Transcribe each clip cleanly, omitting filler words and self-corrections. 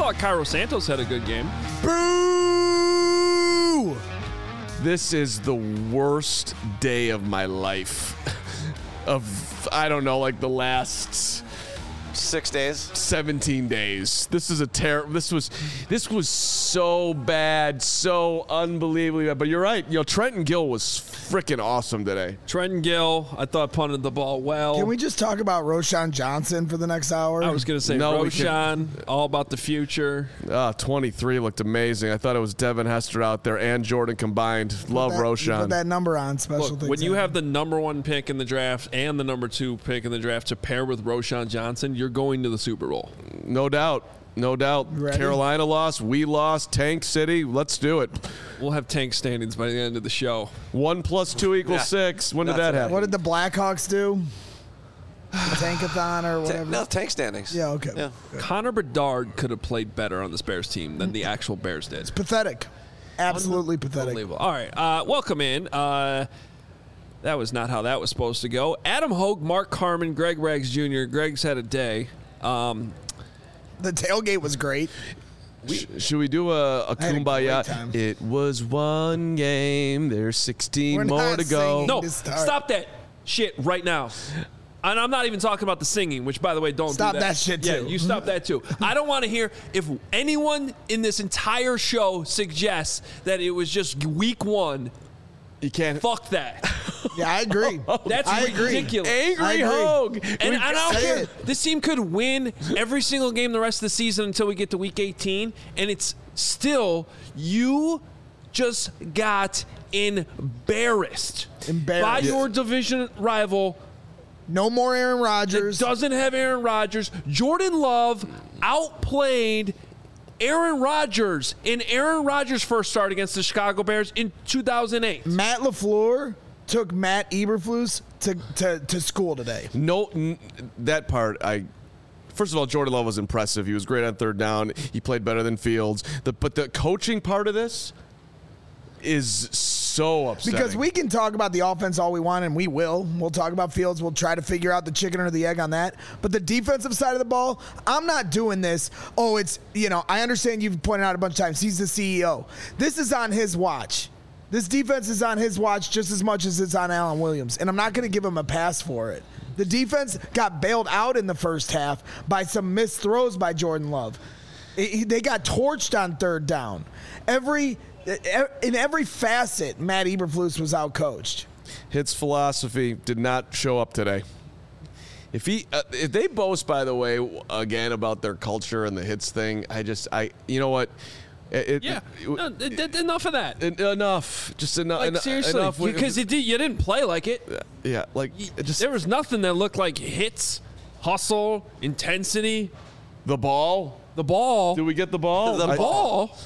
thought Cairo Santos had a good game. Boo! This is the worst day of my life. I don't know, like the last 6 days, 17 days. This is this was so bad, so unbelievably bad. But you're right. Trenton Gill was freaking awesome today. Trenton Gill, I thought punted the ball well. Can we just talk about Roshan Johnson for the next hour? I was going to say Roshan, all about the future. 23 looked amazing. I thought it was Devin Hester out there and Jordan combined. Love Roshan. Put that number on special Look, things. when you have the number 1 pick in the draft and the number 2 pick in the draft to pair with Roshan Johnson, you're going to the Super Bowl. No doubt. Ready? Carolina lost. We lost. Tank City. Let's do it. We'll have tank standings by the end of the show. 1 + 2 = 6. When did that happen? What did the Blackhawks do? The Tankathon or whatever? No, tank standings. Yeah, okay. Yeah. Connor Bedard could have played better on this Bears team than the actual Bears did. Pathetic. Absolutely pathetic. Unbelievable. All right, welcome in. That was not how that was supposed to go. Adam Hogue, Mark Carman, Greg Rags Jr. Greg's had a day. The tailgate was great. Should we do a kumbaya? time. It was one game. There's 16 We're more not to go. singing. No, to start. stop that shit right now. And I'm not even talking about the singing, which, by the way, don't Stop do that. that shit, Yeah, too. you stop that, too. I don't want to hear if anyone in this entire show suggests that it was just week 1. You can't. Fuck that. Yeah, I agree. That's I agree. ridiculous. Angry I agree. Hogue. And I don't say care. it. This team could win every single game the rest of the season until we get to week 18, and it's still, you just got embarrassed by your division rival. No more Aaron It Rodgers. doesn't have Aaron Rodgers. Jordan Love outplayed Aaron Rodgers in Aaron Rodgers' first start against the Chicago Bears in 2008. Matt LaFleur took Matt Eberflus to school today. That part, first of all, Jordan Love was impressive. He was great on third down. He played better than Fields. But the coaching part of this is so upsetting. Because we can talk about the offense all we want, and we will. We'll talk about Fields. We'll try to figure out the chicken or the egg on that. But the defensive side of the ball, I'm not doing this. Oh, it's, I understand you've pointed out a bunch of times. He's the CEO. This is on his watch. This defense is on his watch just as much as it's on Alan Williams. And I'm not going to give him a pass for it. The defense got bailed out in the first half by some missed throws by Jordan Love. They got torched on third down. In every facet, Matt Eberflus was outcoached. His philosophy did not show up today. If they boast, by the way, again about their culture and the hits thing, you know what? Enough of that. Enough. Just enough. Like, seriously, enough. because you didn't play like it. Yeah, There was nothing that looked like hits, hustle, intensity. The ball. Did we get the ball? The ball.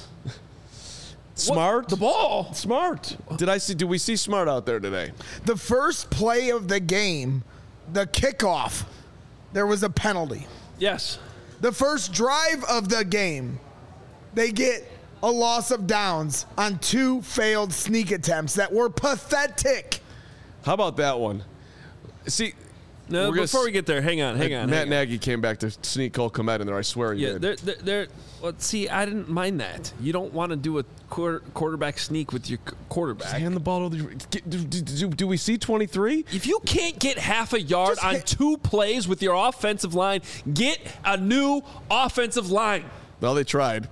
Smart. The ball. Smart. Did we see Smart out there today? The first play of the game, the kickoff, there was a penalty. Yes. The first drive of the game, they get a loss of downs on 2 failed sneak attempts that were pathetic. How about that one? See, no. Before we get there, hang on. Matt Nagy came back to sneak Cole Kmet in there. I swear he did. They're. Let's see. I didn't mind that. You don't want to do a quarterback sneak with your quarterback. Just hand the ball to do we see 23? If you can't get half a yard on 2 plays with your offensive line, get a new offensive line. Well, they tried.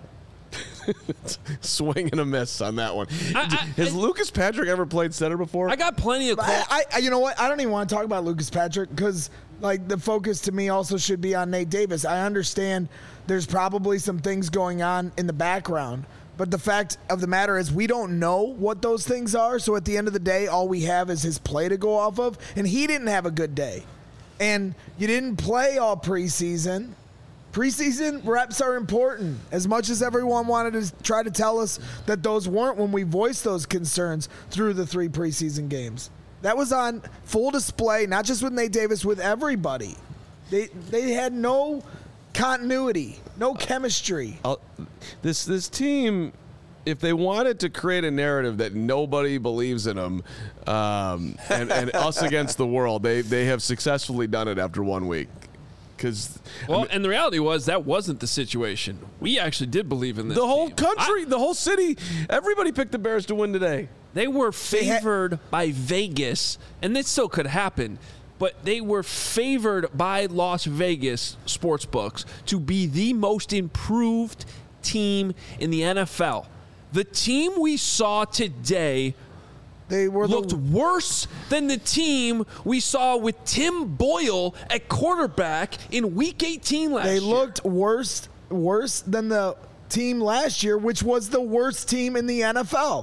Swing and a miss on that one. Has Lucas Patrick ever played center before? I got plenty of calls. You know what? I don't even want to talk about Lucas Patrick because, the focus to me also should be on Nate Davis. I understand there's probably some things going on in the background, but the fact of the matter is we don't know what those things are. So at the end of the day, all we have is his play to go off of, and he didn't have a good day. And you didn't play all preseason. Preseason reps are important. As much as everyone wanted to try to tell us that those weren't when we voiced those concerns through the 3 preseason games. That was on full display, not just with Nate Davis, with everybody. They had no continuity, no chemistry. This team, if they wanted to create a narrative that nobody believes in them, and us against the world, they have successfully done it after 1 week. because and the reality was that wasn't the situation. We actually did believe in this. The whole team. country, the whole city, everybody picked the Bears to win today. They were favored by Vegas, and this still could happen, but they were favored by Las Vegas sportsbooks to be the most improved team in the NFL. The team we saw today looked worse than the team we saw with Tim Boyle at quarterback in Week 18 last year. They looked worse than the team last year, which was the worst team in the NFL.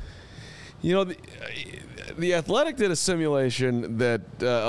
You know, the Athletic did a simulation that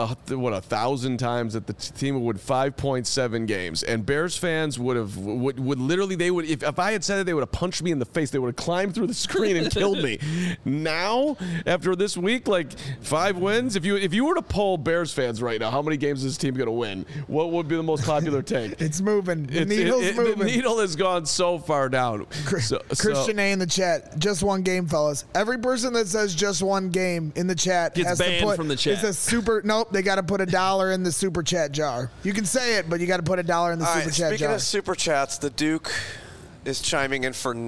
1,000 times that the team would win 5.7 games, and Bears fans would literally if I had said it, they would have punched me in the face. They would have climbed through the screen and killed me. Now, after this week, like 5 wins, if you were to poll Bears fans right now, how many games is this team going to win? What would be the most popular take? It's moving. The needle's moving. The needle has gone so far down. Christian A in the chat, just one game, fellas. Every person that says just one game in the chat gets has banned to put, from the chat. Nope, they got to put $1 in the super chat jar. You can say it, but you got to put $1 in the super chat jar. Speaking of super chats, the Duke is chiming in for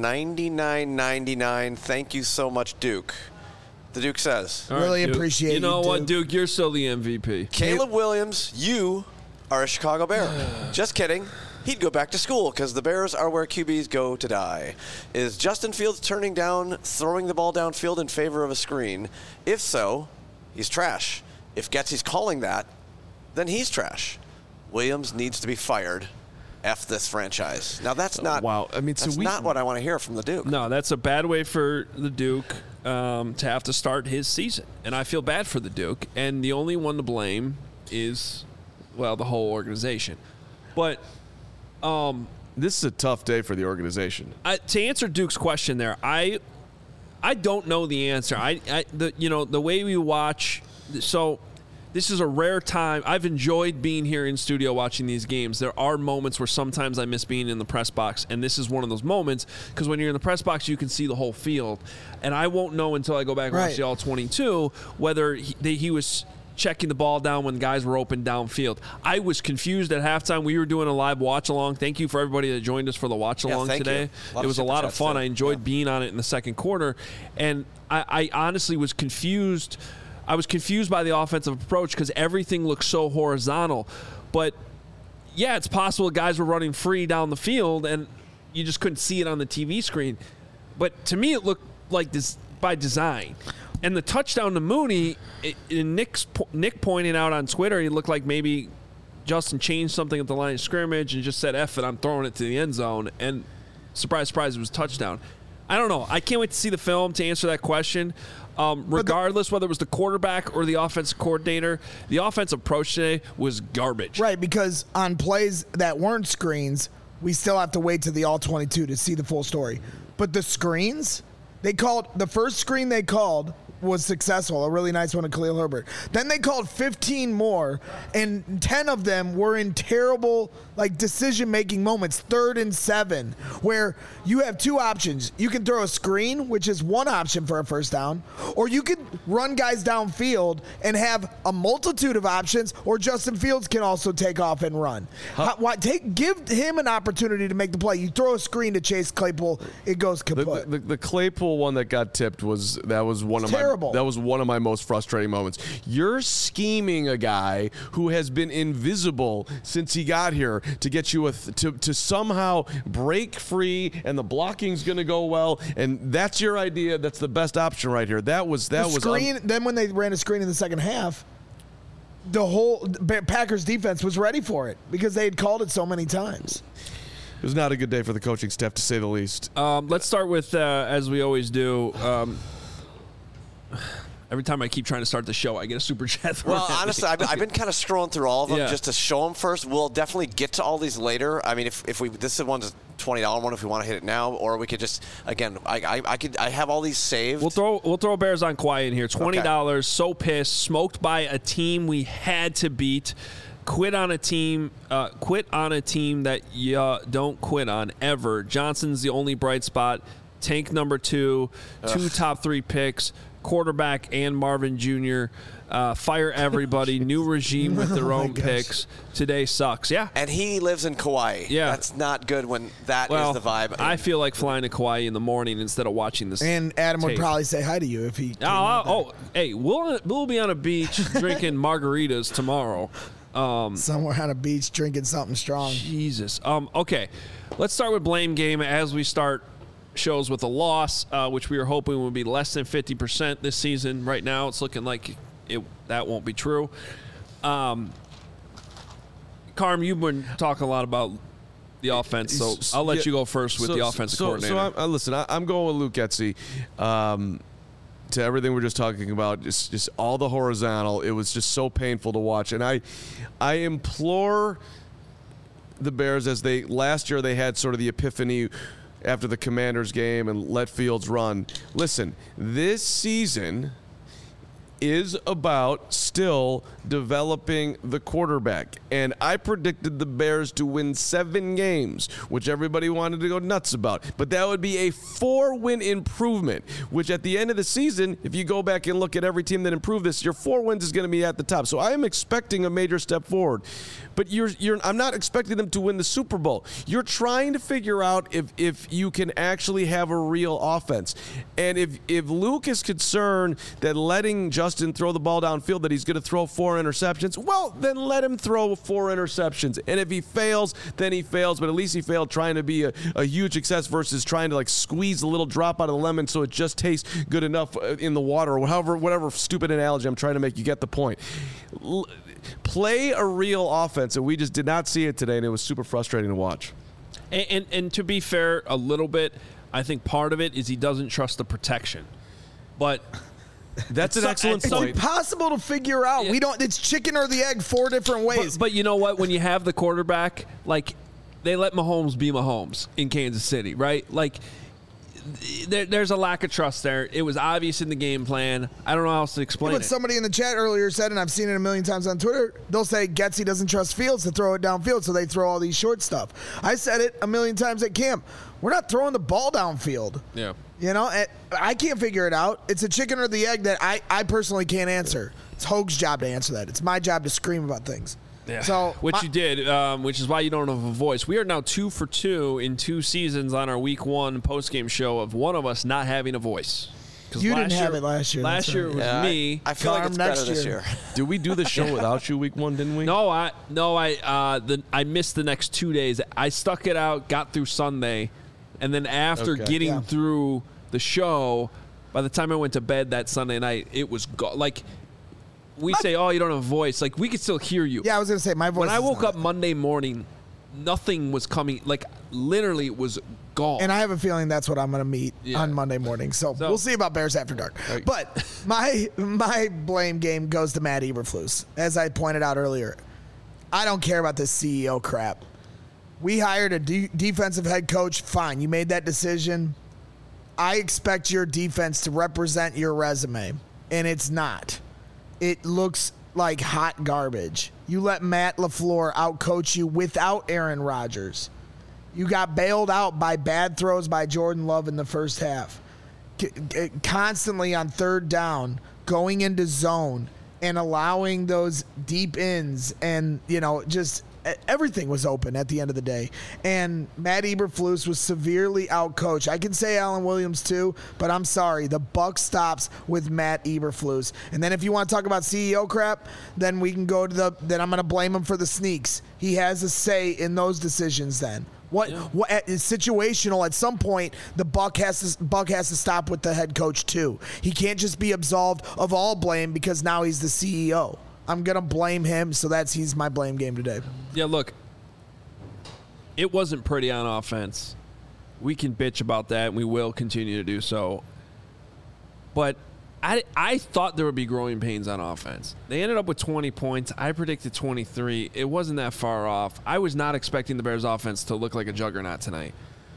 $99.99. Thank you so much, Duke. The Duke says, really appreciate you. You know what, Duke? You're still the MVP. Caleb Williams, you are a Chicago Bear. Just kidding. He'd go back to school because the Bears are where QBs go to die. Is Justin Fields turning down throwing the ball downfield in favor of a screen? If so, he's trash. If Getsy's calling that, then he's trash. Williams needs to be fired. F this franchise. Now that's not. Wow. I mean, that's not what I want to hear from the Duke. No, that's a bad way for the Duke to have to start his season, and I feel bad for the Duke. And the only one to blame is, well, the whole organization. But. This is a tough day for the organization. To answer Duke's question there, I don't know the answer. The way we watch, so this is a rare time. I've enjoyed being here in studio watching these games. There are moments where sometimes I miss being in the press box, and this is one of those moments because when you're in the press box, you can see the whole field, and I won't know until I go back and watch the All-22 whether he was checking the ball down when guys were open downfield. I was confused at halftime. We were doing a live watch-along. Thank you for everybody that joined us for the watch-along today. It was a lot of fun. I enjoyed being on it in the second quarter. And I honestly was confused. I was confused by the offensive approach because everything looked so horizontal. But, yeah, it's possible guys were running free down the field, and you just couldn't see it on the TV screen. But to me, it looked like this by design. And the touchdown to Mooney, Nick pointed out on Twitter, he looked like maybe Justin changed something at the line of scrimmage and just said, F it, I'm throwing it to the end zone. And surprise, surprise, it was a touchdown. I don't know. I can't wait to see the film to answer that question. Regardless whether it was the quarterback or the offensive coordinator, the offensive approach today was garbage. Right, because on plays that weren't screens, we still have to wait to the All-22 to see the full story. But the screens, the first screen they called was successful, a really nice one to Khalil Herbert. Then they called 15 more, and 10 of them were in terrible decision-making moments, 3rd and 7, where you have two options. You can throw a screen, which is one option for a first down, or you can run guys downfield and have a multitude of options, or Justin Fields can also take off and run. Give him an opportunity to make the play. You throw a screen to Chase Claypool, it goes kaput. The Claypool one that got tipped was one of my most frustrating moments. You're scheming a guy who has been invisible since he got here to get you to somehow break free, and the blocking's going to go well, and that's your idea. That's the best option right here. That was screen. Then when they ran a screen in the second half, the whole Packers defense was ready for it because they had called it so many times. It was not a good day for the coaching staff, to say the least. Let's start with, as we always do. Every time I keep trying to start the show, I get a super chat thrown. Well, honestly, I've been kind of scrolling through all of them just to show them first. We'll definitely get to all these later. I mean, if we this is one's $20 one if we want to hit it now, or we could just I have all these saved. We'll throw Bears on quiet in here. $20. Okay. So pissed. Smoked by a team we had to beat. Quit on a team that you don't quit on ever. Johnson's the only bright spot. Tank number 2, 2 top 3 picks. quarterback and Marvin Jr. Fire everybody. New regime with their own picks. Today sucks. Yeah. And he lives in Kauai. Yeah. That's not good when that is the vibe. I feel like flying to Kauai in the morning instead of watching this. And Adam would tape. probably say hi to you if he. Hey, we'll be on a beach drinking margaritas tomorrow. Somewhere on a beach drinking something strong. Jesus. Okay. Let's start with blame game as we start shows with a loss, which we were hoping would be less than 50% this season. Right now, it's looking like that won't be true. Carm, you've been talking a lot about the offense, so I'll let you go first with the offensive coordinator. So listen, I'm going with Luke Getsy. To everything we're just talking about, just all the horizontal. It was just so painful to watch, and I implore the Bears, as last year they had sort of the epiphany after the Commanders game and let Fields run. Listen, this season is about still developing the quarterback. And I predicted the Bears to win 7 games, which everybody wanted to go nuts about. But that would be a 4-win improvement, which at the end of the season, if you go back and look at every team that improved this, your 4 wins is going to be at the top. So I am expecting a major step forward. But I'm not expecting them to win the Super Bowl. You're trying to figure out if you can actually have a real offense. And if Luke is concerned that letting Justin throw the ball downfield, that he's going to throw 4 interceptions, well, then let him throw 4 interceptions. And if he fails, then he fails. But at least he failed trying to be a huge success versus trying to squeeze a little drop out of the lemon so it just tastes good enough in the water, or whatever stupid analogy I'm trying to make. You get the point. Play a real offense, and we just did not see it today, and it was super frustrating to watch. And to be fair, a little bit, I think part of it is he doesn't trust the protection. But that's an excellent point. It's impossible to figure out. Yeah. It's chicken or the egg 4 different ways. But you know what? When you have the quarterback, they let Mahomes be Mahomes in Kansas City, right? There's a lack of trust there. It was obvious in the game plan. I don't know how else to explain it. Somebody in the chat earlier said, and I've seen it a million times on Twitter, they'll say Getsy doesn't trust Fields to throw it downfield, so they throw all these short stuff. I said it a million times at camp. We're not throwing the ball downfield. Yeah. I can't figure it out. It's a chicken or the egg that I personally can't answer. It's Hoag's job to answer that. It's my job to scream about things. Yeah. So you did, which is why you don't have a voice. We are now 2 for 2 in 2 seasons on our Week 1 postgame show of one of us not having a voice. You didn't have it last year. Last year it was me. I feel like it's better this year. Did we do the show without you Week 1, didn't we? No, I missed the next 2 days. I stuck it out, got through Sunday, and then after getting through the show, by the time I went to bed that Sunday night, it was we say, you don't have a voice. We could still hear you. Yeah, I was going to say, my voice. When I woke up Monday morning, nothing was coming. Literally, it was gone. And I have a feeling that's what I'm going to meet on Monday morning. So we'll see about Bears After Dark. Right. But my blame game goes to Matt Eberflus. As I pointed out earlier, I don't care about this CEO crap. We hired a defensive head coach. Fine, you made that decision. I expect your defense to represent your resume, and it's not. It looks like hot garbage. You let Matt LaFleur outcoach you without Aaron Rodgers. You got bailed out by bad throws by Jordan Love in the first half. Constantly on third down, going into zone and allowing those deep ends, and just everything was open at the end of the day. And Matt Eberflus was severely outcoached. I can say Alan Williams too, but I'm sorry. The buck stops with Matt Eberflus. And then if you want to talk about CEO crap, then we can go to then I'm going to blame him for the sneaks. He has a say in those decisions then. What is situational? At some point, the buck has to stop with the head coach too. He can't just be absolved of all blame because now he's the CEO. I'm going to blame him, so he's my blame game today. Yeah, look, it wasn't pretty on offense. We can bitch about that, and we will continue to do so. But I thought there would be growing pains on offense. They ended up with 20 points. I predicted 23. It wasn't that far off. I was not expecting the Bears' offense to look like a juggernaut tonight.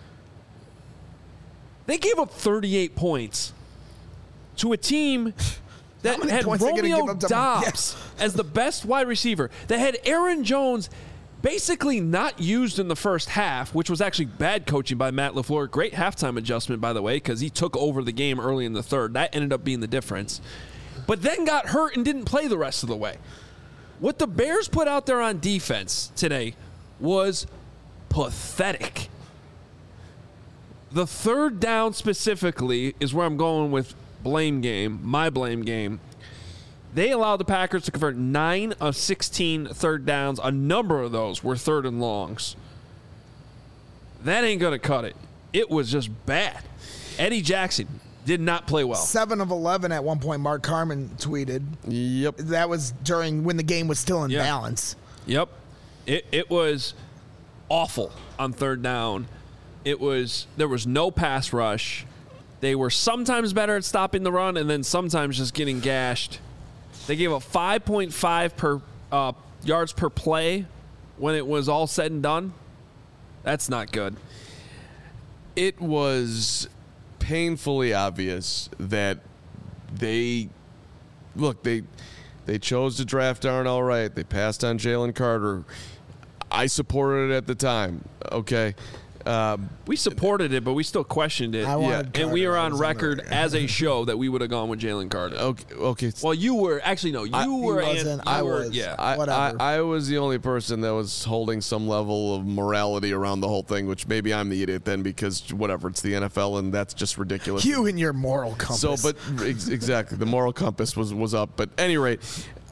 They gave up 38 points to a team that had Romeo Doubs as the best wide receiver, that had Aaron Jones basically not used in the first half, which was actually bad coaching by Matt LaFleur. Great halftime adjustment, by the way, because he took over the game early in the third. That ended up being the difference. But then got hurt and didn't play the rest of the way. What the Bears put out there on defense today was pathetic. The third down specifically is where I'm going with blame game, my blame game. They allowed the Packers to convert 9 of 16 third downs. A number of those were third and longs. That ain't going to cut it. It was just bad. Eddie Jackson did not play well. 7 of 11 at one point, Mark Carman tweeted. Yep. That was during when the game was still in balance. Yep. It was awful on third down. There was no pass rush. They were sometimes better at stopping the run and then sometimes just getting gashed. They gave up 5.5 per yards per play when it was all said and done. That's not good. It was painfully obvious that they chose to draft Darnell Wright. They passed on Jalen Carter. I supported it at the time. Okay. We supported it, but we still questioned it. And we are on record as a show that we would have gone with Jalen Carter. Okay. Well, you were. Actually, no. You were. I was. Yeah. Whatever. I was the only person that was holding some level of morality around the whole thing, which maybe I'm the idiot then because, whatever, it's the NFL and that's just ridiculous. You and your moral compass. So, but exactly. The moral compass was up. But at any rate,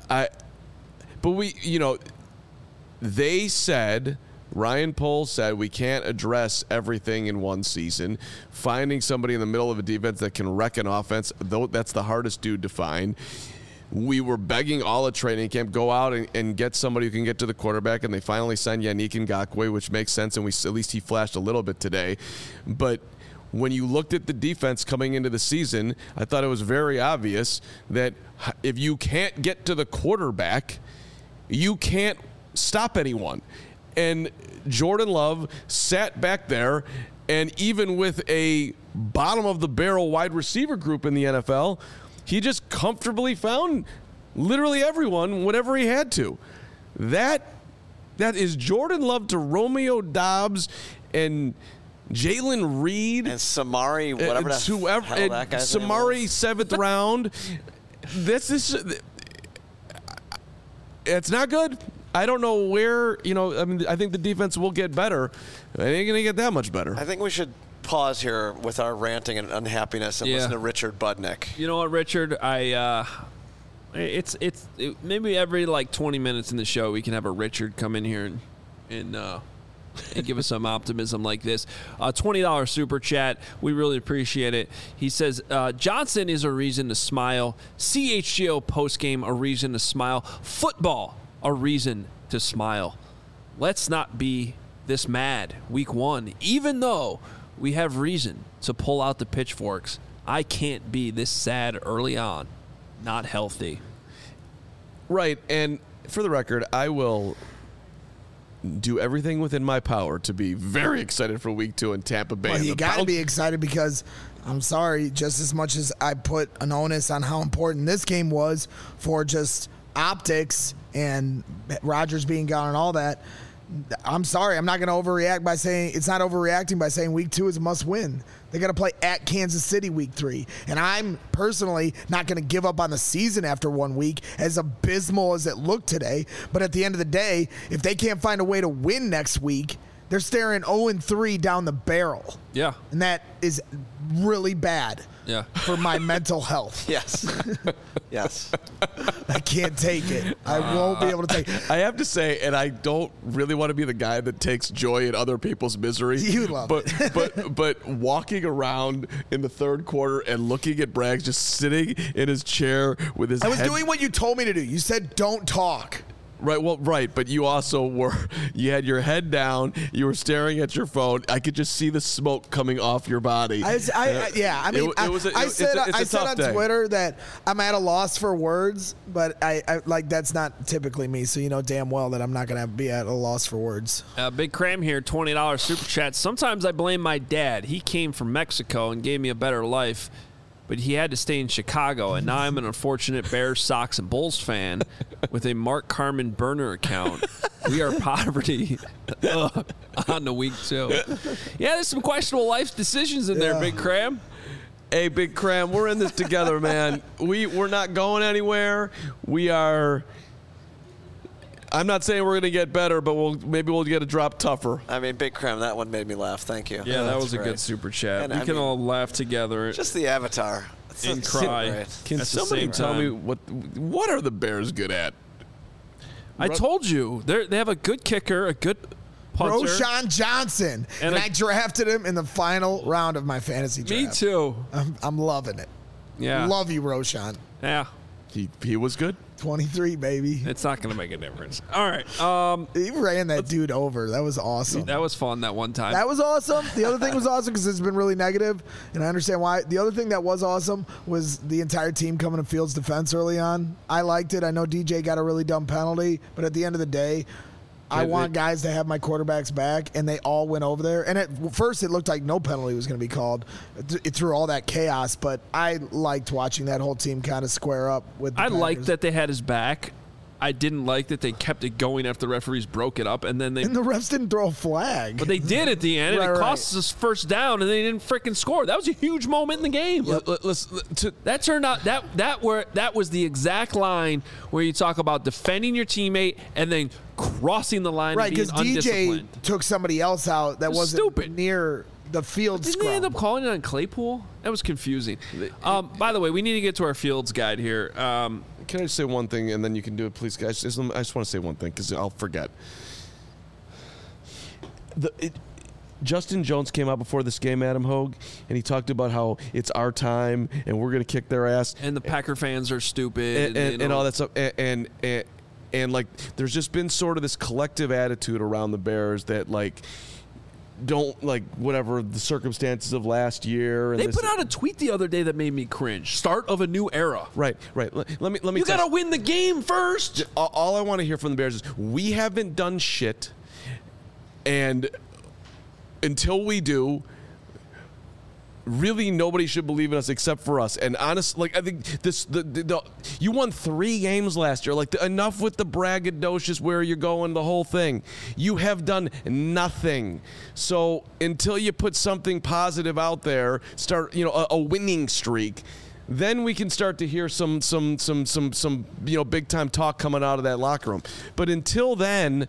they said... Ryan Poles said we can't address everything in one season. Finding somebody in the middle of a defense that can wreck an offense, though that's the hardest dude to find. We were begging all at training camp, go out and get somebody who can get to the quarterback, and they finally signed Yannick Ngakoue, which makes sense, and at least he flashed a little bit today. But when you looked at the defense coming into the season, I thought it was very obvious that if you can't get to the quarterback, you can't stop anyone. And Jordan Love sat back there, and even with a bottom-of-the-barrel wide receiver group in the NFL, he just comfortably found literally everyone whenever he had to. That is Jordan Love to Romeo Doubs and Jalen Reed. And Samari, whatever that guy's Samari, name was. 7th round. It's not good. I don't know where, I think the defense will get better. It ain't going to get that much better. I think we should pause here with our ranting and unhappiness and listen to Richard Budnick. You know what, Richard? Maybe every 20 minutes in the show we can have a Richard come in here and give us some optimism like this. $20 super chat. We really appreciate it. He says, Johnson is a reason to smile. CHGO postgame, a reason to smile. Football, a reason to smile. Let's not be this mad week 1, even though we have reason to pull out the pitchforks. I can't be this sad early on. Not healthy. Right, and for the record, I will do everything within my power to be very excited for week 2 in Tampa Bay. Well, you got to be excited because, I'm sorry, just as much as I put an onus on how important this game was for just optics and Rodgers being gone and all that, I'm sorry, I'm not going to overreact by saying it's not overreacting by saying week 2 is a must win. They got to play at Kansas City week 3. And I'm personally not going to give up on the season after 1 week, as abysmal as it looked today. But at the end of the day, if they can't find a way to win next week, they're staring 0-3 down the barrel. Yeah. And that is really bad. Yeah. For my mental health. Yes. Yes. I can't take it. I won't be able to take it. I have to say, and I don't really want to be the guy that takes joy in other people's misery. You love it. But walking around in the third quarter and looking at Braggs just sitting in his chair with his I was doing what you told me to do. You said don't talk. Right, well, right, but you also you had your head down, you were staring at your phone. I could just see the smoke coming off your body. I said on Twitter that I'm at a loss for words, but I that's not typically me, so you know damn well that I'm not going to be at a loss for words. Big Cram here, $20 super chat. Sometimes I blame my dad. He came from Mexico and gave me a better life, but he had to stay in Chicago, and now I'm an unfortunate Bears, Sox, and Bulls fan with a Mark Carman burner account We are poverty on the week 2. Yeah, there's some questionable life decisions in there, Big Cram. Hey, Big Cram, we're in this together, man. We're not going anywhere. We are. I'm not saying we're going to get better, but maybe we'll get a drop tougher. I mean, Big Cram, that one made me laugh. Thank you. Yeah, that was a good super chat. We can all laugh together. Just the avatar. And cry. Can somebody tell me what are the Bears good at? I told you. They have a good kicker, a good punter. Roschon Johnson. And I drafted him in the final round of my fantasy draft. Me too. I'm loving it. Yeah. Love you, Roschon. Yeah. He was good. 23, baby. It's not going to make a difference. All right. He ran that dude over. That was awesome. That was fun that one time. That was awesome. The other thing was awesome because it's been really negative, and I understand why. The other thing that was awesome was the entire team coming to Fields' defense early on. I liked it. I know DJ got a really dumb penalty, but at the end of the day, I want guys to have my quarterbacks back, and they all went over there. And at first, it looked like no penalty was going to be called through all that chaos, but I liked watching that whole team kind of square up with the Packers. Liked that they had his back. I didn't like that they kept it going after the referees broke it up, and then the refs didn't throw a flag. But they did at the end, and it cost us first down, and they didn't freaking score. That was a huge moment in the game. That turned out that was the exact line where you talk about defending your teammate and then crossing the line. Right, because DJ took somebody else out that wasn't stupid near the field scrum. Didn't they end up calling it on Claypool? That was confusing. By the way, we need to get to our Fields guide here. Can I just say one thing, and then you can do it, please, guys? I just want to say one thing because I'll forget. Justin Jones came out before this game, Adam Hogue, and he talked about how it's our time and we're going to kick their ass. And the Packer fans are stupid. And all that stuff. And like, there's just been sort of this collective attitude around the Bears that, like, don't like whatever the circumstances of last year. And they put out a tweet the other day that made me cringe. Start of a new era. Right. Let me. You gotta win the game first. All I want to hear from the Bears is we haven't done shit, and until we do, really nobody should believe in us except for us. And honestly, like, I think you won 3 games last year. Like, enough with the braggadocious where you're going, the whole thing. You have done nothing. So until you put something positive out there, start a winning streak, then we can start to hear some big time talk coming out of that locker room. But until then,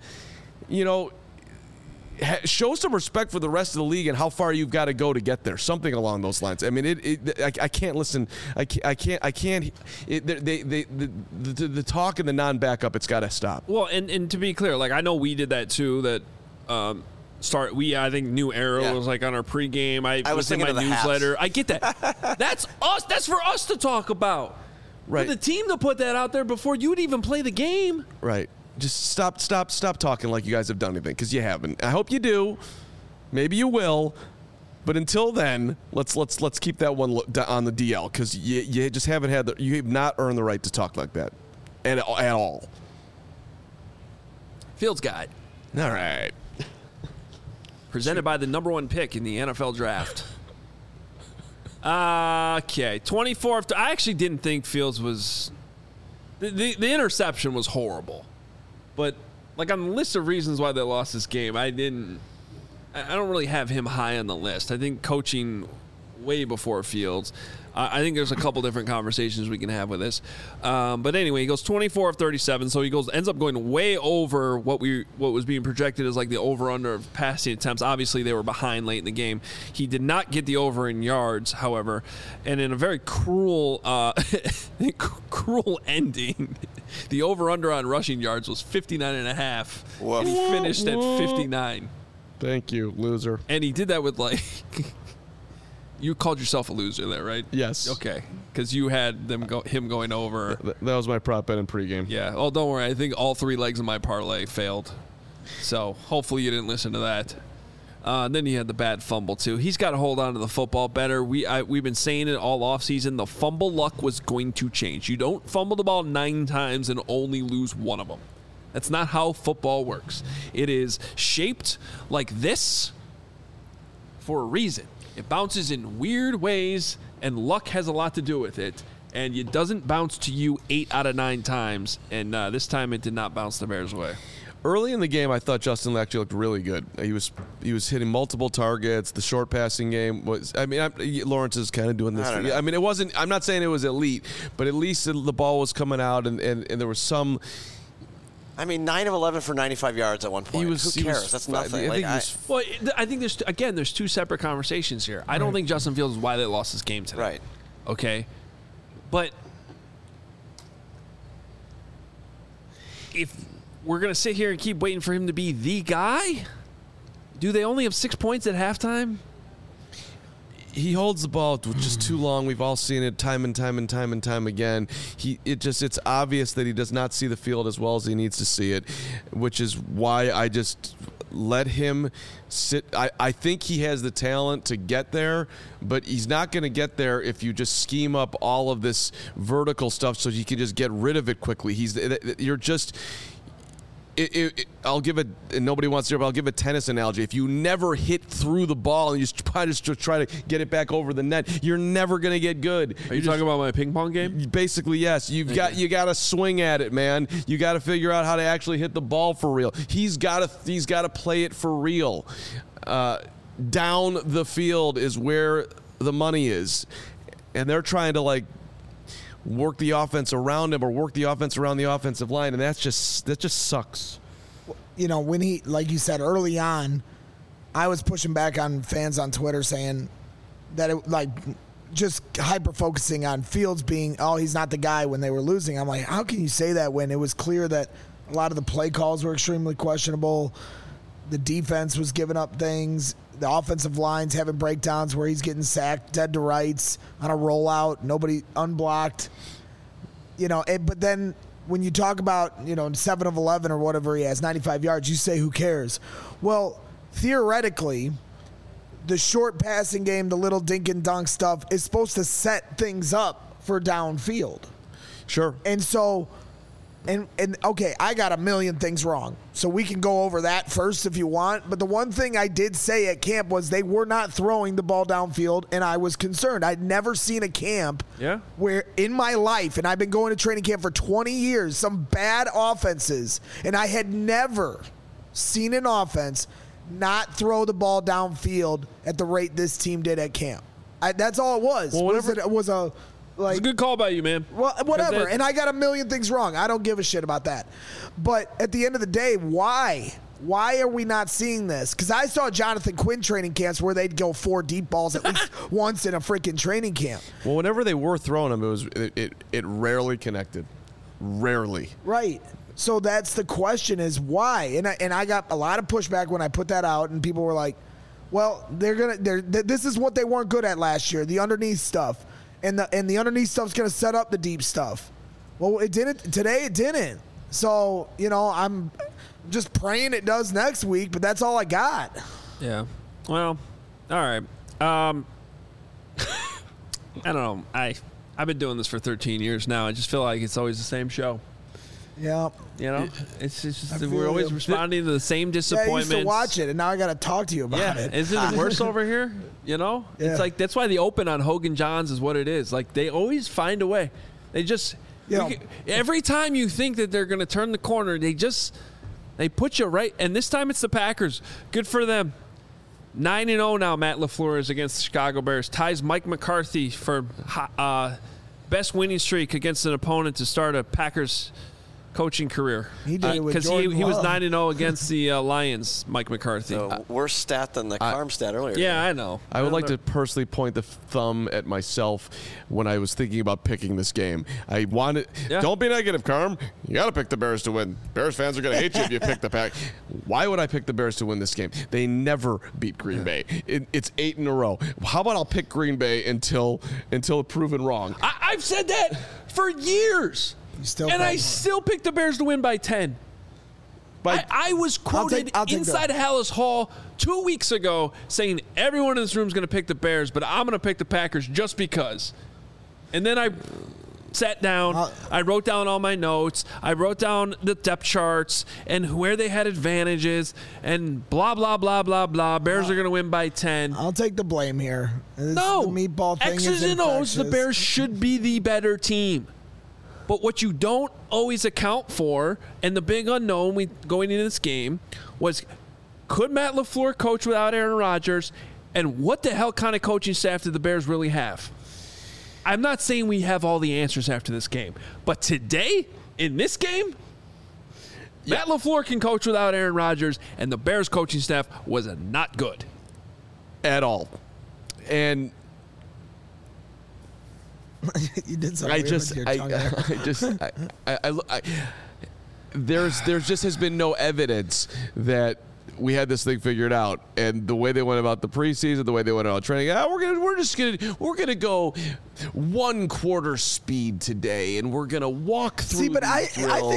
show some respect for the rest of the league and how far you've got to go to get there. Something along those lines. I mean, I can't listen. I can't. The talk and the non-backup, it's got to stop. Well, and to be clear, like, I know we did that too. That I think New Era was like on our pregame. I was in my newsletter. I get that. That's us. That's for us to talk about. Right. For the team to put that out there before you'd even play the game. Right. Just stop talking like you guys have done anything, because you haven't. I hope you do. Maybe you will. But until then, let's keep that one on the DL, because you just haven't you have not earned the right to talk like that at all. Fields Guide. All right. Presented by the number 1 pick in the NFL draft. Okay, 24th. I actually didn't think Fields was. The interception was horrible. But, like, on the list of reasons why they lost this game, I don't really have him high on the list. I think coaching way before Fields. I think there's a couple different conversations we can have with this. But anyway, he goes 24 of 37, so he ends up going way over what was being projected as like the over-under of passing attempts. Obviously, they were behind late in the game. He did not get the over in yards, however, and in a very cruel ending, the over-under on rushing yards was 59.5, and he finished at 59. Thank you, loser. And he did that with, like... You called yourself a loser there, right? Yes. Okay, because you had him going over. That was my prop bet in pregame. Yeah. Oh, don't worry. I think all 3 legs of my parlay failed. So hopefully you didn't listen to that. Then he had the bad fumble too. He's got to hold on to the football better. We've been saying it all offseason. The fumble luck was going to change. You don't fumble the ball 9 times and only lose 1 of them. That's not how football works. It is shaped like this for a reason. It bounces in weird ways, and luck has a lot to do with it. And it doesn't bounce to you 8 out of 9 times. And this time it did not bounce the Bears' way. Early in the game, I thought Justin actually looked really good. He was hitting multiple targets. The short passing game was. I mean, Lawrence is kind of doing this. I mean, it wasn't. I'm not saying it was elite, but at least the ball was coming out, and there was some. I mean, 9 of 11 for 95 yards at one point. Who cares? That's nothing. I think there's two separate conversations here. I don't think Justin Fields is why they lost this game today. Right. Okay. But if we're going to sit here and keep waiting for him to be the guy, do they only have 6 points at halftime? He holds the ball just too long. We've all seen it time and time again. It's obvious that he does not see the field as well as he needs to see it, which is why I just let him sit. I think he has the talent to get there, but he's not going to get there if you just scheme up all of this vertical stuff so he can just get rid of it quickly. I'll give it, and nobody wants to hear, but I'll give a tennis analogy. If you never hit through the ball and you just try to get it back over the net, you're never going to get good. Are you talking about my ping pong game? Basically, yes. You got to swing at it, man. You got to figure out how to actually hit the ball for real. He's got to play it for real. Down the field is where the money is, and they're trying to work the offense around him or work the offense around the offensive line, and that just sucks. You know, when he, like you said early on, I was pushing back on fans on Twitter saying that it just hyper focusing on Fields being, he's not the guy when they were losing. I'm like, how can you say that when it was clear that a lot of the play calls were extremely questionable? The defense was giving up things. The offensive line's having breakdowns where he's getting sacked dead to rights on a rollout, nobody unblocked. But then when you talk about, 7 of 11 or whatever he has, 95 yards, you say, who cares? Well, theoretically, the short passing game, the little dink and dunk stuff is supposed to set things up for downfield. Sure. And so... And okay, I got a million things wrong. So we can go over that first if you want. But the one thing I did say at camp was they were not throwing the ball downfield, and I was concerned. I'd never seen a camp where in my life, and I've been going to training camp for 20 years, some bad offenses, and I had never seen an offense not throw the ball downfield at the rate this team did at camp. That's all it was. Well, it was a... it's a good call by you, man. Well, whatever. And I got a million things wrong. I don't give a shit about that. But at the end of the day, why? Why are we not seeing this? Because I saw Jonathan Quinn training camps where they'd go 4 deep balls at least once in a freaking training camp. Well, whenever they were throwing them, it rarely connected. Rarely. Right. So that's the question is why? And I got a lot of pushback when I put that out, and people were like, well, this is what they weren't good at last year, the underneath stuff. And the underneath stuff's going to set up the deep stuff. Well, it didn't. Today it didn't. So, I'm just praying it does next week, but that's all I got. Yeah. Well, all right. I don't know. I've been doing this for 13 years now. I just feel like it's always the same show. Yeah. It's just we're always responding to the same disappointments. I used to watch it, and now I got to talk to you about it. Isn't it worse over here? Yeah. It's like that's why the open on Hogan Johns is what it is. Like they always find a way. They just every time you think that they're going to turn the corner, they put you right. And this time it's the Packers. Good for them. 9-0 now. Matt LaFleur is against the Chicago Bears. Ties Mike McCarthy for best winning streak against an opponent to start a Packers coaching career. He did it with because he was 9-0 against the Lions, Mike McCarthy. So worse stat than the Carm stat earlier. Yeah, I know. I would like to personally point the thumb at myself when I was thinking about picking this game. I wanted don't be negative, Carm. You got to pick the Bears to win. Bears fans are going to hate you if you pick the Pack. Why would I pick the Bears to win this game? They never beat Green Bay. It's 8 in a row. How about I'll pick Green Bay until proven wrong? I've said that for years. I still picked the Bears to win by 10. I was quoted inside Hallis Hall 2 weeks ago saying everyone in this room is going to pick the Bears, but I'm going to pick the Packers just because. And then I sat down. I wrote down all my notes. I wrote down the depth charts and where they had advantages and blah, blah, blah, blah, blah. Bears are going to win by 10. I'll take the blame here. No. The meatball thing X's and O's, the Bears should be the better team. But what you don't always account for, and the big unknown going into this game, was could Matt LaFleur coach without Aaron Rodgers, and what the hell kind of coaching staff did the Bears really have? I'm not saying we have all the answers after this game, but today, in this game, Matt LaFleur can coach without Aaron Rodgers, and the Bears coaching staff was not good. At all. And you did something. There's just has been no evidence that we had this thing figured out, and the way they went about the preseason, the way they went about training, we're gonna go 1 quarter speed today, and we're gonna walk through. See, but I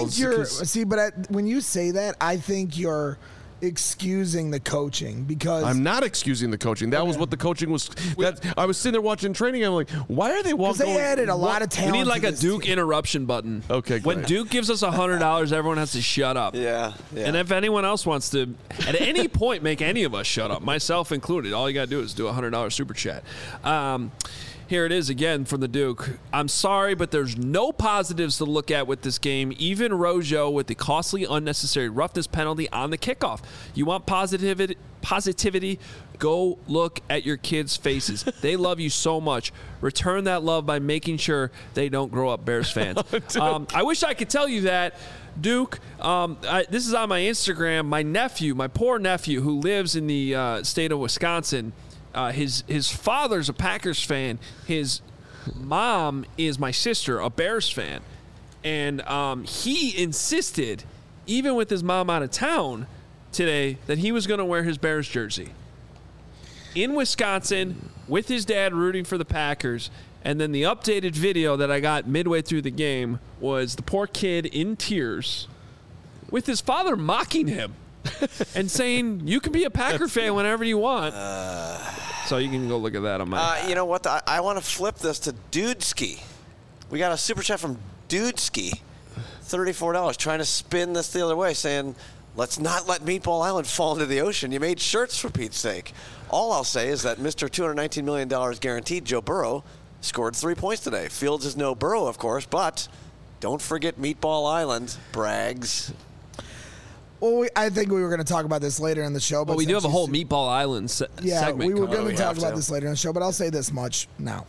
think when you say that, I think you're excusing the coaching, because I'm not excusing the coaching. That was what the coaching was. I was sitting there watching training. I'm like, why are they walking? Because they added a lot of talent. We need like a Duke team. Interruption button. Okay, when Duke gives us $100, everyone has to shut up. Yeah. And if anyone else wants to, at any point, make any of us shut up, myself included, all you got to do is do a $100 super chat. Here it is again from the Duke. I'm sorry, but there's no positives to look at with this game. Even Rojo with the costly, unnecessary roughness penalty on the kickoff. You want positivity? Go look at your kids' faces. They love you so much. Return that love by making sure they don't grow up Bears fans. I wish I could tell you that, Duke. This is on my Instagram. My poor nephew, who lives in the state of Wisconsin, his father's a Packers fan. His mom is my sister, a Bears fan. And he insisted, even with his mom out of town today, that he was going to wear his Bears jersey in Wisconsin with his dad rooting for the Packers. And then the updated video that I got midway through the game was the poor kid in tears with his father mocking him and saying, you can be a Packer fan whenever you want. So you can go look at that on my... you know what? I want to flip this to Dudeski. We got a super chat from Dudeski. $34, trying to spin this the other way, saying, let's not let Meatball Island fall into the ocean. You made shirts, for Pete's sake. All I'll say is that Mr. $219 million guaranteed, Joe Burrow, scored 3 points today. Fields is no Burrow, of course, but don't forget Meatball Island, Brags. Well, I think we were going to talk about this later in the show. But we do have a whole Meatball Island segment. Yeah, we were going to talk about this later in the show, but I'll say this much now.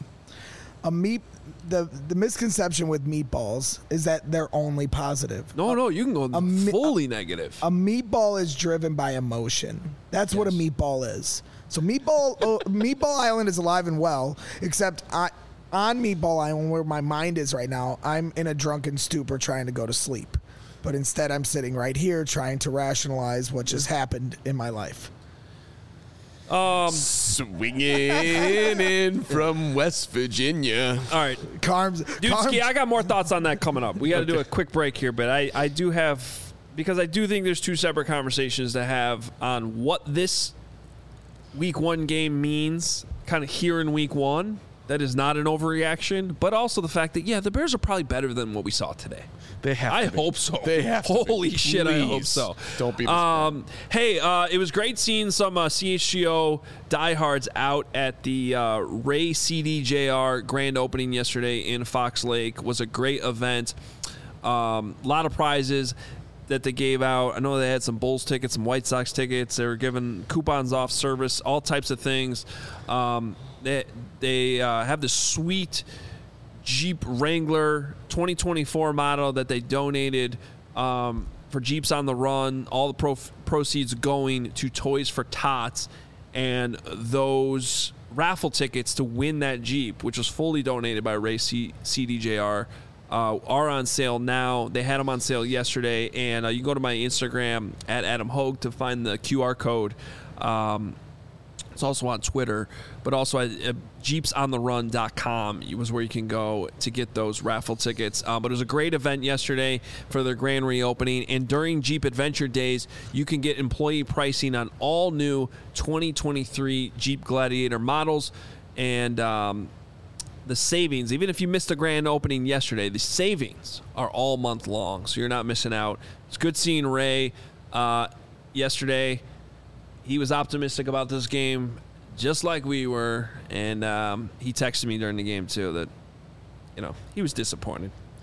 The misconception with meatballs is that they're only positive. No, you can go fully negative. A meatball is driven by emotion. That's what a meatball is. So Meatball Island is alive and well, except on Meatball Island, where my mind is right now, I'm in a drunken stupor trying to go to sleep. But instead, I'm sitting right here trying to rationalize what just happened in my life. Swinging in from West Virginia. All right. Dudeski, I got more thoughts on that coming up. We got to do a quick break here, but I do have, because I do think there's two separate conversations to have on what this week 1 game means kind of here in week 1. That is not an overreaction, but also the fact that, the Bears are probably better than what we saw today. They have I to be. hope so. They have to Holy be. shit, Please. I hope so. Don't be this Hey, it was great seeing some CHGO diehards out at the Ray CDJR grand opening yesterday in Fox Lake. Was a great event. A lot of prizes that they gave out. I know they had some Bulls tickets, some White Sox tickets. They were giving coupons off service, all types of things. They have this sweet Jeep Wrangler 2024 model that they donated for Jeeps on the Run. All the proceeds going to Toys for Tots, and those raffle tickets to win that Jeep, which was fully donated by Ray CDJR, are on sale now. They had them on sale yesterday, and you can go to my Instagram at Adam Hogue to find the QR code. It's also on Twitter, but also at jeepsontherun.com was where you can go to get those raffle tickets. But it was a great event yesterday for their grand reopening. And during Jeep Adventure Days, you can get employee pricing on all new 2023 Jeep Gladiator models. And the savings, even if you missed the grand opening yesterday, the savings are all month long, so you're not missing out. It's good seeing Ray yesterday. He was optimistic about this game, just like we were, and he texted me during the game too that, he was disappointed.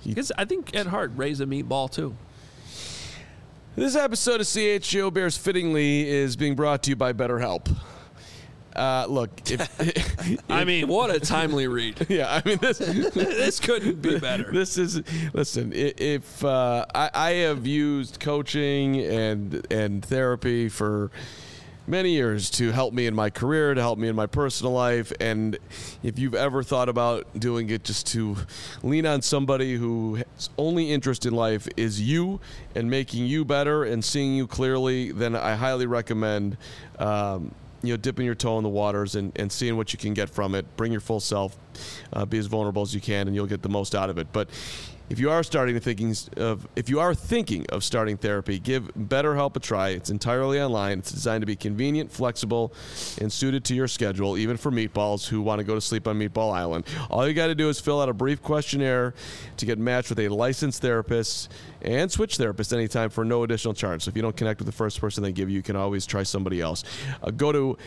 Because I think at heart, Ray's a meatball too. This episode of CHGO Bears fittingly is being brought to you by BetterHelp. Look, I mean, what a timely read. Yeah, I mean, this couldn't be better. Listen, if I have used coaching and therapy for many years to help me in my career, to help me in my personal life, and if you've ever thought about doing it just to lean on somebody whose only interest in life is you and making you better and seeing you clearly, then I highly recommend dipping your toe in the waters and seeing what you can get from it. Bring your full self, be as vulnerable as you can, and you'll get the most out of it. But if you are thinking of starting therapy, give BetterHelp a try. It's entirely online. It's designed to be convenient, flexible, and suited to your schedule, even for meatballs who want to go to sleep on Meatball Island. All you got to do is fill out a brief questionnaire to get matched with a licensed therapist and switch therapist anytime for no additional charge. So if you don't connect with the first person they give you, you can always try somebody else. Go to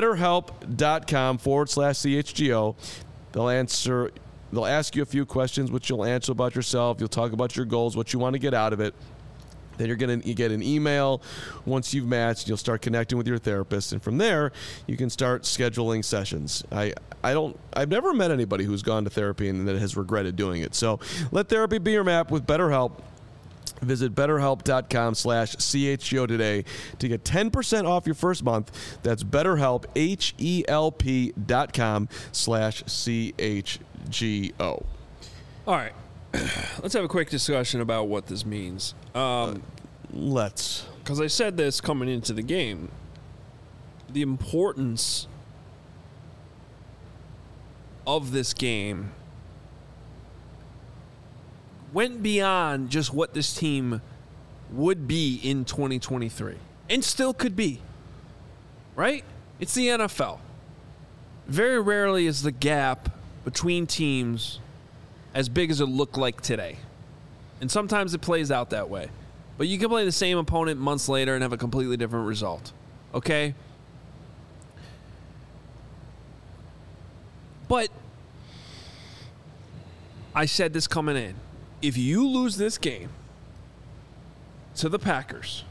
betterhelp.com/CHGO. They'll ask you a few questions, which you'll answer about yourself. You'll talk about your goals, what you want to get out of it. Then you get an email. Once you've matched, you'll start connecting with your therapist, and from there, you can start scheduling sessions. I've never met anybody who's gone to therapy and that has regretted doing it. So let therapy be your map with BetterHelp. Visit BetterHelp.com/CHGO today to get 10% off your first month. That's BetterHelp, HELP.com/CHGO. All right. Let's have a quick discussion about what this means. Let's. Because I said this coming into the game. The importance of this game went beyond just what this team would be in 2023 and still could be, right? It's the NFL. Very rarely is the gap between teams as big as it looked like today. And sometimes it plays out that way. But you can play the same opponent months later and have a completely different result. Okay? But I said this coming in. If you lose this game to the Packers,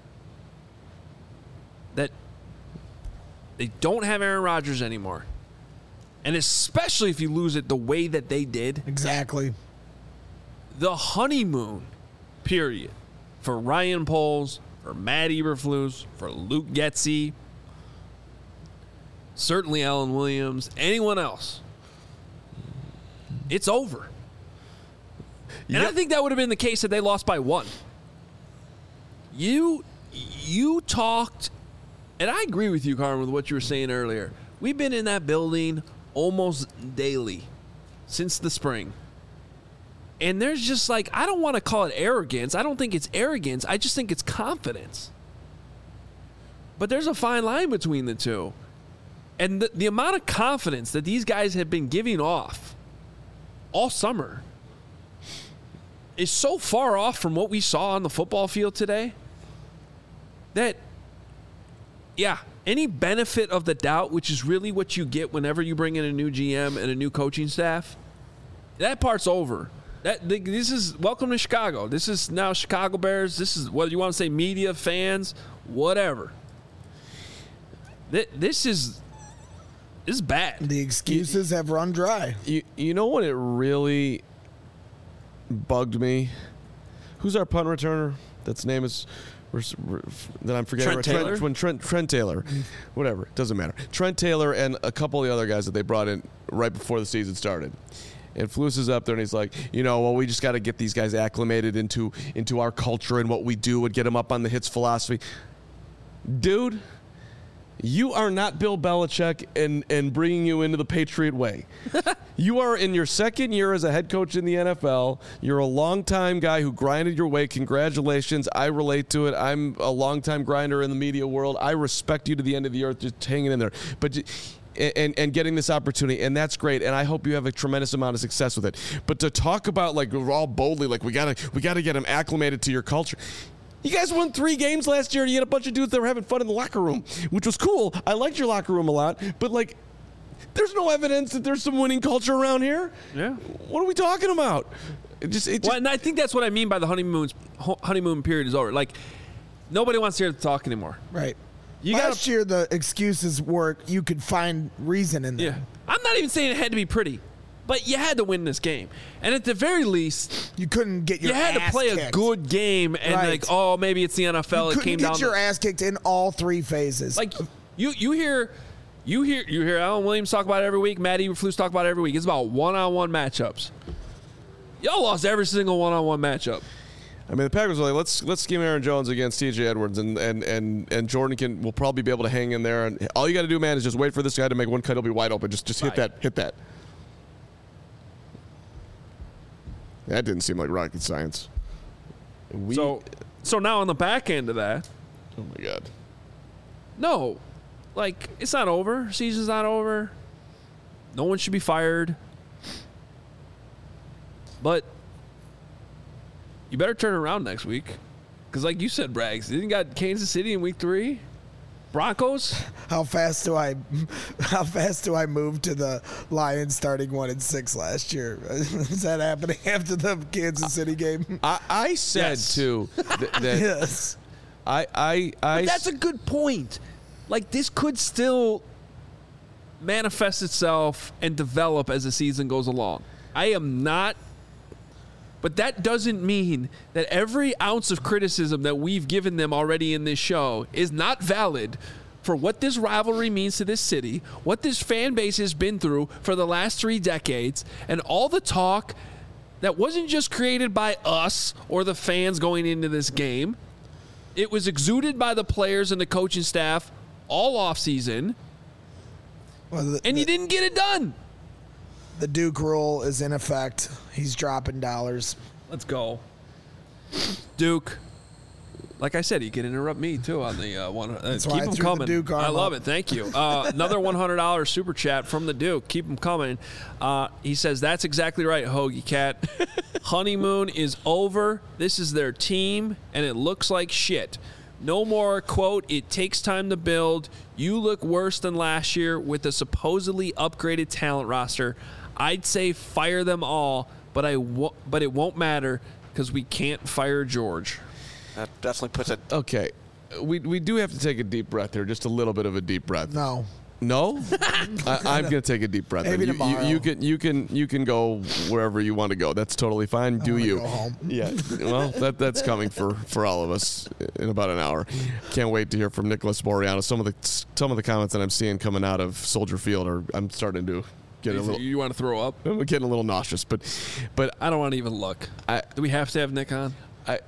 that they don't have Aaron Rodgers anymore, and especially if you lose it the way that they did. Exactly. The honeymoon period for Ryan Poles, for Matt Eberflus, for Luke Getsy, certainly Alan Williams, anyone else, it's over. And I think that would have been the case if they lost by 1. You talked, and I agree with you, Carmen, with what you were saying earlier. We've been in that building almost daily since the spring. And there's just I don't want to call it arrogance. I don't think it's arrogance. I just think it's confidence. But there's a fine line between the two. And the amount of confidence that these guys have been giving off all summer is so far off from what we saw on the football field today that, yeah, any benefit of the doubt, which is really what you get whenever you bring in a new GM and a new coaching staff, that part's over. This is welcome to Chicago. This is now Chicago Bears. This is, whether you want to say media, fans, whatever. This is bad. The excuses have run dry. You know what it really bugged me? Who's our punt returner? That's name is that I'm forgetting. Trent Taylor. Whatever, doesn't matter. Trent Taylor and a couple of the other guys that they brought in right before the season started. And Flus is up there and he's like, we just got to get these guys acclimated into our culture and what we do and get them up on the hits philosophy. Dude, you are not Bill Belichick and bringing you into the Patriot way. You are in your second year as a head coach in the NFL. You're a longtime guy who grinded your way. Congratulations. I relate to it. I'm a longtime grinder in the media world. I respect you to the end of the earth, just hanging in there. But and getting this opportunity, and that's great, and I hope you have a tremendous amount of success with it. But to talk about all boldly, we gotta get him acclimated to your culture. You guys won 3 games last year, and you had a bunch of dudes that were having fun in the locker room, which was cool. I liked your locker room a lot, but there's no evidence that there's some winning culture around here. Yeah. What are we talking about? Well, and I think that's what I mean by the honeymoon period is over. Like, nobody wants to hear the talk anymore. Right. Last year, the excuses were you could find reason in them. Yeah. I'm not even saying it had to be pretty, but you had to win this game. And at the very least, you couldn't get your ass kicked. You had to play kicked. A good game and maybe it's the NFL. You it came couldn't down get your ass kicked in all three phases. Like, you hear Alan Williams talk about it every week. Matt Eberflus talk about it every week. It's about one-on-one matchups. Y'all lost every single one-on-one matchup. I mean, the Packers were like, let's scheme Aaron Jones against T.J. Edwards, and Jordan will probably be able to hang in there. And all you got to do, man, is just wait for this guy to make one cut. He'll be wide open. Just hit that. That didn't seem like rocket science. So now on the back end of that. Oh my God. No, like, it's not over. Season's not over. No one should be fired. But you better turn around next week. Because like you said, Braggs, you got Kansas City in week 3? Broncos? How fast do I move to the Lions starting 1-6 last year? Is that happening after the Kansas City game? I said too that yes. But that's a good point. Like, this could still manifest itself and develop as the season goes along. I am not. But that doesn't mean that every ounce of criticism that we've given them already in this show is not valid for what this rivalry means to this city, what this fan base has been through for the last 3 decades, and all the talk that wasn't just created by us or the fans going into this game. It was exuded by the players and the coaching staff all offseason, and you didn't get it done. The Duke rule is in effect. He's dropping dollars. Let's go. Duke. Like I said, he can interrupt me, too, on the one. Keep them coming. I love it. Thank you. Another $100 super chat from the Duke. Keep them coming. He says, that's exactly right, Hoagie Cat. Honeymoon is over. This is their team, and it looks like shit. No more, quote, it takes time to build. You look worse than last year with a supposedly upgraded talent roster. I'd say fire them all, but it won't matter because we can't fire George. That definitely puts it. Okay, we do have to take a deep breath here, just a little bit of a deep breath. No. I'm going to take a deep breath. Maybe tomorrow. You can go wherever you want to go. That's totally fine. Do you? Go home. Yeah. Well, that's coming for all of us in about an hour. Can't wait to hear from Nicholas Moreano. Some of the comments that I'm seeing coming out of Soldier Field I'm starting to get a little. You want to throw up? I'm getting a little nauseous, but I don't want to even look. Do we have to have Nick on? I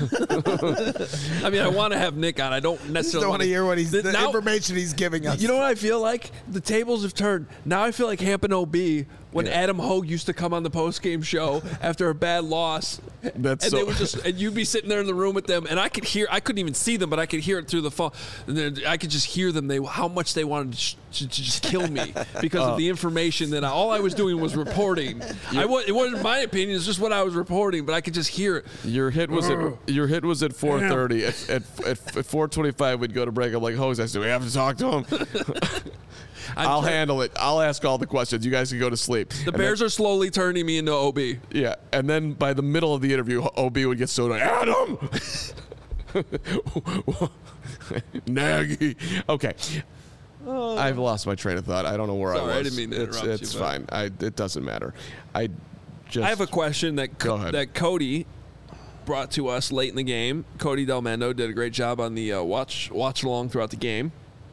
mean, I want to have Nick on. I don't necessarily want to hear what the information he's giving us. You know what I feel like? The tables have turned. Now I feel like Hampton OB when Adam Hogue used to come on the post-game show after a bad loss. They would and you'd be sitting there in the room with them, and I couldn't even see them, but I could hear it through the phone. And then I could just hear them. How much they wanted to just kill me because of the information that all I was doing was reporting. It wasn't my opinion. It's just what I was reporting, but I could just hear it. Your hit was at 4:30. At 4:25, we'd go to break. I'm like, Hogue, I said, we have to talk to him. I'll handle it. I'll ask all the questions. You guys can go to sleep. The Bears are slowly turning me into OB. Yeah, and then by the middle of the interview, OB would get so Adam! Nagy. Okay. I've lost my train of thought. I don't know where I was. I didn't mean to interrupt you. It's fine. It doesn't matter. I have a question that Cody brought to us late in the game. Cody Delmendo did a great job on the watch along throughout the game.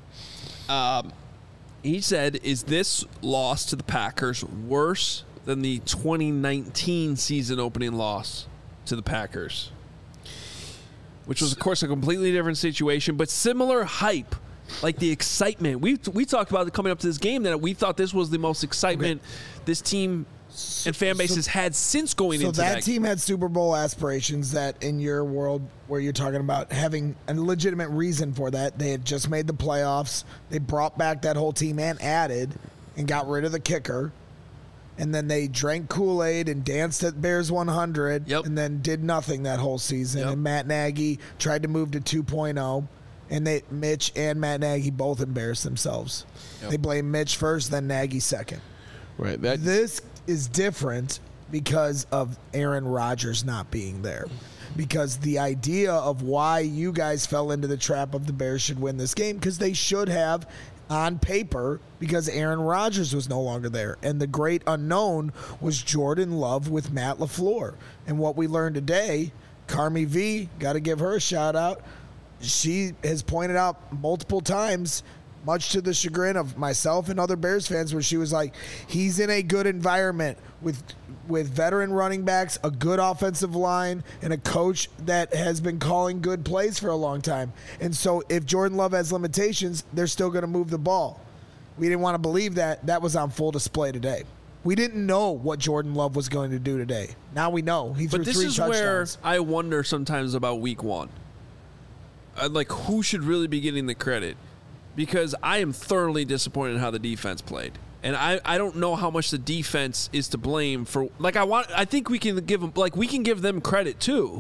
He said, is this loss to the Packers worse than the 2019 season opening loss to the Packers? Which was, of course, a completely different situation, but similar hype, like the excitement. We talked about it coming up to this game that we thought this was the most excitement this team and fan base has had since going into that. So that team had Super Bowl aspirations that in your world where you're talking about having a legitimate reason for that. They had just made the playoffs. They brought back that whole team and added and got rid of the kicker. And then they drank Kool-Aid and danced at Bears 100 and then did nothing that whole season. And Matt Nagy tried to move to 2.0. And Mitch and Matt Nagy both embarrassed themselves. They blame Mitch first, then Nagy second. Right. This is different because of Aaron Rodgers not being there. Because the idea of why you guys fell into the trap of the Bears should win this game, because they should have on paper, because Aaron Rodgers was no longer there. And the great unknown was Jordan Love with Matt LaFleur. And what we learned today, Carmi V, got to give her a shout out. She has pointed out multiple times, much to the chagrin of myself and other Bears fans, where she was like, he's in a good environment with veteran running backs, a good offensive line, and a coach that has been calling good plays for a long time. And so if Jordan Love has limitations, they're still going to move the ball. We didn't want to believe that. That was on full display today. We didn't know what Jordan Love was going to do today. Now we know. He threw 3 touchdowns. But this is where I wonder sometimes about week 1. Like, who should really be getting the credit? Because I am thoroughly disappointed in how the defense played. And I don't know how much the defense is to blame for. Like, I think we can give them, like, we can give them credit too.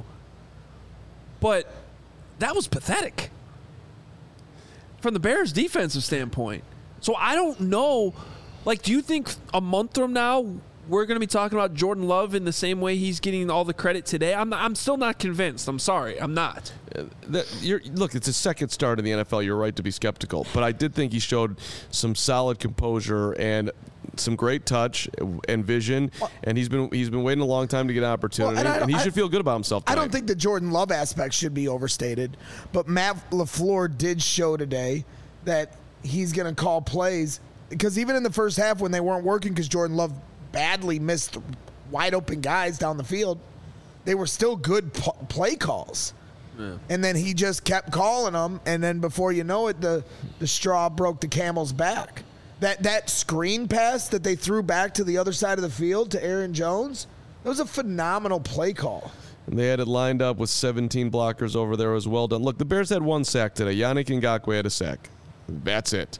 But that was pathetic from the Bears' defensive standpoint. So I don't know. Like, do you think a month from now we're going to be talking about Jordan Love in the same way he's getting all the credit today? I'm still not convinced. I'm sorry. I'm not. Look, it's his second start in the NFL. You're right to be skeptical. But I did think he showed some solid composure and some great touch and vision. And he's been waiting a long time to get an opportunity. And he should feel good about himself tonight. I don't think the Jordan Love aspect should be overstated. But Matt LaFleur did show today that he's going to call plays. Because even in the first half when they weren't working because Jordan Love badly missed wide open guys down the field, they were still good play calls. Yeah. And then he just kept calling them, and then before you know it, the straw broke the camel's back. That screen pass that they threw back to the other side of the field to Aaron Jones, that was a phenomenal play call. And they had it lined up with 17 blockers over there. It was well done. Look, the Bears had 1 sack today. Yannick Ngakoue had a sack. That's it.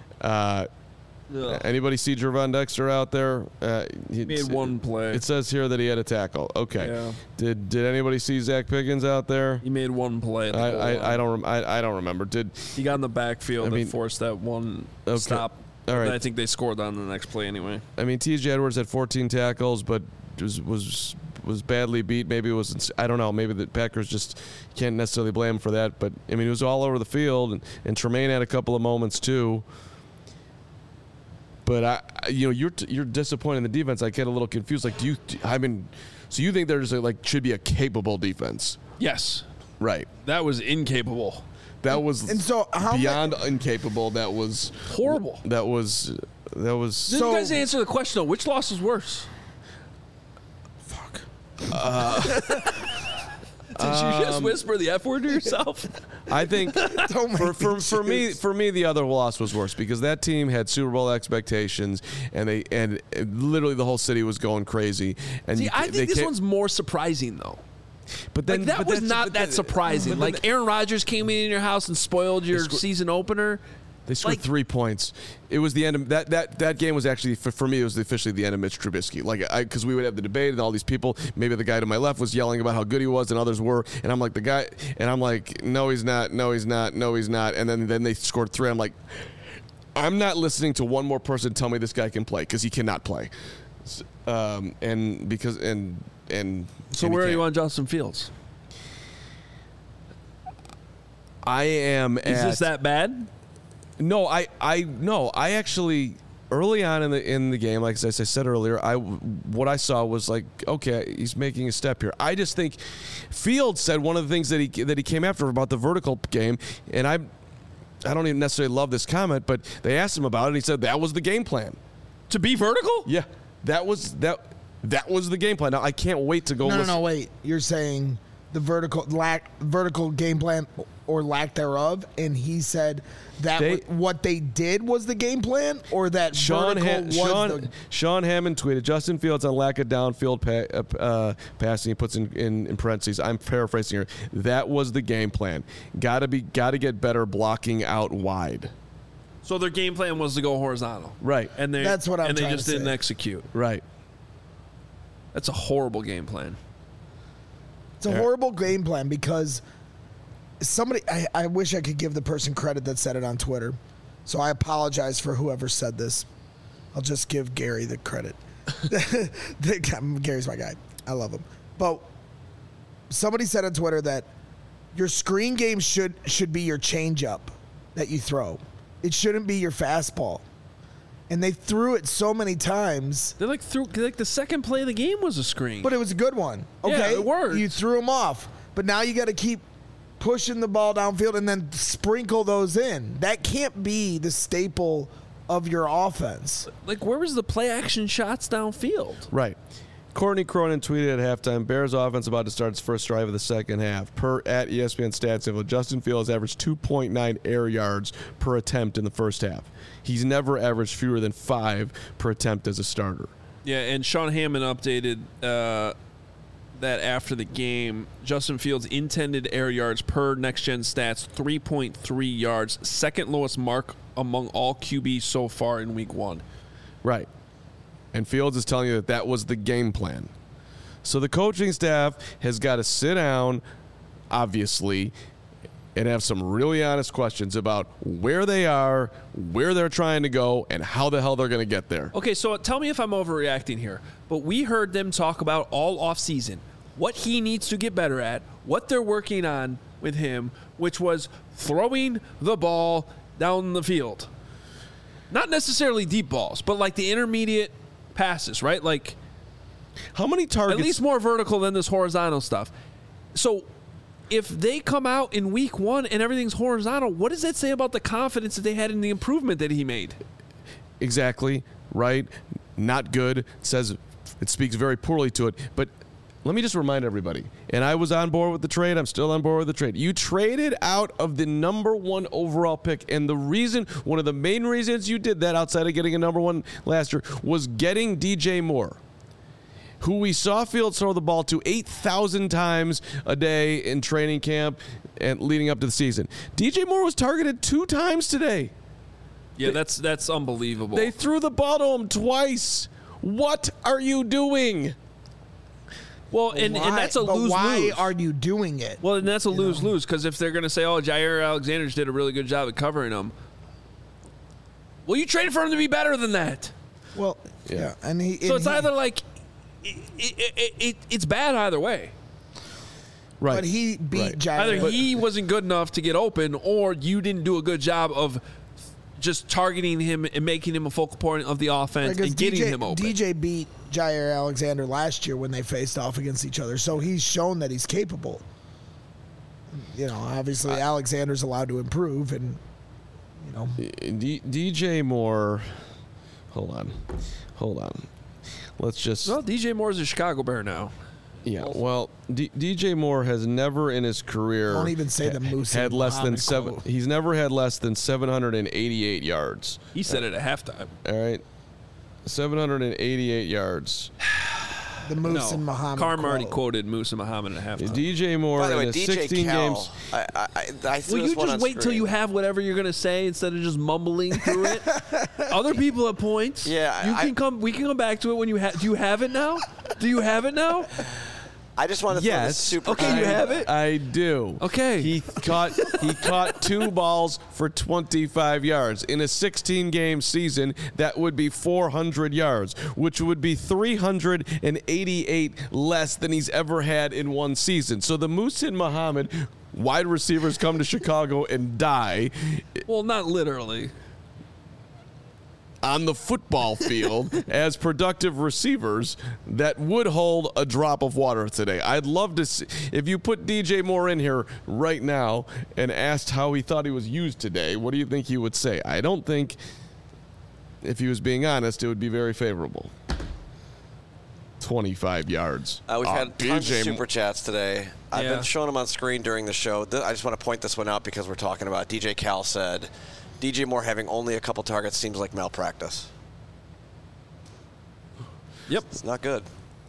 Anybody see Gervon Dexter out there? He made 1 play. It says here that he had a tackle. Okay. Yeah. Did anybody see Zach Piggins out there? He made 1 play. I don't remember. He got in the backfield and forced that one stop? All right. I think they scored on the next play anyway. I mean, T.J. Edwards had 14 tackles, but was badly beat. Maybe it was, I don't know. Maybe the Packers just can't necessarily blame him for that. But I mean, it was all over the field, and Tremaine had a couple of moments too. But you're disappointed in the defense. I get a little confused. Like, so you think there's should be a capable defense? Yes. Right. That was incapable. That was beyond incapable. That was horrible. That was. Did you guys answer the question though? Which loss was worse? Fuck. Did you just whisper the F word to yourself? I think for me the other loss was worse because that team had Super Bowl expectations and literally the whole city was going crazy. And see, I think this one's more surprising though. But then that was not that surprising. Like Aaron Rodgers came in your house and spoiled your season opener. They scored 3 points. It was the end of that game was actually for me. It was officially the end of Mitch Trubisky. Because we would have the debate and all these people. Maybe the guy to my left was yelling about how good he was, and others were. And I'm like no, he's not. No, he's not. No, he's not. And then they scored 3. I'm like, I'm not listening to one more person tell me this guy can play because he cannot play. So where are you on Justin Fields? I am. Is this that bad? No, I actually early on in the game, like as I said earlier, what I saw was like, okay, he's making a step here. I just think Fields said one of the things that he came after about the vertical game, and I don't even necessarily love this comment, but they asked him about it, and he said that was the game plan. To be vertical? Yeah, that was the game plan. Now I can't wait to go. No, wait. You're saying the vertical game plan or lack thereof, and he said that what they did was the game plan, or that Sean Hammond tweeted Justin Fields on lack of downfield passing. He puts in parentheses. I'm paraphrasing here. That was the game plan. Got to get better blocking out wide. So their game plan was to go horizontal, right? And that's what I'm and trying they just to didn't say. execute, right? That's a horrible game plan. It's a horrible game plan because somebody, I wish I could give the person credit that said it on Twitter. So I apologize for whoever said this. I'll just give Gary the credit. Gary's my guy. I love him. But somebody said on Twitter that your screen game should be your changeup that you throw. It shouldn't be your fastball. And they threw it so many times. They the second play of the game was a screen. But it was a good one. Okay, yeah, it worked. You threw them off. But now you got to keep pushing the ball downfield and then sprinkle those in. That can't be the staple of your offense. Like, where was the play action shots downfield? Right. Courtney Cronin tweeted at halftime, Bears offense about to start its first drive of the second half. Per at ESPN Stats Info, Justin Fields averaged 2.9 air yards per attempt in the first half. He's never averaged fewer than 5 per attempt as a starter. Yeah, and Sean Hammond updated that after the game, Justin Fields' intended air yards per Next Gen Stats, 3.3 yards, second lowest mark among all QBs so far in Week 1. Right. And Fields is telling you that was the game plan. So the coaching staff has got to sit down, obviously, and have some really honest questions about where they are, where they're trying to go, and how the hell they're going to get there. Okay, so tell me if I'm overreacting here, but we heard them talk about all offseason what he needs to get better at, what they're working on with him, which was throwing the ball down the field. Not necessarily deep balls, but like the intermediate passes, right? Like, how many targets? At least more vertical than this horizontal stuff. So if they come out in Week 1 and everything's horizontal, what does that say about the confidence that they had in the improvement that he made? Exactly, right? Not good. It speaks very poorly to it. But let me just remind everybody, and I was on board with the trade. I'm still on board with the trade. You traded out of the number 1 overall pick, and one of the main reasons you did that outside of getting a number 1 last year was getting DJ Moore, who we saw Fields throw the ball to 8,000 times a day in training camp and leading up to the season. DJ Moore was targeted 2 times today. Yeah, that's unbelievable. They threw the ball to him twice. What are you doing? Well, and that's a lose-lose. Why are you doing it? Well, and that's a lose-lose, because if they're going to say, oh, Jair Alexander did a really good job at covering him, well, you traded for him to be better than that. Well, yeah. So it's either like it's bad either way. Right. But he beat Jair. Either he wasn't good enough to get open, or you didn't do a good job of just targeting him and making him a focal point of the offense and getting him open. DJ beat Jair Alexander last year when they faced off against each other, so he's shown that he's capable. You know, obviously Alexander's allowed to improve, and you know, DJ Moore. Hold on. Let's just. Well, DJ Moore's a Chicago Bear now. Yeah, well, DJ Moore has never in his career. Don't even say the Moose had less than 7. He's never had less than 788 yards. He said it at halftime. All right, 788 yards. The Moose and Muhammad. Carm already quoted Moose and Muhammad at halftime. DJ Moore By the way, in DJ 16 Cal, games. I threw Will this you one just on wait till screen. you have whatever you're going to say instead of just mumbling through it? Other people have points. Yeah, we can come back to it when you have. Do you have it now? Do you have it now? I just want to throw this super. Okay, you have it? I do. Okay. He caught 2 balls for 25 yards. In a 16-game season, that would be 400 yards, which would be 388 less than he's ever had in one season. So the Muhsin Muhammad wide receivers come to Chicago and die. Well, not literally. On the football field as productive receivers that would hold a drop of water today. I'd love to see if you put DJ Moore in here right now and asked how he thought he was used today, what do you think he would say? I don't think, if he was being honest, it would be very favorable. 25 yards. We've had tons of DJ super chats today. I've been showing them on screen during the show. I just want to point this one out because we're talking about DJ Cal said, DJ Moore having only a couple targets seems like malpractice. Yep. It's not good.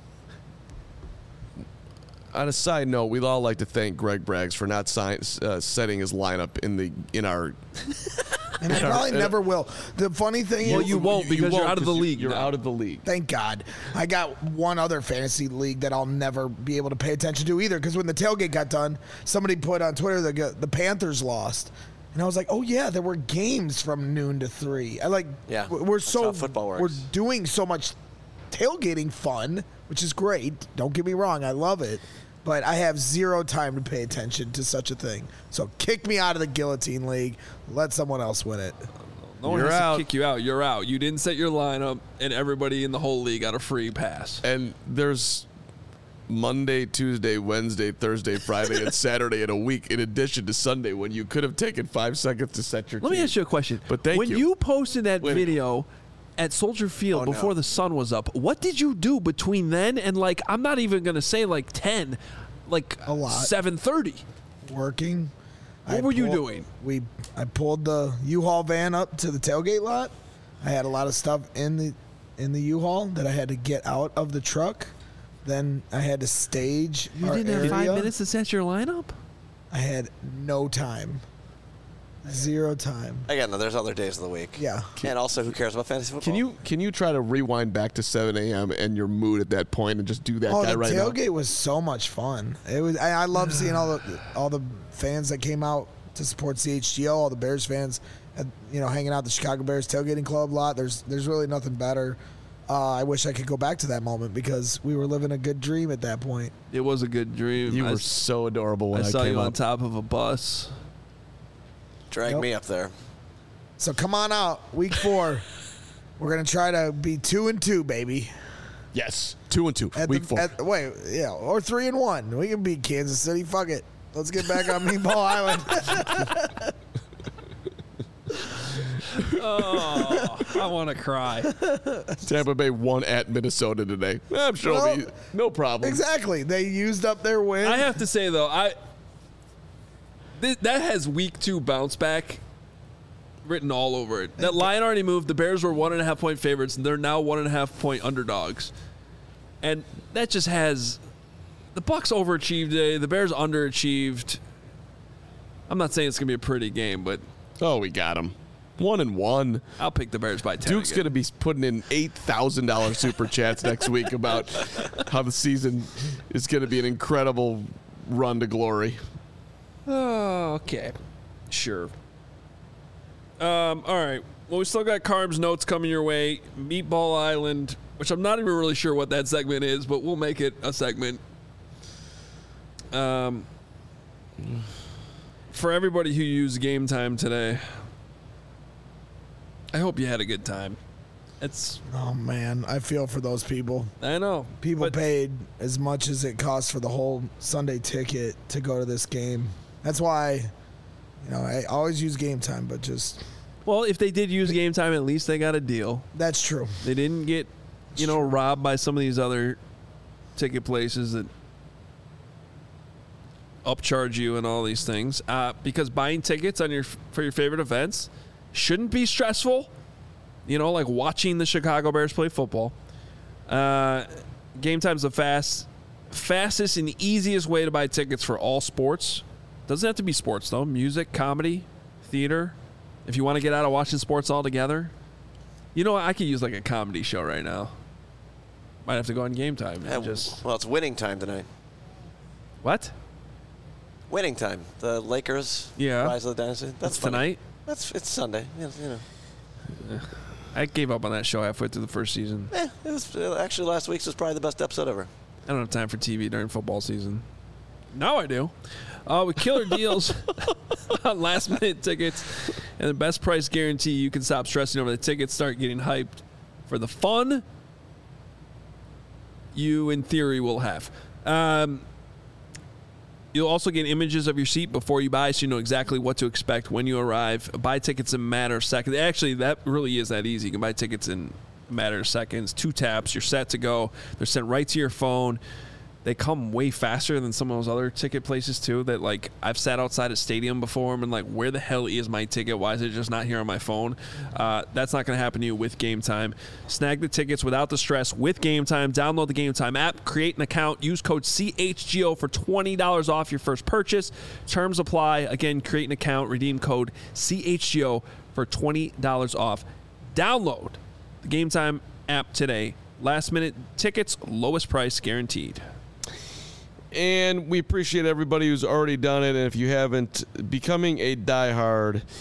On a side note, we'd all like to thank Greg Braggs for not setting his lineup in our. And I probably never will. The funny thing Well, is, you won't because you're out of the league. You're now. out of the league. thank God. I got one other fantasy league that I'll never be able to pay attention to either. Because when the tailgate got done, somebody put on Twitter the Panthers lost. And I was like, oh, yeah, there were games from noon to 3. Yeah, We're that's so how football works. We're doing so much tailgating fun, which is great. Don't get me wrong, I love it. But I have zero time to pay attention to such a thing. So kick me out of the Guillotine League. Let someone else win it. No one has to kick you out. You're out. You didn't set your lineup, and everybody in the whole league got a free pass. And there's Monday, Tuesday, Wednesday, Thursday, Friday, and Saturday in a week, in addition to Sunday, when you could have taken 5 seconds to set your team. Let me ask you a question. But thank when you posted that video at Soldier Field before the sun was up, what did you do between then and, like, I'm not even going to say, like, 10, like, a lot. 7:30? Working. What were you doing? I pulled the U-Haul van up to the tailgate lot. I had a lot of stuff in the U-Haul that I had to get out of the truck. Then I had to stage You our didn't have area. 5 minutes to set your lineup? I had no time. Zero time. Again, there's other days of the week. Yeah. And also, who cares about fantasy football? Can you try to rewind back to 7 a.m. and your mood at that point and just do that guy right now? The tailgate was so much fun. It was. I love seeing all the fans that came out to support CHGO. All the Bears fans, hanging out at the Chicago Bears tailgating club lot. There's really nothing better. I wish I could go back to that moment because we were living a good dream at that point. It was a good dream. You were so adorable when I saw came you on up. top of a bus. Drag me up there. So come on out, week 4. We're gonna try to be 2-2, baby. Yes, 2-2. Week 4. Or 3-1. We can beat Kansas City. Fuck it. Let's get back on Meatball Island. Oh, I want to cry. Tampa Bay won at Minnesota today. I'm sure it'll be no problem. Exactly. They used up their win. I have to say, though, that has week 2 bounce back written all over it. That line already moved. The Bears were 1.5 point favorites, and they're now 1.5 point underdogs. And that just has the Bucs overachieved today. The Bears underachieved. I'm not saying it's going to be a pretty game, but we got them. 1-1. I'll pick the Bears by 10. Duke's going to be putting in $8,000 super chats next week about how the season is going to be an incredible run to glory. Oh, okay. Sure. All right. Well, we still got Carbs notes coming your way. Meatball Island, which I'm not even really sure what that segment is, but we'll make it a segment. For everybody who used Game Time today, I hope you had a good time. Oh, man. I feel for those people. I know. People paid as much as it cost for the whole Sunday ticket to go to this game. That's why, I always use Game Time, but just... Well, if they did use Game Time, at least they got a deal. That's true. They didn't get, robbed by some of these other ticket places that upcharge you and all these things. Because buying tickets for your favorite events shouldn't be stressful. Like watching the Chicago Bears play football. Game Time's the fastest and easiest way to buy tickets for all sports. Doesn't have to be sports, though. Music, comedy, theater. If you want to get out of watching sports altogether. I could use like a comedy show right now. Might have to go on Game Time. Well, it's winning time tonight. What? Winning time. The Lakers. Rise of the Dynasty. That's tonight. It's Sunday. I gave up on that show halfway through the first season. It was actually last week's was probably the best episode ever. I don't have time for TV during football season. Now I do. With killer deals on last-minute tickets and the best price guarantee, you can stop stressing over the tickets, start getting hyped for the fun you, in theory, will have. You'll also get images of your seat before you buy, so you know exactly what to expect when you arrive. Buy tickets in a matter of seconds. Actually, that really is that easy. You can buy tickets in a matter of seconds. 2 taps, you're set to go. They're sent right to your phone. They come way faster than some of those other ticket places, too, that, like, I've sat outside a stadium before and been like, where the hell is my ticket? Why is it just not here on my phone? That's not going to happen to you with Game Time. Snag the tickets without the stress with Game Time. Download the Game Time app, create an account, use code CHGO for $20 off your first purchase. Terms apply. Again, create an account, redeem code CHGO for $20 off. Download the Game Time app today. Last minute tickets, lowest price guaranteed. And we appreciate everybody who's already done it. And if you haven't, becoming a diehard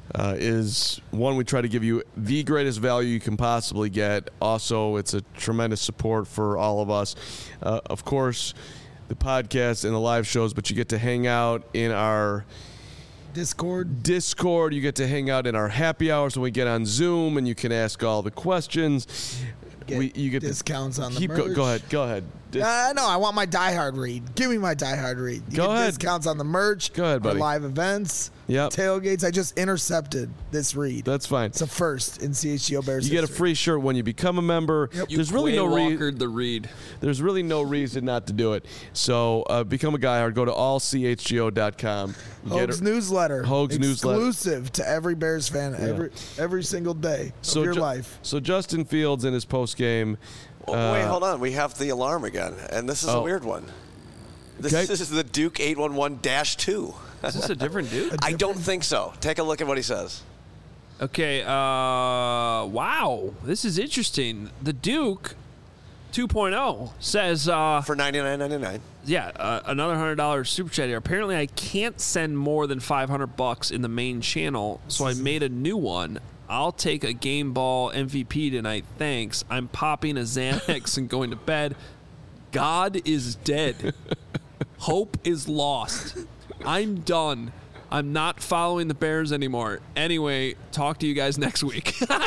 is one, we try to give you the greatest value you can possibly get. Also, it's a tremendous support for all of us. Of course, the podcast and the live shows, but you get to hang out in our Discord. You get to hang out in our happy hours when we get on Zoom, and you can ask all the questions. You get discounts on the merch. Go ahead. No, I want my Die Hard read. Give me my Die Hard read. You Go get ahead. Discounts on the merch. Go ahead, buddy. Our live events. Yep. Tailgates. I just intercepted this read. That's fine. It's a first in CHGO Bears You get a history. free shirt when you become a member. Yep. You There's really no reason. the read. There's really no reason not to do it. So become a guy hard. Go to allchgo.com. Hogs newsletter. Hogs newsletter. Exclusive to every Bears fan every single day of your life. So Justin Fields in his post game. Wait, hold on. We have the alarm again, and this is a weird one. This is the Duke 811-2. Is this a different dude? I don't think so. Take a look at what he says. Okay, wow. This is interesting. The Duke 2.0 says... For $99.99. Yeah, another $100 super chat here. Apparently, I can't send more than $500 in the main channel, so I made a new one. I'll take a game ball MVP tonight. Thanks. I'm popping a Xanax and going to bed. God is dead. Hope is lost. I'm done. I'm not following the Bears anymore. Anyway, talk to you guys next week. Is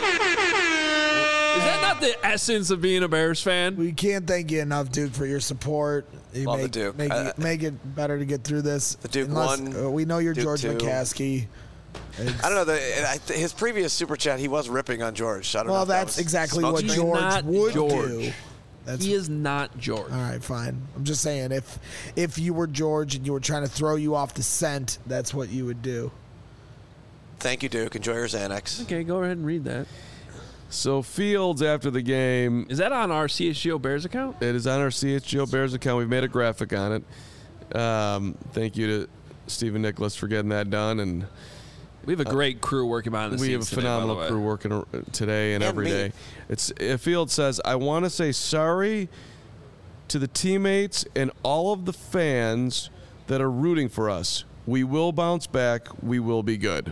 that not the essence of being a Bears fan? We can't thank you enough, Duke, for your support. Love the Duke. Make it better to get through this. The Duke won. We know you're Duke George 2. McCaskey. I don't know. His previous super chat, he was ripping on George. I don't know if that's exactly what He's George not would George. do. He is not George. All right, fine. I'm just saying, if you were George and you were trying to throw you off the scent, that's what you would do. Thank you, Duke. Enjoy your Xanax. Okay, go ahead and read that. So Fields after the game. Is that on our CHGO Bears account? It is on our CHGO Bears account. We've made a graphic on it. Thank you to Stephen Nicholas for getting that done. And we have a great crew working behind the scenes. We have a phenomenal crew working today and every day. Field says, I want to say sorry to the teammates and all of the fans that are rooting for us. We will bounce back. We will be good.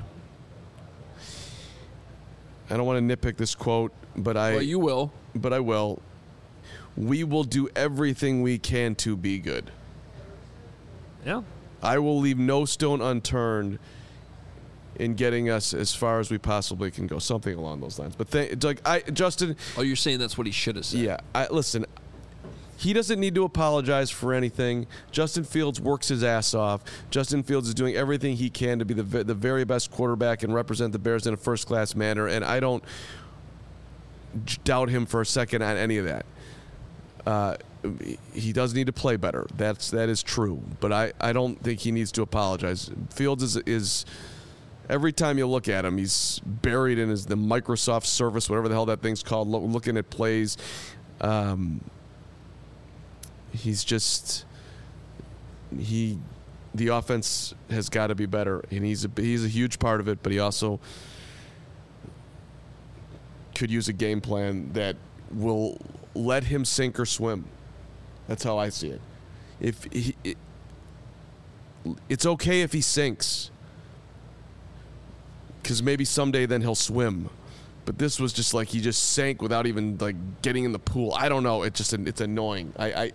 I don't want to nitpick this quote, but Well, you will. But I will. We will do everything we can to be good. Yeah. I will leave no stone unturned in getting us as far as we possibly can go. Something along those lines. But Justin. Oh, you're saying that's what he should have said. Yeah. Listen. He doesn't need to apologize for anything. Justin Fields works his ass off. Justin Fields is doing everything he can to be the very best quarterback and represent the Bears in a first-class manner, and I don't doubt him for a second on any of that. He does need to play better. That is true, but I don't think he needs to apologize. Fields is every time you look at him, he's buried in the Microsoft Surface, whatever the hell that thing's called, looking at plays. He's just the offense has got to be better, and he's a huge part of it. But he also could use a game plan that will let him sink or swim. That's how I see it. It's okay if he sinks, because maybe someday then he'll swim. But this was just like he just sank without even like getting in the pool. I don't know. It's annoying.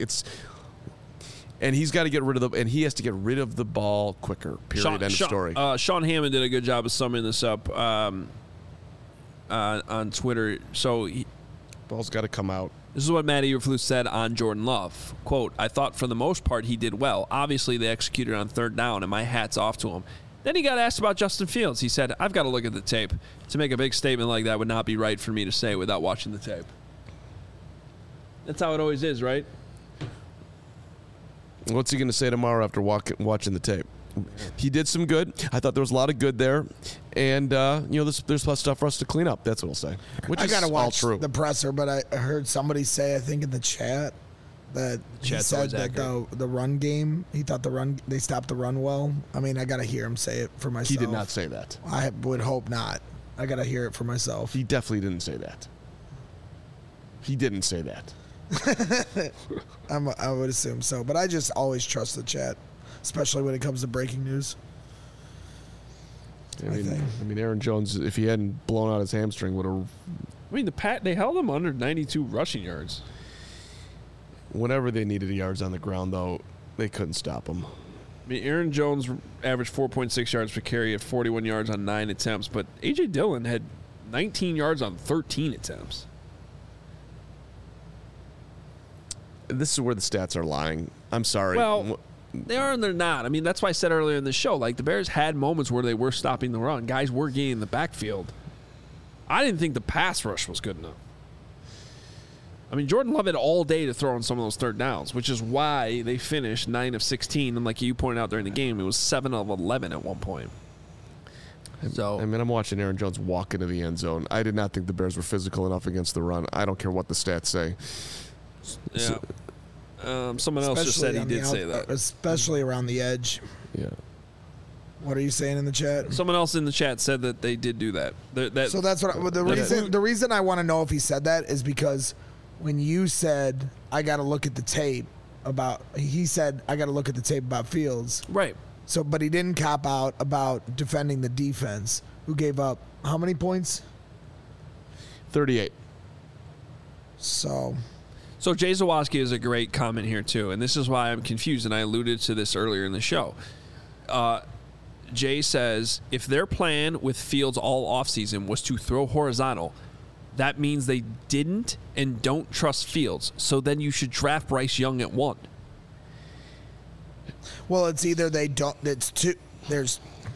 And he's got to get rid of and he has to get rid of the ball quicker. Period. End of story. Sean Hammond did a good job of summing this up on Twitter. So ball's got to come out. This is what Matt Eberflus said on Jordan Love. Quote, I thought for the most part he did well. Obviously they executed on third down, and my hat's off to him. Then he got asked about Justin Fields. He said, I've got to look at the tape. To make a big statement like that would not be right for me to say without watching the tape. That's how it always is, right? What's he going to say tomorrow after watching the tape? He did some good. I thought there was a lot of good there. And, there's plus stuff for us to clean up. That's what I'll say. I got to watch the presser, but I heard somebody say, I think in the chat, that he said that the run game, he thought they stopped the run well. I mean, I got to hear him say it for myself. He did not say that. I would hope not. I got to hear it for myself. He definitely didn't say that. He didn't say that. I would assume so, but I just always trust the chat, especially when it comes to breaking news. I mean, Aaron Jones, if he hadn't blown out his hamstring, would have. I mean, they held him under 92 rushing yards. Whenever they needed yards on the ground, though, they couldn't stop him. I mean, Aaron Jones averaged 4.6 yards per carry at 41 yards on 9 attempts, but A.J. Dillon had 19 yards on 13 attempts. This is where the stats are lying. I'm sorry. Well, they are and they're not. I mean, that's why I said earlier in the show, like, the Bears had moments where they were stopping the run. Guys were getting the backfield. I didn't think the pass rush was good enough. I mean, Jordan Love had all day to throw on some of those third downs, which is why they finished 9 of 16. And like you pointed out during the game, it was 7 of 11 at one point. So I mean, I'm watching Aaron Jones walk into the end zone. I did not think the Bears were physical enough against the run. I don't care what the stats say. Yeah. Someone else just said he did say that. Especially around the edge. Yeah. What are you saying in the chat? Someone else in the chat said that they did do that. So that's what the reason I want to know if he said that is because when you said I got to look at the tape about, he said I got to look at the tape about Fields. Right. So, but he didn't cop out about defending the defense, who gave up how many points? 38. So Jay Zawoski is a great comment here too, and this is why I'm confused, and I alluded to this earlier in the show. Jay says if their plan with Fields all offseason was to throw horizontal, that means they didn't and don't trust Fields. So then you should draft Bryce Young at 1. Well, it's either they don't. It's two. There's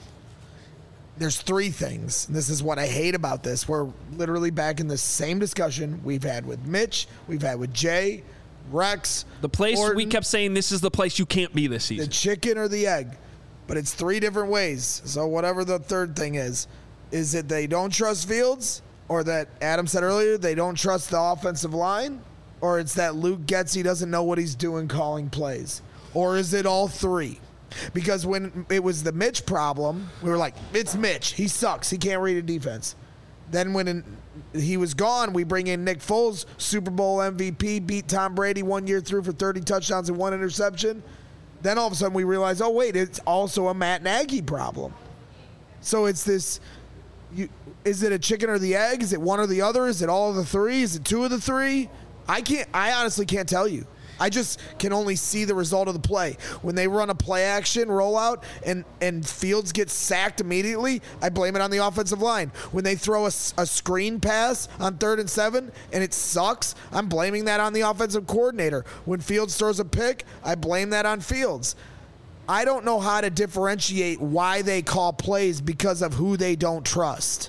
3 things. And this is what I hate about this. We're literally back in the same discussion we've had with Mitch, we've had with Jay, Rex. The place Orton, we kept saying this is the place you can't be this season. The chicken or the egg. But it's 3 different ways. So whatever the third thing is it they don't trust Fields, or that Adam said earlier, they don't trust the offensive line, or it's that Luke Getsy doesn't know what he's doing calling plays, or is it all 3? Because when it was the Mitch problem, we were like, it's Mitch. He sucks. He can't read a defense. Then when he was gone, we bring in Nick Foles, Super Bowl MVP, beat Tom Brady 1 year through for 30 touchdowns and 1 interception. Then all of a sudden we realize, oh, wait, it's also a Matt Nagy problem. So it's this, is it a chicken or the egg? Is it one or the other? Is it all of the 3? Is it 2 of the 3? I honestly can't tell you. I just can only see the result of the play. When they run a play action rollout and Fields gets sacked immediately, I blame it on the offensive line. When they throw a screen pass on 3rd and 7 and it sucks, I'm blaming that on the offensive coordinator. When Fields throws a pick, I blame that on Fields. I don't know how to differentiate why they call plays because of who they don't trust.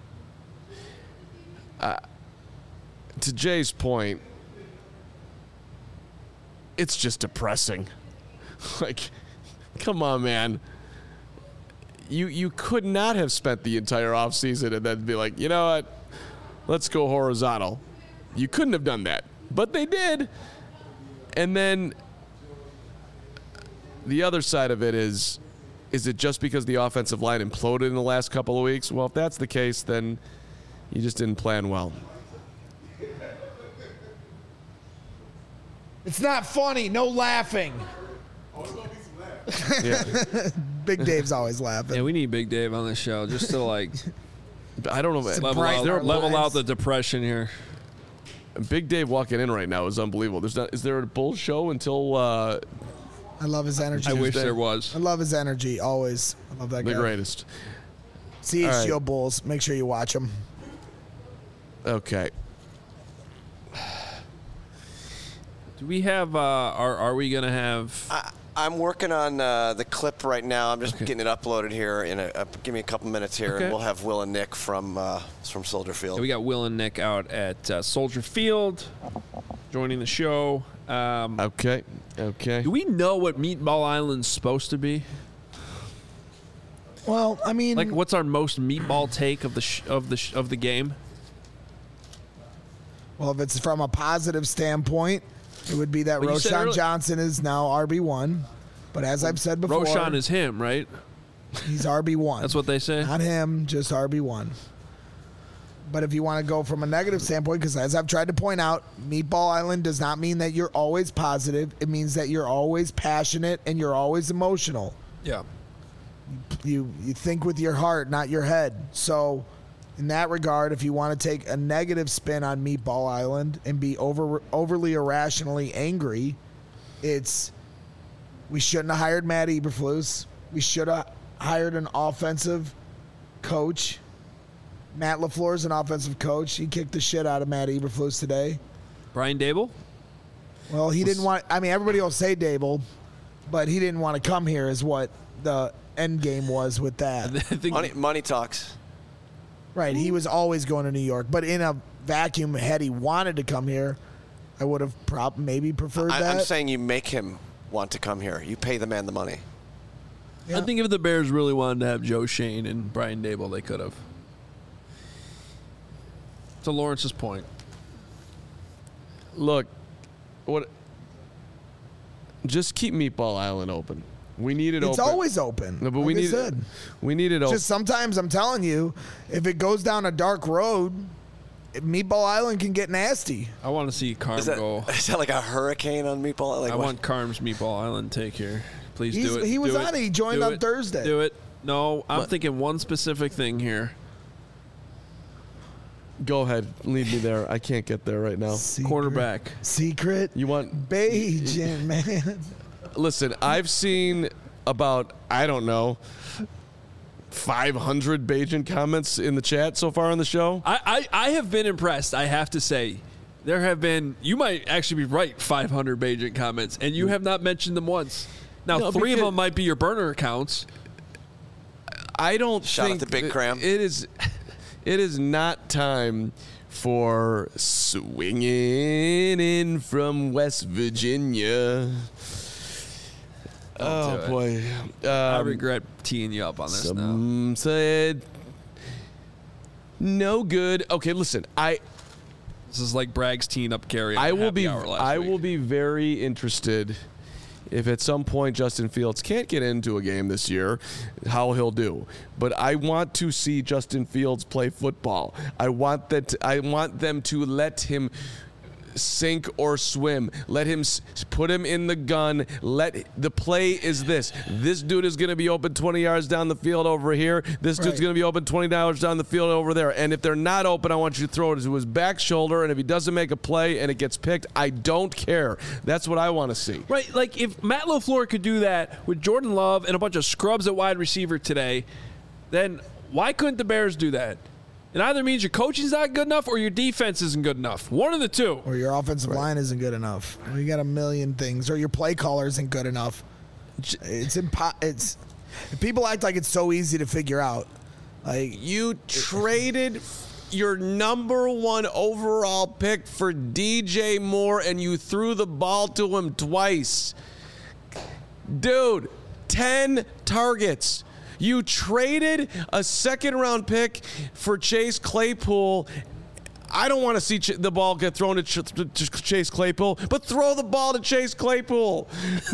To Jay's point, it's just depressing. Like, come on, man. You could not have spent the entire offseason and then be like, you know what? Let's go horizontal. You couldn't have done that. But they did. And then the other side of it is it just because the offensive line imploded in the last couple of weeks? Well, if that's the case, then you just didn't plan well. It's not funny. No laughing. Yeah. Big Dave's always laughing. Yeah, we need Big Dave on this show just to like I don't know. level out the depression here. Big Dave walking in right now is unbelievable. Is there a Bulls show until? I love his energy. I wish there was. I love his energy always. I love that guy. The greatest. CHGO right. Bulls. Make sure you watch them. Okay. Do we have? Are we gonna have? I'm working on the clip right now. I'm just getting it uploaded here. Give me a couple minutes here, and we'll have Will and Nick from Soldier Field. We got Will and Nick out at Soldier Field, joining the show. Okay. Do we know what Meatball Island's supposed to be? Well, I mean, like, what's our most meatball take of the game? Well, if it's from a positive standpoint, it would be that Well, Roschon Johnson is now RB1. But as I've said before, Roschon is him, right? He's RB1. That's what they say? Not him, just RB1. But if you want to go from a negative standpoint, because as I've tried to point out, Meatball Island does not mean that you're always positive. It means that you're always passionate and you're always emotional. Yeah. You think with your heart, not your head. So in that regard, if you want to take a negative spin on Meatball Island and be overly irrationally angry, it's we shouldn't have hired Matt Eberflus. We should have hired an offensive coach. Matt LaFleur is an offensive coach. He kicked the shit out of Matt Eberflus today. Brian Daboll? Well, he didn't want – I mean, everybody will say Daboll, but he didn't want to come here is what the end game was with that. Money talks. Right. He was always going to New York. But in a vacuum, had he wanted to come here, I would have maybe preferred that. I'm saying you make him want to come here. You pay the man the money. Yeah. I think if the Bears really wanted to have Joe Shane and Brian Daboll, they could have. To Lawrence's point. Look, just keep Meatball Island open. We need it open. It's always open. No, but like we need it open. Just sometimes I'm telling you, if it goes down a dark road, Meatball Island can get nasty. I want to see Carm go. Is that like a hurricane on Meatball Island? I want Carm's Meatball Island take here. Please do it. He was on it. He joined on Thursday. Do it. No, I'm thinking one specific thing here. Go ahead. Lead me there. I can't get there right now. Quarterback. Secret. You want Bajan, man. Listen, I've seen about, I don't know, 500 Bajan comments in the chat so far on the show. I have been impressed, I have to say. There have been, you might actually be right, 500 Bajan comments, and you have not mentioned them once. Now, No, 3 of them might be your burner accounts. I don't Shout think out to Big Cram. It is not time for swinging in from West Virginia. Oh, boy. I regret teeing you up on this now. Some said no good. Okay, listen. This is like Bragg's teeing up Gary on I will Happy Hour last week. will be very interested if at some point Justin Fields can't get into a game this year, how he'll do. But I want to see Justin Fields play football. I want them to let him sink or swim. Let him put him in the gun. The play is this. This dude is going to be open 20 yards down the field over here. This dude's going to be open 20 yards down the field over there. And if they're not open, I want you to throw it to his back shoulder. And if he doesn't make a play and it gets picked, I don't care. That's what I want to see. Right, like if Matt LaFleur could do that with Jordan Love and a bunch of scrubs at wide receiver today, then why couldn't the Bears do that? It either means your coaching's not good enough or your defense isn't good enough. One of the two. Or your offensive line isn't good enough. Or you got a million things. Or your play caller isn't good enough. It's people act like it's so easy to figure out. Like you traded your number 1 overall pick for DJ Moore and you threw the ball to him twice. Dude, 10 targets. You traded a second-round pick for Chase Claypool. I don't want to see the ball get thrown to Chase Claypool, but throw the ball to Chase Claypool.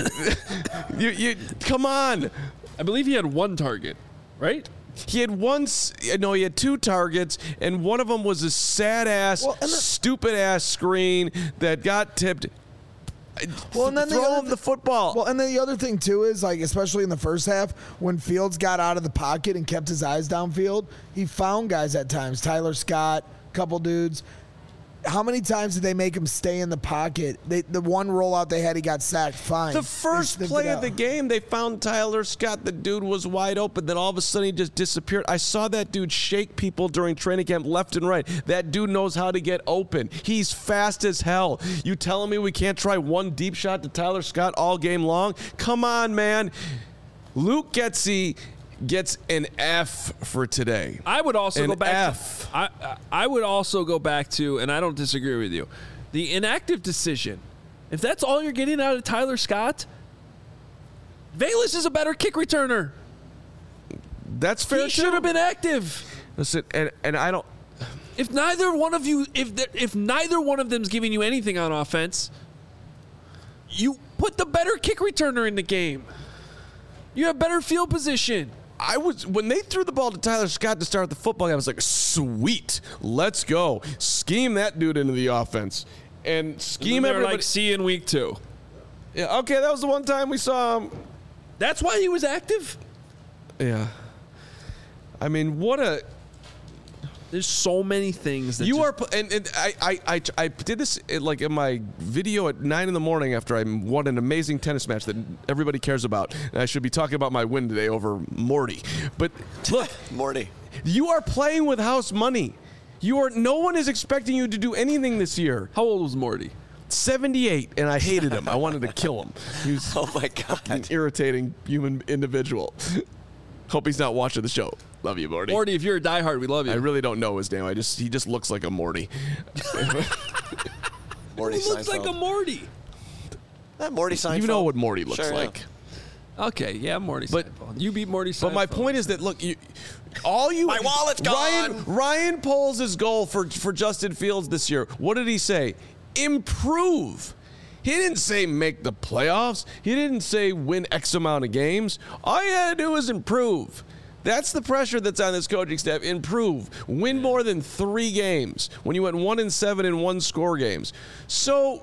you come on. I believe he had 1 target, right? He had he had 2 targets, and one of them was a sad-ass, stupid-ass screen that got tipped. Well, and then throw him the football. Well, and then the other thing too is like, especially in the first half, when Fields got out of the pocket and kept his eyes downfield, he found guys at times. Tyler Scott, couple dudes. How many times did they make him stay in the pocket? The one rollout they had, he got sacked. Fine. The first play of the game, they found Tyler Scott. The dude was wide open. Then all of a sudden, he just disappeared. I saw that dude shake people during training camp left and right. That dude knows how to get open. He's fast as hell. You telling me we can't try one deep shot to Tyler Scott all game long? Come on, man. Luke Getsy gets an F for today. I would also go back F. I would also go back to, and I don't disagree with you, the inactive decision. If that's all you're getting out of Tyler Scott, Velus is a better kick returner. That's fair. He should have been active. Listen, and I don't. If neither one of you, if neither one of them's giving you anything on offense, you put the better kick returner in the game. You have better field position. When they threw the ball to Tyler Scott to start the football game, I was like, sweet, let's go. Scheme that dude into the offense. And scheme everybody. Like, see you in week 2. Yeah, okay, that was the one time we saw him. That's why he was active? Yeah. I mean, what a... There's so many things that You are... And I did this like in my video at 9 in the morning after I won an amazing tennis match that everybody cares about. And I should be talking about my win today over Morty. But look... Morty. You are playing with house money. No one is expecting you to do anything this year. How old was Morty? 78, and I hated him. I wanted to kill him. He was Oh my God. an irritating human individual. Hope he's not watching the show. Love you, Morty. Morty, if you're a diehard, we love you. I really don't know his name. He just looks like a Morty. Morty He looks Seinfeld. like a Morty. That Morty Seinfeld. You know what Morty looks Sure, yeah. like. Okay, yeah, Morty. But- Seinfeld. You beat Morty. But my Seinfeld. point is that look, My wallet's gone. Ryan Poles' goal for Justin Fields this year. What did he say? Improve. He didn't say make the playoffs. He didn't say win X amount of games. All you had to do was improve. That's the pressure that's on this coaching staff. Improve. Win more than 3 games when you went 1-7 in 1-score games. So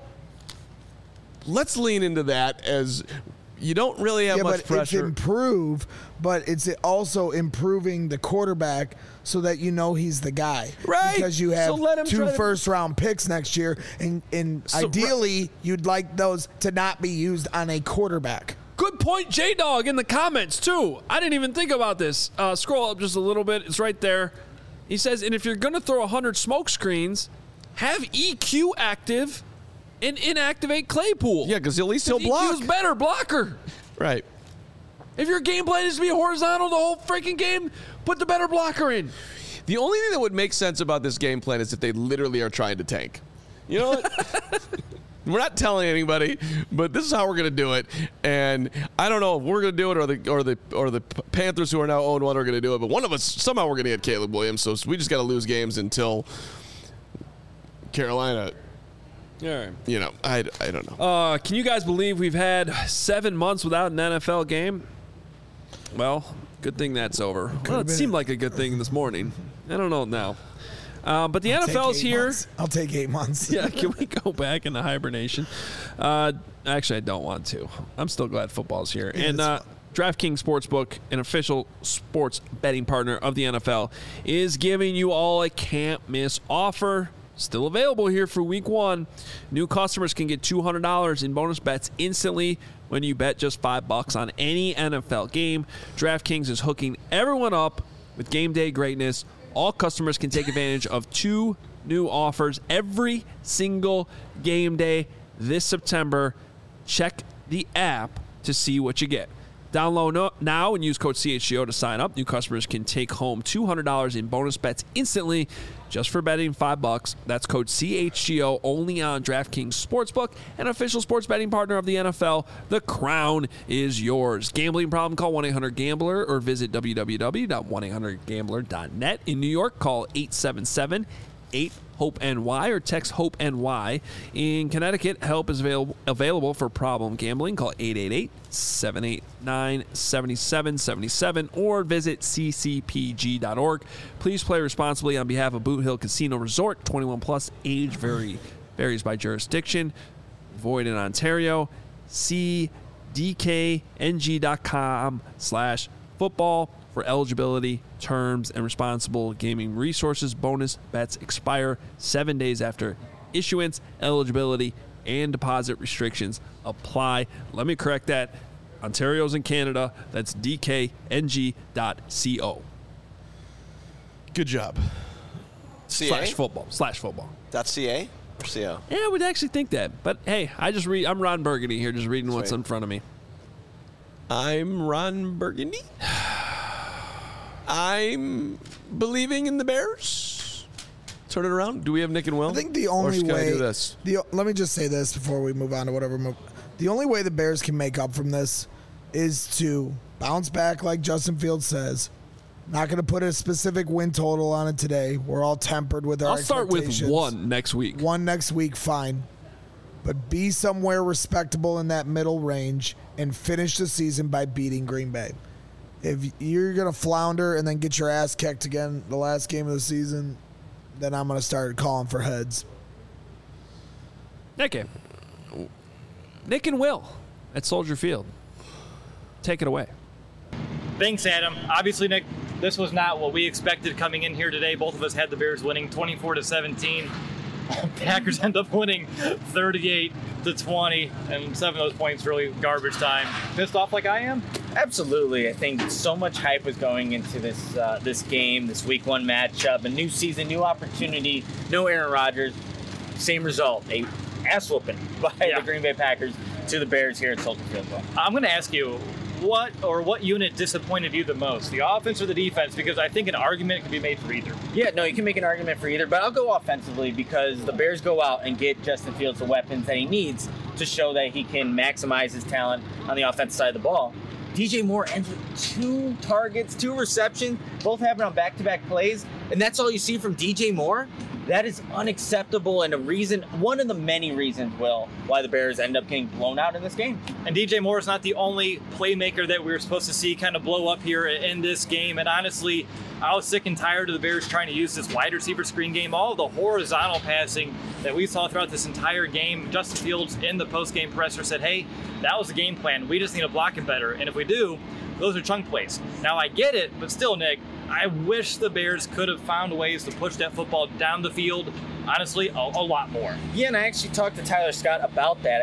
let's lean into that as you don't really have much but pressure. it's improve, but it's also improving the quarterback so that you know he's the guy. Right. Because you So have let him 2 try to- first-round picks next year, and So- ideally you'd like those to not be used on a quarterback. Good point, J-Dog, in the comments, too. I didn't even think about this. Scroll up just a little bit. It's right there. He says, and if you're going to throw 100 smoke screens, have EQ active and inactivate Claypool. Yeah, because at least he'll block. EQ's better blocker. Right. If your game plan is to be horizontal the whole freaking game, put the better blocker in. The only thing that would make sense about this game plan is if they literally are trying to tank. You know what? We're not telling anybody, but this is how we're going to do it. And I don't know if we're going to do it or the Panthers, who are now 0-1, are going to do it. But one of us, somehow we're going to get Caleb Williams. So we just got to lose games until Carolina. All right. You know, I don't know. Can you guys believe we've had 7 months without an NFL game? Well, good thing that's over. Well, it seemed like a good thing this morning. I don't know now. But the NFL's here. I'll take 8 months. Yeah, can we go back into hibernation? Actually, I don't want to. I'm still glad football's here. Yeah, And it's DraftKings Sportsbook, an official sports betting partner of the NFL, is giving you all a can't-miss offer. Still available here for Week 1. New customers can get $200 in bonus bets instantly when you bet just $5 on any NFL game. DraftKings is hooking everyone up with game day greatness. All customers can take advantage of 2 new offers every single game day this September. Check the app to see what you get. Download now and use code CHGO to sign up. New customers can take home $200 in bonus bets instantly just for betting $5. That's code CHGO only on DraftKings Sportsbook, an official sports betting partner of the NFL. The crown is yours. Gambling problem? Call 1-800-GAMBLER or visit www.1800gambler.net. In New York, call 877-8-HOPE-NY or text HOPE-NY. In Connecticut, help is available for problem gambling. Call 888-789-7777 or visit ccpg.org. Please play responsibly on behalf of Boot Hill Casino Resort. 21 plus, age varies by jurisdiction. Void in Ontario. See dkng.com/football for eligibility, terms, and responsible gaming resources. Bonus bets expire 7 days after issuance. Eligibility and deposit restrictions apply. Let me correct that. Ontario's in Canada. That's dkng.co. Good job. CA? /football. That's CA or CO? Yeah, I would actually think that. But hey, I'm Ron Burgundy here, just reading what's Sweet. in front of me. I'm Ron Burgundy. I'm believing in the Bears. Turn it around. Do we have Nick and Will? I think the Or only should I way. do this? Let me just say this before we move on to whatever move. The only way the Bears can make up from this is to bounce back, like Justin Fields says. Not going to put a specific win total on it today. We're all tempered with our I'll start with expectations. 1 next week. 1 next week, fine. But be somewhere respectable in that middle range and finish the season by beating Green Bay. If you're going to flounder and then get your ass kicked again the last game of the season, then I'm going to start calling for heads. Okay. Nick and Will at Soldier Field. Take it away. Thanks, Adam. Obviously, Nick, this was not what we expected coming in here today. Both of us had the Bears winning 24-17. Packers end up winning 38-20, and 7 of those points really garbage time. Pissed off like I am? Absolutely. I think so much hype was going into this game, this Week 1 matchup, a new season, new opportunity, no Aaron Rodgers. Same result, a ass whooping by the Green Bay Packers to the Bears here at Soldier Field. I'm going to ask you, what unit disappointed you the most, the offense or the defense? Because I think an argument can be made for either. Yeah, no, you can make an argument for either, but I'll go offensively because the Bears go out and get Justin Fields the weapons that he needs to show that he can maximize his talent on the offensive side of the ball. DJ Moore ends with 2 targets, 2 receptions, both happened on back-to-back plays, and that's all you see from DJ Moore? That is unacceptable and one of the many reasons, Will, why the Bears end up getting blown out in this game. And DJ Moore is not the only playmaker that we were supposed to see kind of blow up here in this game. And honestly, I was sick and tired of the Bears trying to use this wide receiver screen game. All of the horizontal passing that we saw throughout this entire game. Justin Fields in the post-game presser said, hey, that was the game plan. We just need to block it better. And if we do, those are chunk plays. Now, I get it, but still, Nick, I wish the Bears could have found ways to push that football down the field, honestly, a lot more. Yeah, and I actually talked to Tyler Scott about that.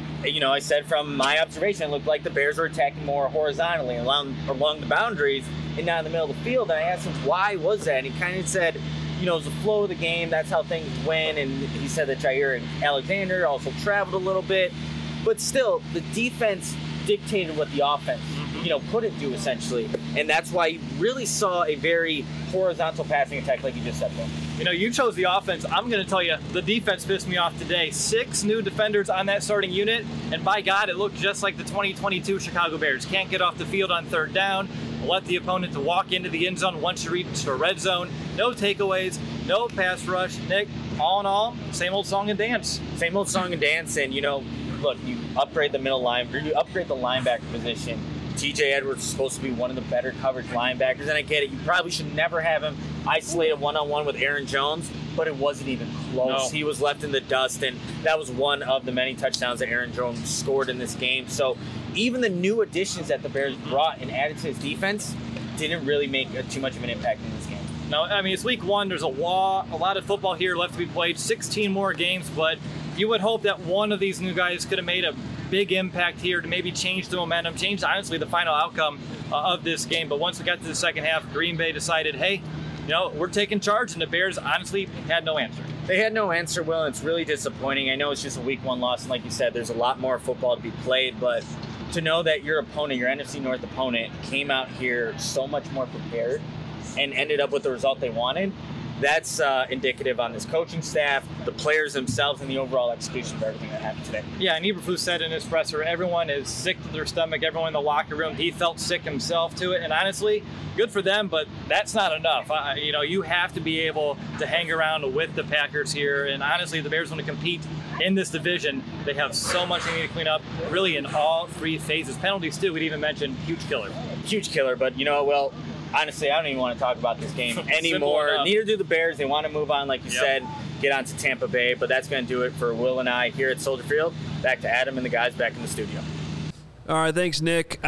I said from my observation, it looked like the Bears were attacking more horizontally along the boundaries and not in the middle of the field. And I asked him, why was that? And he kind of said, it was the flow of the game. That's how things went. And he said that Jair Alexander also traveled a little bit. But still, the defense dictated what the offense couldn't do, essentially. And that's why you really saw a very horizontal passing attack, like you just said, Will. You chose the offense. I'm going to tell you, the defense pissed me off today. 6 new defenders on that starting unit, and by God, it looked just like the 2022 Chicago Bears. Can't get off the field on 3rd down, let the opponent to walk into the end zone once you reach the red zone. No takeaways, no pass rush. Nick, all in all, same old song and dance. Same old song and dance, and, look, you upgrade the you upgrade the linebacker position. TJ Edwards is supposed to be one of the better coverage linebackers, and I get it. You probably should never have him isolated one-on-one with Aaron Jones, but it wasn't even close. No. He was left in the dust, and that was one of the many touchdowns that Aaron Jones scored in this game. So even the new additions that the Bears brought and added to his defense didn't really make too much of an impact in this game. No, I mean, it's Week 1. There's a lot of football here left to be played, 16 more games, but you would hope that one of these new guys could have made a big impact here to maybe change the momentum, change, honestly, the final outcome of this game. But once we got to the second half, Green Bay decided, hey, we're taking charge, and the Bears, honestly, had no answer. They had no answer, Will, and it's really disappointing. I know it's just a Week 1 loss, and like you said, there's a lot more football to be played, but to know that your opponent, your NFC North opponent, came out here so much more prepared and ended up with the result they wanted, that's indicative on this coaching staff, the players themselves, and the overall execution of everything that happened today. Yeah, and Eberflus said in his presser, everyone is sick to their stomach, everyone in the locker room, he felt sick himself to it, and honestly, good for them, but that's not enough. You have to be able to hang around with the Packers here, and honestly, the Bears want to compete in this division. They have so much they need to clean up, really in all 3 phases. Penalties, too, we'd even mention huge killer. Huge killer, but well, honestly, I don't even want to talk about this game anymore. Neither do the Bears. They want to move on, like you said, get on to Tampa Bay. But that's going to do it for Will and I here at Soldier Field. Back to Adam and the guys back in the studio. All right, thanks, Nick.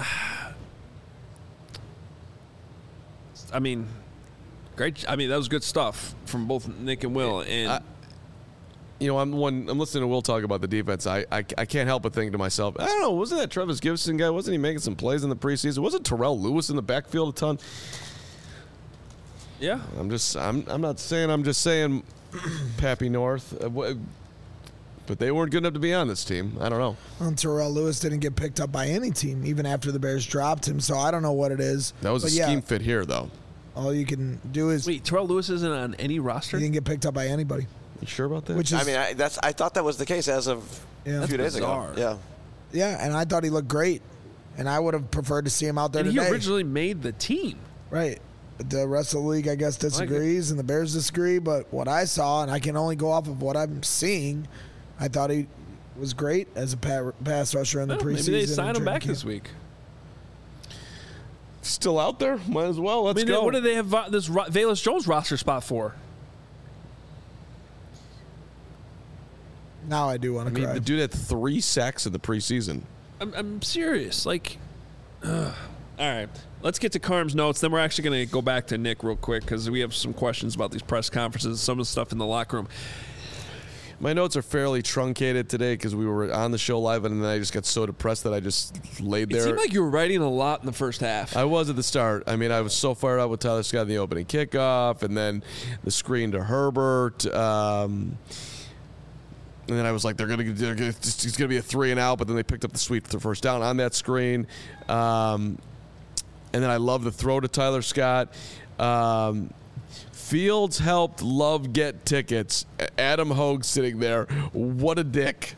Great. That was good stuff from both Nick and Will. And I'm listening to Will talk about the defense. I can't help but think to myself, I don't know, wasn't that Travis Gibson guy? Wasn't he making some plays in the preseason? Wasn't Terrell Lewis in the backfield a ton? Yeah. I'm just saying Pappy North. But they weren't good enough to be on this team. I don't know. Well, Terrell Lewis didn't get picked up by any team, even after the Bears dropped him, so I don't know what it is. That was a scheme fit here, though. All you can do is... Wait, Terrell Lewis isn't on any roster? He didn't get picked up by anybody. You sure about that? Which is, I thought that was the case as of a few days ago. Yeah. Yeah, and I thought he looked great, and I would have preferred to see him out there today. He originally made the team. Right. But the rest of the league, I guess, disagrees, and the Bears disagree. But what I saw, and I can only go off of what I'm seeing, I thought he was great as a pass rusher in the preseason. Maybe they signed him back this week. Still out there? Might as well. Let's go. What do they have this Velus Jones roster spot for? Now I do want to cry. The dude had 3 sacks in the preseason. I'm serious. All right. Let's get to Carm's notes. Then we're actually going to go back to Nick real quick because we have some questions about these press conferences, some of the stuff in the locker room. My notes are fairly truncated today because we were on the show live, and then I just got so depressed that I just laid there. It seemed like you were writing a lot in the first half. I was at the start. I mean, I was so fired up with Tyler Scott in the opening kickoff, and then the screen to Herbert. And then I was like, it's gonna be a 3-and-out, but then they picked up the sweet first down on that screen. And then I love the throw to Tyler Scott. Fields helped Love get tickets. Adam Hogue sitting there. What a dick.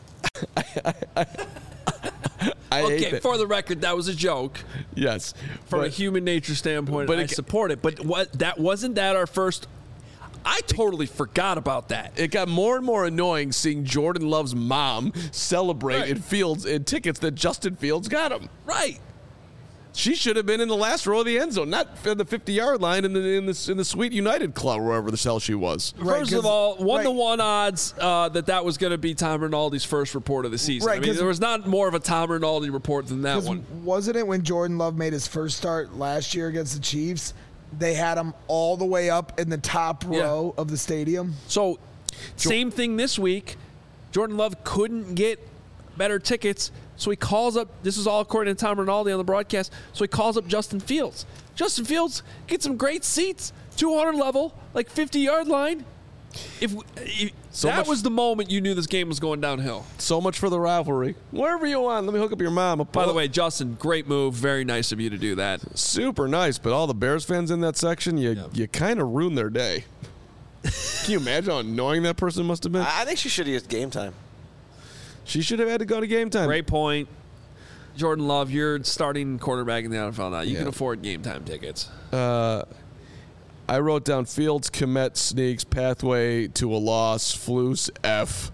Okay, for the record, that was a joke. Yes. From a human nature standpoint, but I support it. But wasn't that our first... I totally forgot about that. It got more and more annoying seeing Jordan Love's mom celebrate in tickets that Justin Fields got him. Right. She should have been in the last row of the end zone, not at the 50-yard line in the Sweet United Club, wherever the hell she was. First of all, 1-to-1 odds that was going to be Tom Rinaldi's first report of the season. Right, I mean, there was not more of a Tom Rinaldi report than that one. Wasn't it when Jordan Love made his first start last year against the Chiefs? They had him all the way up in the top row of the stadium. So, same thing this week. Jordan Love couldn't get better tickets. So he calls up, this is all according to Tom Rinaldi on the broadcast, so he calls up Justin Fields. Justin Fields gets some great seats, 200 level, like 50-yard line. If that was the moment you knew this game was going downhill. So much for the rivalry. Wherever you want, let me hook up your mom. By the way, Justin, great move. Very nice of you to do that. Super nice, but all the Bears fans in that section, you kind of ruined their day. Can you imagine how annoying that person must have been? I think she should have used Game Time. She should have had to go to Game Time. Great point. Jordan Love, you're starting quarterback in the NFL now. You can afford Game Time tickets. I wrote down Fields, Kmet, sneaks, pathway to a loss, Flus, F.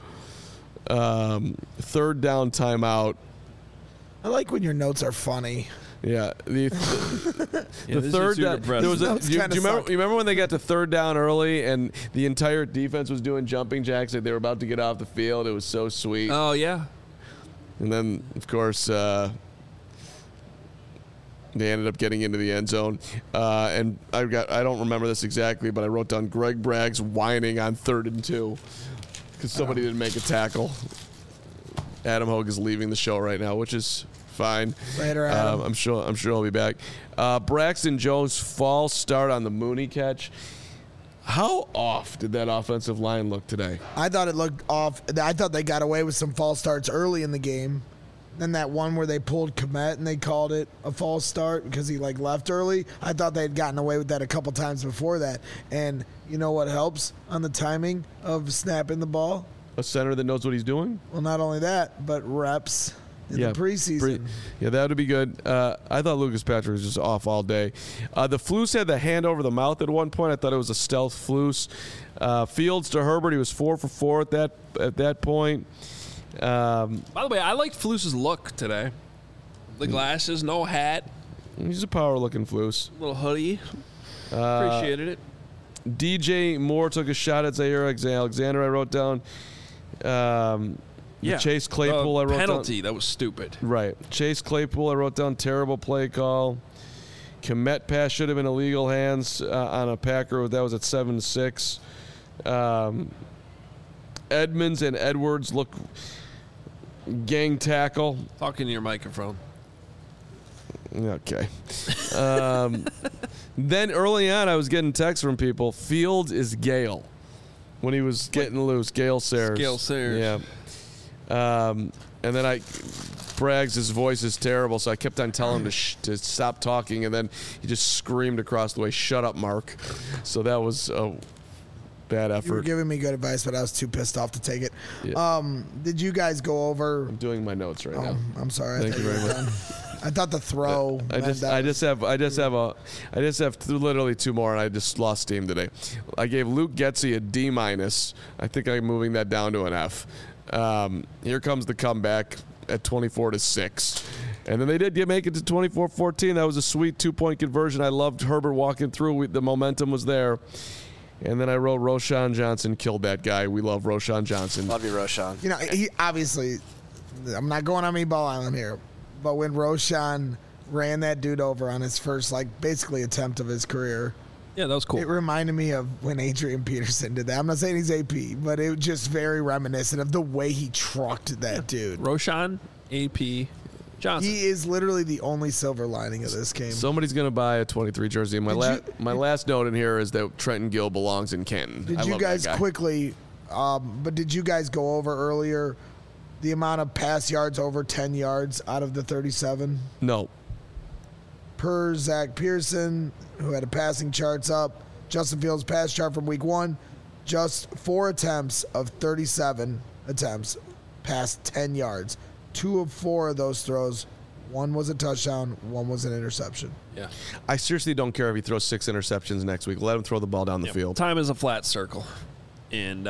Third down timeout. I like when your notes are funny. Yeah, the third down. There was a, do you remember when they got to third down early and the entire defense was doing jumping jacks? Like they were about to get off the field. It was so sweet. Oh yeah. And then of course they ended up getting into the end zone. And I don't remember this exactly, but I wrote down Greg Bragg's whining on 3rd and 2 because somebody didn't make a tackle. Adam Hogue is leaving the show right now, which is fine. Later, Adam. I'm sure he'll be back. Braxton Jones' false start on the Mooney catch. How off did that offensive line look today? I thought it looked off. I thought they got away with some false starts early in the game. Then that one where they pulled Kmet and they called it a false start because he left early. I thought they had gotten away with that a couple times before that. And you know what helps on the timing of snapping the ball? A center that knows what he's doing? Well, not only that, but reps. In the preseason. That would be good. I thought Lucas Patrick was just off all day. The Flus had the hand over the mouth at one point. I thought it was a stealth Flus. Fields to Herbert, he was 4 for 4 at that point. By the way, I liked Flus's look today. The glasses, no hat. He's a power-looking Flus. Little hoodie. Appreciated it. DJ Moore took a shot at Zaire Alexander, I wrote down. Chase Claypool, I wrote penalty, down. That was stupid. Right. Chase Claypool, I wrote down terrible play call. Kmet pass should have been illegal hands on a Packer. That was at 7-6. Edmonds and Edwards look gang tackle. Talking to your microphone. Okay. Then early on, I was getting texts from people. Fields is Gale. When he was getting loose, Gale Sayers. Gale Sayers. Yeah. And then Bragg's voice is terrible, so I kept on telling him to stop talking, and then he just screamed across the way, "Shut up, Mark." So that was a bad effort. You were giving me good advice, but I was too pissed off to take it. Yeah. Did you guys go over? I'm doing my notes right now. I'm sorry. Thank you very much. I thought the throw. I just have literally 2 more, and I just lost steam today. I gave Luke Getsy a D-. I think I'm moving that down to an F. Here comes the comeback at 24-6. And then they did make it to 24-14. That was a sweet 2-point conversion. I loved Herbert walking through. The momentum was there. And then I wrote Roschon Johnson killed that guy. We love Roschon Johnson. Love you, Roschon. You know, he obviously, I'm not going on Meatball Island here, but when Roschon ran that dude over on his first, basically attempt of his career. Yeah, that was cool. It reminded me of when Adrian Peterson did that. I'm not saying he's AP, but it was just very reminiscent of the way he trucked that dude. Roshan AP Johnson. He is literally the only silver lining of this game. Somebody's going to buy a 23 jersey. My last note in here is that Trenton Gill belongs in Canton. Did you guys quickly, but did you guys go over earlier the amount of pass yards over 10 yards out of the 37? No. Per Zach Pearson, who had a passing charts up, Justin Fields' pass chart from week 1, just 4 attempts of 37 attempts past 10 yards. 2 of 4 of those throws, 1 was a touchdown, 1 was an interception. Yeah. I seriously don't care if he throws 6 interceptions next week. Let him throw the ball down the field. Time is a flat circle. And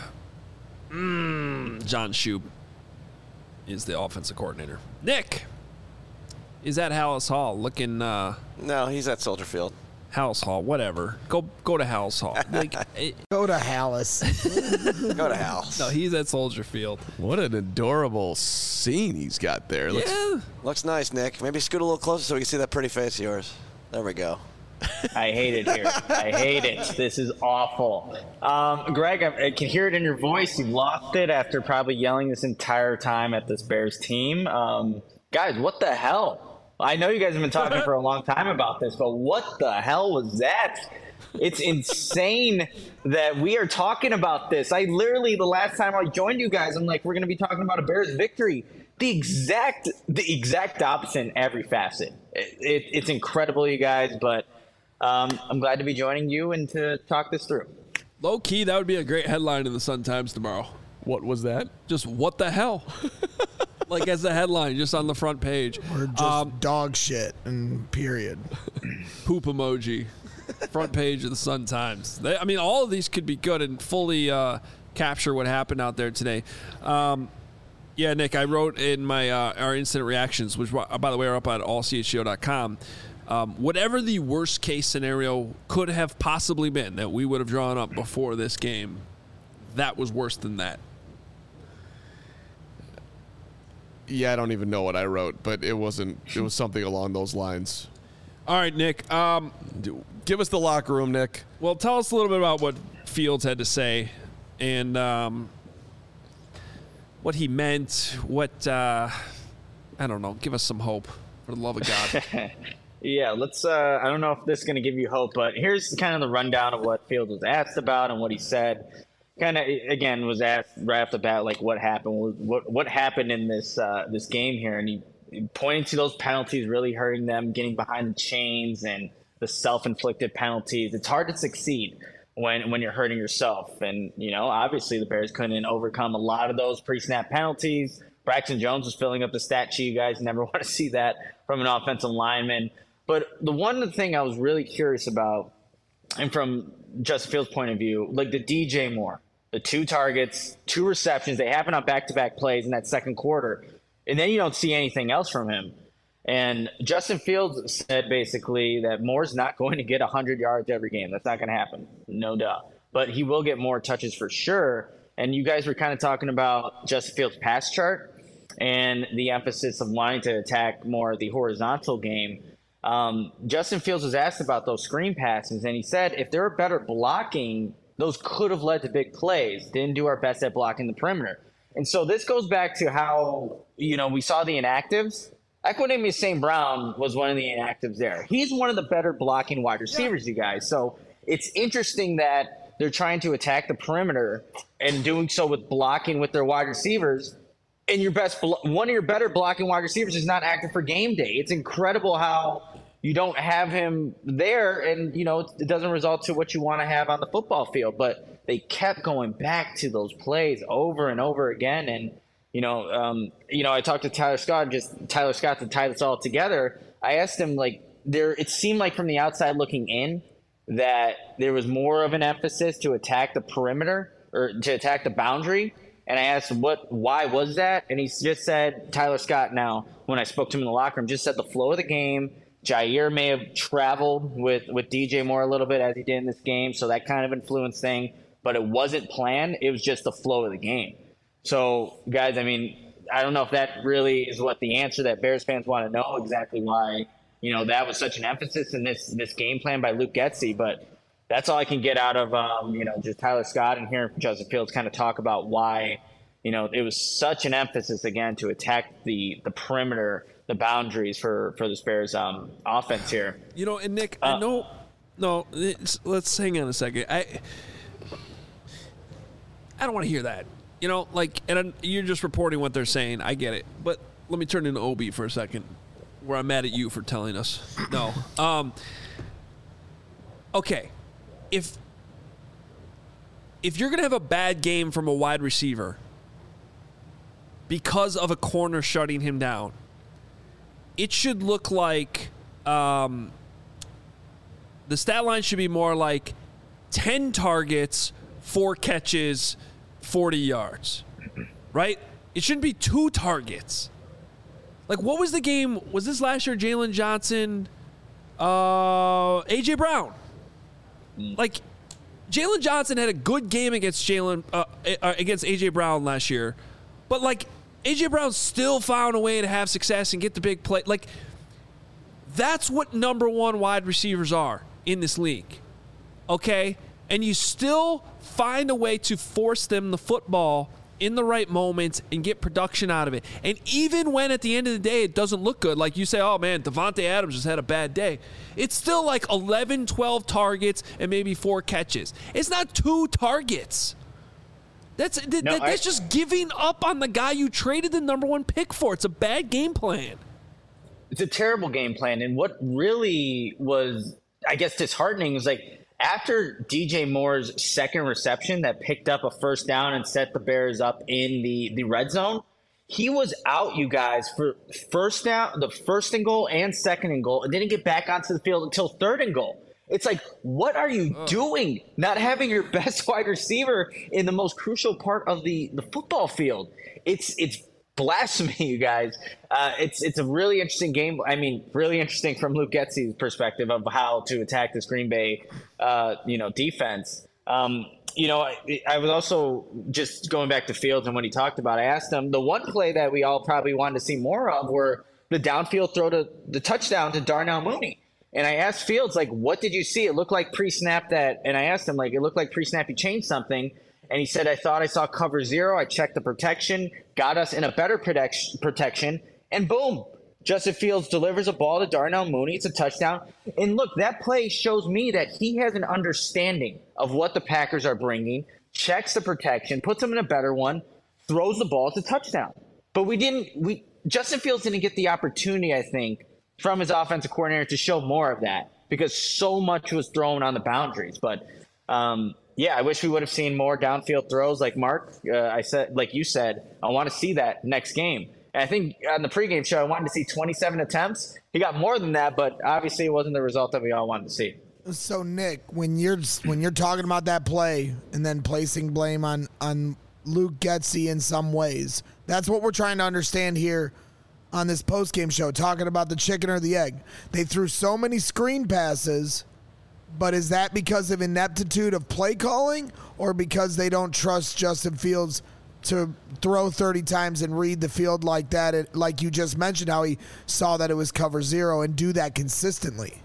John Shoup is the offensive coordinator. Nick is at Hallis Hall looking. No, he's at Soldier Field. Hallis Hall, whatever. Go to Hallis Hall. Go to Hallis. Go to Hallis. No, he's at Soldier Field. What an adorable scene he's got there. Looks nice, Nick. Maybe scoot a little closer so we can see that pretty face of yours. There we go. I hate it here. I hate it. This is awful. Greg, I can hear it in your voice. You lost it after probably yelling this entire time at this Bears team. Guys, what the hell? I know you guys have been talking for a long time about this, but what the hell was that? It's insane that we are talking about this. I literally, the last time I joined you guys, I'm like, we're going to be talking about a Bears victory. The exact opposite in every facet. It's incredible, you guys, but I'm glad to be joining you and to talk this through. Low key, that would be a great headline in the Sun-Times tomorrow. What was that? Just what the hell? Like as a headline, just on the front page. Or just dog shit and period. Poop emoji. Front page of the Sun-Times. All of these could be good and fully capture what happened out there today. Yeah, Nick, I wrote in my our incident reactions, which, by the way, are up at allchgo.com. Whatever the worst case scenario could have possibly been that we would have drawn up before this game, that was worse than that. Yeah, I don't even know what I wrote, but it wasn't. It was something along those lines. All right, Nick. Give us the locker room, Nick. Well, tell us a little bit about what Fields had to say and what he meant. What I don't know. Give us some hope, for the love of God. Yeah, let's. I don't know if this is going to give you hope, but here's kind of the rundown of what Fields was asked about and what he said. Kind of again was asked right off the bat, like what happened, what happened in this this game here, and he pointed to those penalties really hurting them, getting behind the chains and the self-inflicted penalties. It's hard to succeed when you're hurting yourself, and obviously the Bears couldn't overcome a lot of those pre-snap penalties. Braxton Jones was filling up the stat sheet. You guys never want to see that from an offensive lineman. But the one thing I was really curious about, and from Justin Fields' point of view, like the DJ Moore. The 2 targets, 2 receptions. They happen on back-to-back plays in that second quarter. And then you don't see anything else from him. And Justin Fields said basically that Moore's not going to get 100 yards every game. That's not going to happen. No doubt. But he will get more touches for sure. And you guys were kind of talking about Justin Fields' pass chart and the emphasis of wanting to attack more of the horizontal game. Justin Fields was asked about those screen passes, and he said if they were better blocking, those could have led to big plays. Didn't do our best at blocking the perimeter. And so this goes back to how, we saw the inactives. Equanimeous St. Brown was one of the inactives there. He's one of the better blocking wide receivers, you guys. So it's interesting that they're trying to attack the perimeter and doing so with blocking with their wide receivers. And one of your better blocking wide receivers is not active for game day. It's incredible how you don't have him there, and it doesn't result to what you want to have on the football field. But they kept going back to those plays over and over again. And I talked to Tyler Scott to tie this all together. I asked him it seemed like from the outside looking in that there was more of an emphasis to attack the perimeter or to attack the boundary. And I asked him why was that, and he just said Tyler Scott. Now, when I spoke to him in the locker room, just said the flow of the game. Jair may have traveled with DJ Moore a little bit as he did in this game, so that kind of influenced thing. But it wasn't planned. It was just the flow of the game. So, guys, I don't know if that really is what the answer that Bears fans want to know, exactly why, that was such an emphasis in this game plan by Luke Getsy. But that's all I can get out of, just Tyler Scott and hearing from Justin Fields kind of talk about why, it was such an emphasis, again, to attack the perimeter, the boundaries for the Bears offense here. And Nick, I know – no, let's hang on a second. I don't want to hear that. And you're just reporting what they're saying. I get it. But let me turn into Obi for a second, where I'm mad at you for telling us. No. Okay. If you're going to have a bad game from a wide receiver because of a corner shutting him down, it should look like the stat line should be more like 10 targets, 4 catches, 40 yards, right? It shouldn't be 2 targets. Like, what was the game? Was this last year, Jalen Johnson, A.J. Brown? Like, Jalen Johnson had a good game against A.J. Brown last year, but, like, A.J. Brown still found a way to have success and get the big play. Like, that's what number 1 wide receivers are in this league, okay? And you still find a way to force them the football in the right moments and get production out of it. And even when at the end of the day it doesn't look good, like you say, oh man, Devontae Adams just had a bad day, it's still like 11, 12 targets and maybe 4 catches. It's not 2 targets. That's just giving up on the guy you traded the number 1 pick for. It's a bad game plan. It's a terrible game plan. And what really was, I guess, disheartening was, like, after DJ Moore's second reception that picked up a first down and set the Bears up in the red zone, he was out, you guys, for first down, the first and goal and second and goal, and didn't get back onto the field until third and goal. It's like, what are you doing? Not having your best wide receiver in the most crucial part of the football field. It's blasphemy, you guys. It's a really interesting game. I mean, really interesting from Luke Getsy's perspective of how to attack this Green Bay, defense. I was also just going back to Fields and what he talked about. I asked him, the one play that we all probably wanted to see more of were the downfield throw to the touchdown to Darnell Mooney. And I asked Fields, like, what did you see? It looked like pre-snap and I asked him, like, it looked like pre-snap he changed something. And he said, I thought I saw cover 0. I checked the protection, got us in a better protection, and boom, Justin Fields delivers a ball to Darnell Mooney. It's a touchdown. And look, that play shows me that he has an understanding of what the Packers are bringing, checks the protection, puts them in a better one, throws the ball. It's a touchdown. But Justin Fields didn't get the opportunity, I think, from his offensive coordinator to show more of that because so much was thrown on the boundaries. But, I wish we would have seen more downfield throws like Mark. Like you said, I want to see that next game. And I think on the pregame show, I wanted to see 27 attempts. He got more than that, but obviously it wasn't the result that we all wanted to see. So, Nick, when you're talking about that play and then placing blame on Luke Getsy in some ways, that's what we're trying to understand here on this postgame show, talking about the chicken or the egg. They threw so many screen passes. But is that because of ineptitude of play calling or because they don't trust Justin Fields to throw 30 times and read the field like that? Like you just mentioned, how he saw that it was cover 0 and do that consistently.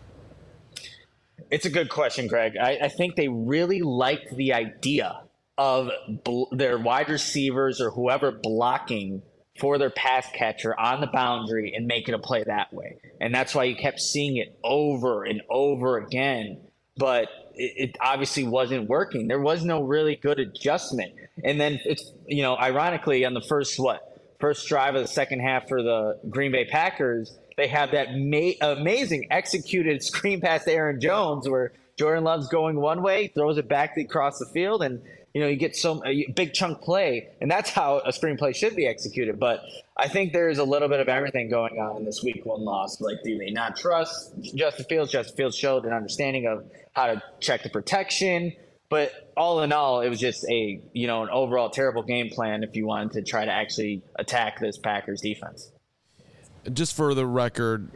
It's a good question, Greg. I think they really liked the idea of their wide receivers or whoever blocking for their pass catcher on the boundary and making a play that way. And that's why you kept seeing it over and over again. But it obviously wasn't working. There was no really good adjustment. And then it's, ironically on the first drive of the second half for the Green Bay Packers, they have that amazing executed screen pass to Aaron Jones where Jordan Love's going one way, throws it back across the field, and you get a big chunk play, and that's how a screen play should be executed. But I think there's a little bit of everything going on in this week 1 loss. Like, do they not trust Justin Fields? Justin Fields showed an understanding of how to check the protection. But all in all, it was just an overall terrible game plan if you wanted to try to actually attack this Packers defense. Just for the record,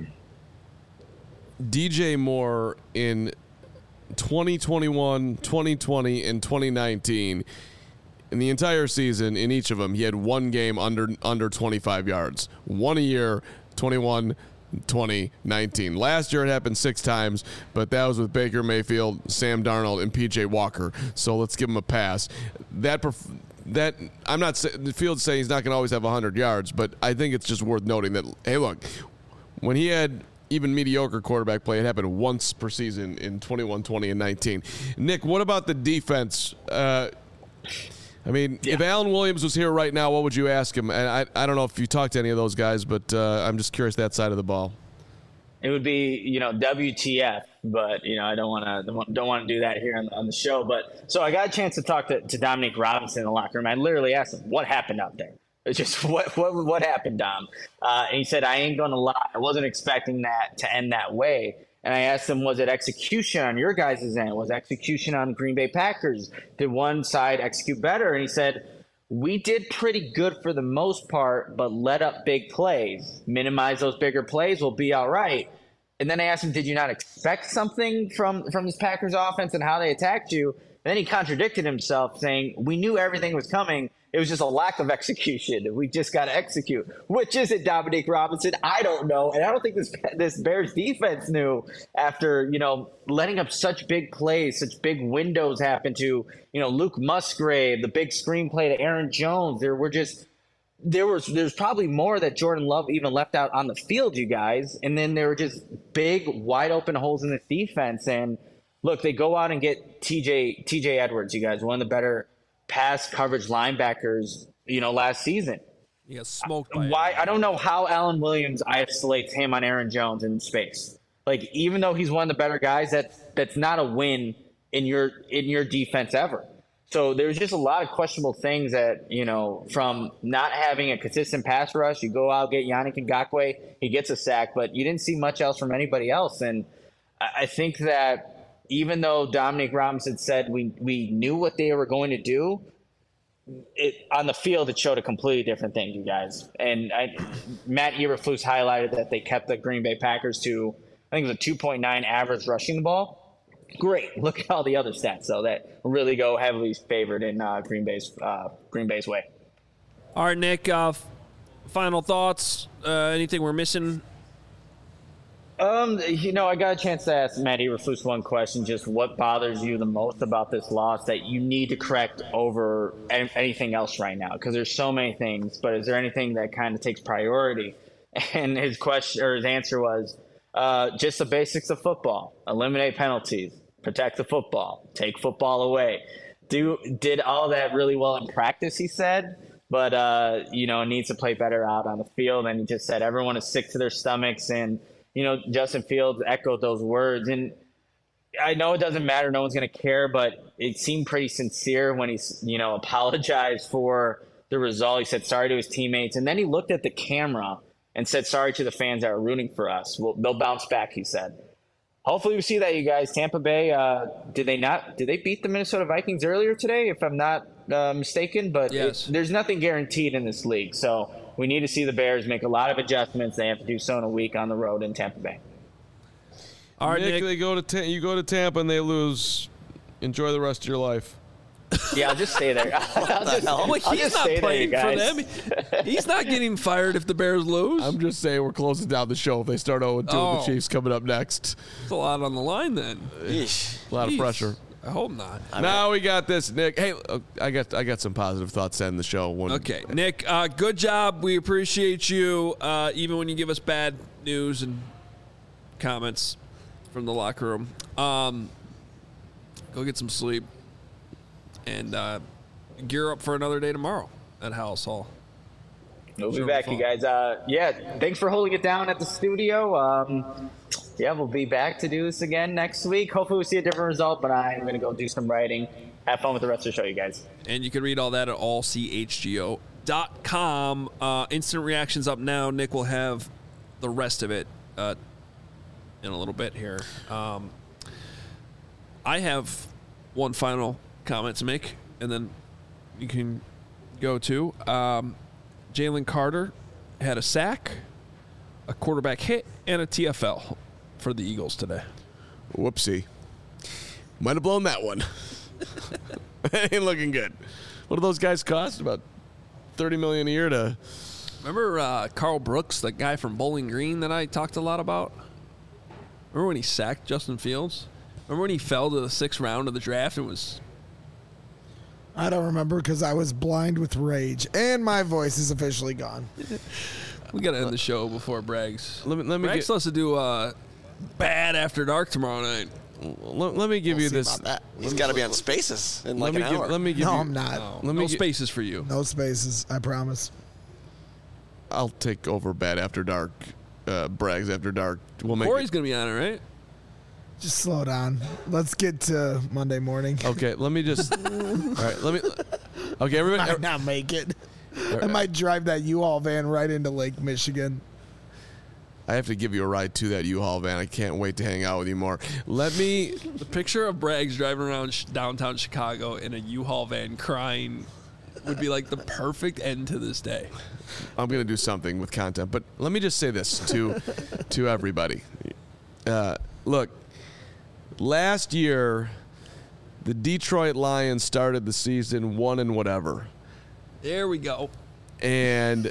DJ Moore in 2021, 2020, and 2019 In the entire season, in each of them, he had one game under 25 yards. One a year, 21, 20, 19. Last year it happened 6 times, but that was with Baker Mayfield, Sam Darnold, and P.J. Walker. So let's give him a pass. That I'm not Fields saying he's not going to always have 100 yards, but I think it's just worth noting that, hey, look, when he had even mediocre quarterback play, it happened once per season in 21, 20, and 19. Nick, what about the defense? If Alan Williams was here right now, what would you ask him? And I don't know if you talked to any of those guys, but I'm just curious that side of the ball. It would be, WTF, but I don't want to do that here on the show. But so I got a chance to talk to Dominique Robinson in the locker room. I literally asked him, what happened out there? It's just what happened, Dom? And he said, I ain't going to lie, I wasn't expecting that to end that way. And I asked him, was it execution on your guys' end? Was execution on Green Bay Packers? Did one side execute better? And he said, we did pretty good for the most part, but let up big plays. Minimize those bigger plays, we'll be all right. And then I asked him, did you not expect something from this Packers offense and how they attacked you? And then he contradicted himself, saying, we knew everything was coming. It was just a lack of execution. We just got to execute. Which is it, Dominique Robinson? I don't know. And I don't think this Bears defense knew after, letting up such big plays, such big windows happen to, Luke Musgrave, the big screenplay to Aaron Jones. There's probably more that Jordan Love even left out on the field, you guys. And then there were just big, wide open holes in this defense. And look, they go out and get TJ Edwards, you guys, one of the better pass coverage linebackers, last season. He got smoked by why? I don't know how Alan Williams isolates him on Aaron Jones in space. Like, even though he's one of the better guys, that's not a win in your defense ever. So there's just a lot of questionable things that, from not having a consistent pass rush. You go out, get Yannick Ngakoue, he gets a sack, but you didn't see much else from anybody else. And I think that even though Dominique Robinson said we knew what they were going to do, on the field it showed a completely different thing, you guys. And Matt Eberflus highlighted that they kept the Green Bay Packers to, I think it was a 2.9 average rushing the ball. Great. Look at all the other stats, though, that really go heavily favored in Green Bay's way. All right, Nick, final thoughts? Anything we're missing? I got a chance to ask Matt Eberflus one question, just what bothers you the most about this loss that you need to correct over anything else right now? Because there's so many things, but is there anything that kind of takes priority? And his answer was just the basics of football. Eliminate penalties, protect the football, take football away. Did all that really well in practice, he said, but, needs to play better out on the field. And he just said everyone is sick to their stomachs, and Justin Fields echoed those words. And I know it doesn't matter. No one's going to care, but it seemed pretty sincere when he, apologized for the result. He said sorry to his teammates. And then he looked at the camera and said sorry to the fans that are rooting for us. Well, they'll bounce back, he said. Hopefully we see that, you guys. Tampa Bay, did they beat the Minnesota Vikings earlier today, if I'm not mistaken? But yes. There's nothing guaranteed in this league. So we need to see the Bears make a lot of adjustments. They have to do so in a week on the road in Tampa Bay. All right, Nick, Nick. you go to Tampa and they lose. Enjoy the rest of your life. Yeah, I'll just stay there. He's not playing for them. He's not getting fired if the Bears lose. I'm just saying we're closing down the show if they start 0-2 with the Chiefs coming up next. It's a lot on the line then. Yeesh. A lot of pressure. I hope not. Now we got this, Nick. Hey, I got some positive thoughts to end the show. Okay, Nick, good job. We appreciate you, even when you give us bad news and comments from the locker room. Go get some sleep and gear up for another day tomorrow at House Hall. We'll be back, you guys. Thanks for holding it down at the studio. We'll be back to do this again next week. Hopefully we'll see a different result, but I'm going to go do some writing. Have fun with the rest of the show, you guys. And you can read all that at allchgo.com. Instant reactions up now. Nick will have the rest of it in a little bit here. I have one final comment to make, and then you can go to. Jalen Carter had a sack, a quarterback hit, and a TFL for the Eagles today. Whoopsie. Might have blown that one. Ain't looking good. What do those guys cost? About $30 million a year to. Remember Carl Brooks, the guy from Bowling Green that I talked a lot about? Remember when he sacked Justin Fields? Remember when he fell to the 6th round of the draft and was... I don't remember because I was blind with rage, and my voice is officially gone. We got to end the show before Braggs. Let me Braggs supposed to do Bad After Dark tomorrow night. Let me give you this. He's got to be on Spaces in like an hour. Let me give No, you. I'm not. No spaces for you. No spaces, I promise. I'll take over Bad After Dark, Braggs After Dark. We'll make Corey's going to be on it, right? Just slow down. Let's get to Monday morning. Okay, let me just. All right, let me. Okay, I everybody. might not make it. I might drive that U-Haul van right into Lake Michigan. I have to give you a ride to that U-Haul van. I can't wait to hang out with you more. Let me. The picture of Braggs driving around downtown Chicago in a U-Haul van crying would be like the perfect end to this day. I'm going to do something with content, but let me just say this to everybody. Look, last year, the Detroit Lions started the season 1 and whatever. There we go. And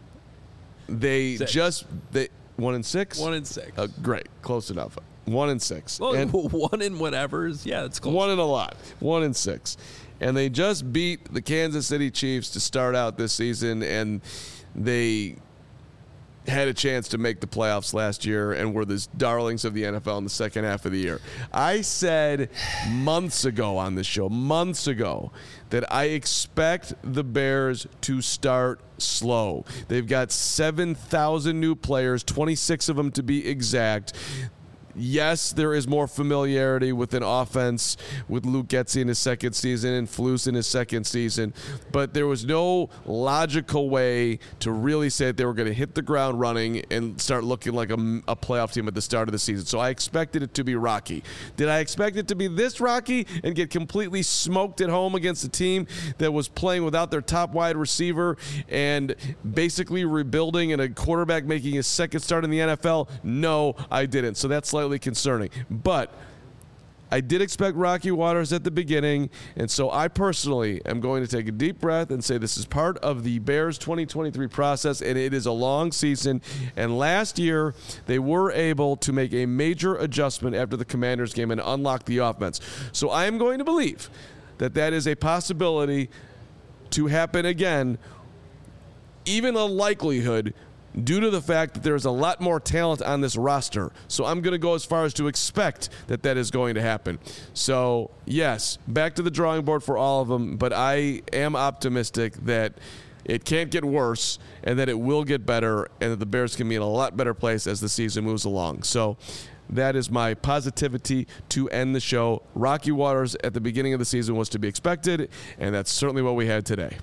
they 6. just 1 and 6. 1 and 6. Great, close enough. 1 and 6. Well, and 1 and whatever is it's close. 1 and a lot. 1 and 6. And they just beat the Kansas City Chiefs to start out this season, and they had a chance to make the playoffs last year and were the darlings of the NFL in the second half of the year. I said months ago on this show, that I expect the Bears to start slow. They've got 7,000 new players, 26 of them to be exact. Yes, there is more familiarity with an offense with Luke Getsy in his second season and Flus in his second season, but there was no logical way to really say that they were going to hit the ground running and start looking like a playoff team at the start of the season. So I expected it to be rocky. Did I expect it to be this rocky and get completely smoked at home against a team that was playing without their top wide receiver and basically rebuilding and a quarterback making his second start in the NFL? No, I didn't. So that's slightly concerning. But I did expect rocky waters at the beginning, and so I personally am going to take a deep breath and say this is part of the Bears 2023 process, and it is a long season. And last year, they were able to make a major adjustment after the Commanders game and unlock the offense. So I am going to believe that that is a possibility to happen again, even a likelihood, due to the fact that there's a lot more talent on this roster. So I'm going to go as far as to expect that that is going to happen. So, yes, back to the drawing board for all of them, but I am optimistic that it can't get worse and that it will get better and that the Bears can be in a lot better place as the season moves along. So that is my positivity to end the show. Rocky waters at the beginning of the season was to be expected, and that's certainly what we had today.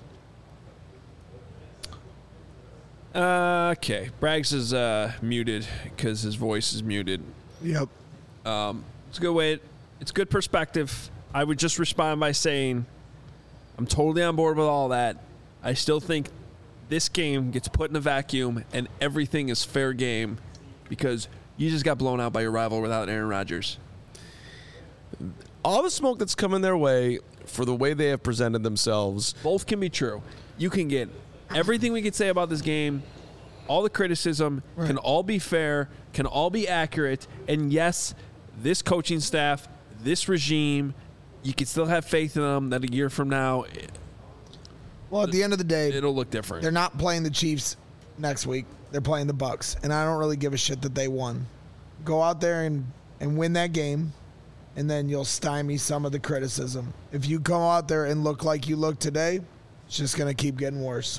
Okay. Braggs is muted because his voice is muted. Yep. It's a good way. It's good perspective. I would just respond by saying I'm totally on board with all that. I still think this game gets put in a vacuum and everything is fair game because you just got blown out by your rival without Aaron Rodgers. All the smoke that's coming their way for the way they have presented themselves. Both can be true. You can get everything we could say about this game, all the criticism, can all be fair, can all be accurate, and yes, this coaching staff, this regime, you can still have faith in them that a year from now, Well, at the end of the day, it'll look different. they're not playing the Chiefs next week. They're playing the Bucs, and I don't really give a shit that they won. Go out there and win that game, and then you'll stymie some of the criticism. If you come out there and look like you look today, it's just going to keep getting worse.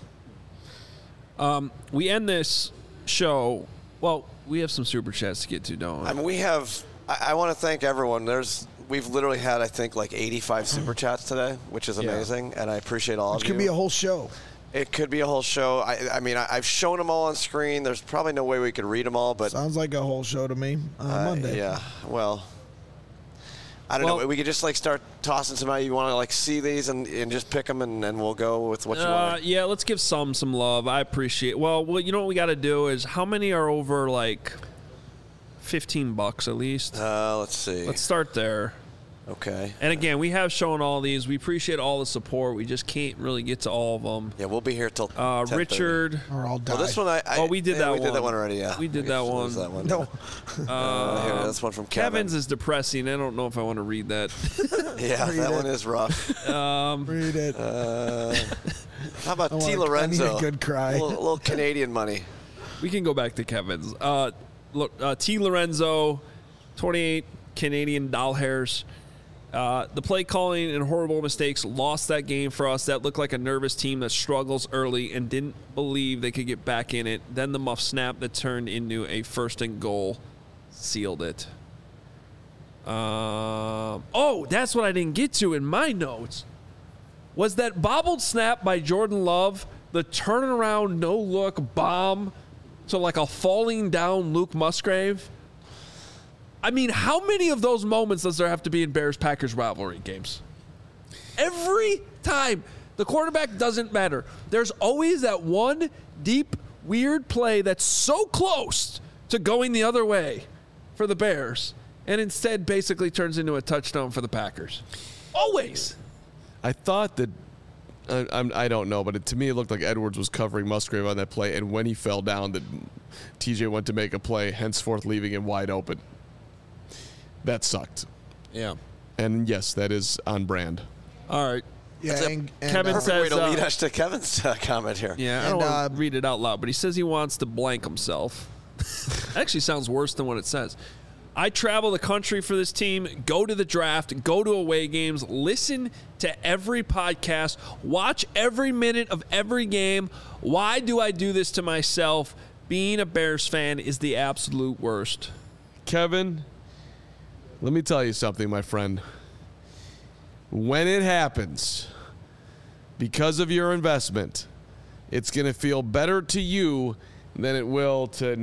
We end this show. Well, we have some super chats to get to, don't we? I mean, we have. I want to thank everyone. We've literally had, I think, like 85 super chats today, which is amazing, and I appreciate all of you. Which could be a whole show. It could be a whole show. I mean, I've shown them all on screen. There's probably no way we could read them all, but Sounds like a whole show to me on Monday. yeah. Well, I don't know. We could just like start tossing some out. You want to like see these and just pick them, and we'll go with what you want. Yeah, let's give some love. I appreciate. Well, you know what we got to do is how many are over like $15 at least? Let's see. Let's start there. Okay. And again, we have shown all these. We appreciate all the support. We just can't really get to all of them. Yeah, we'll be here till 10:30. Richard. Or I'll die. Well, this one we did that one. We did that one already, yeah. We did that one. No. Here, this one from Kevin. Kevin's is depressing. I don't know if I want to read that. Yeah, Read that it. one is rough. Read it. How about T. I Lorenzo? need a good cry. A little Canadian money. We can go back to Kevin's. T. Lorenzo, 28 Canadian doll hairs. The play calling and horrible mistakes lost that game for us. That looked like a nervous team that struggles early and didn't believe they could get back in it. Then the muff snap that turned into a 1st and goal sealed it. That's what I didn't get to in my notes. Was that bobbled snap by Jordan Love, the turnaround, no-look bomb to like a falling down Luke Musgrave? I mean, how many of those moments does there have to be in Bears-Packers rivalry games? Every time. The quarterback doesn't matter. There's always that one deep, weird play that's so close to going the other way for the Bears and instead basically turns into a touchdown for the Packers. Always. I thought that, I don't know, but to me it looked like Edwards was covering Musgrave on that play, and when he fell down, that TJ went to make a play, henceforth leaving him wide open. That sucked. Yeah. And yes, that is on brand. All right. Yeah, Kevin Perfect says, way to lead us to Kevin's comment here. Yeah, I don't want to read it out loud, but he says he wants to blank himself. Actually sounds worse than what it says. I travel the country for this team, go to the draft, go to away games, listen to every podcast, watch every minute of every game. Why do I do this to myself? Being a Bears fan is the absolute worst. Kevin, let me tell you something, my friend. When it happens, because of your investment, it's going to feel better to you than it will to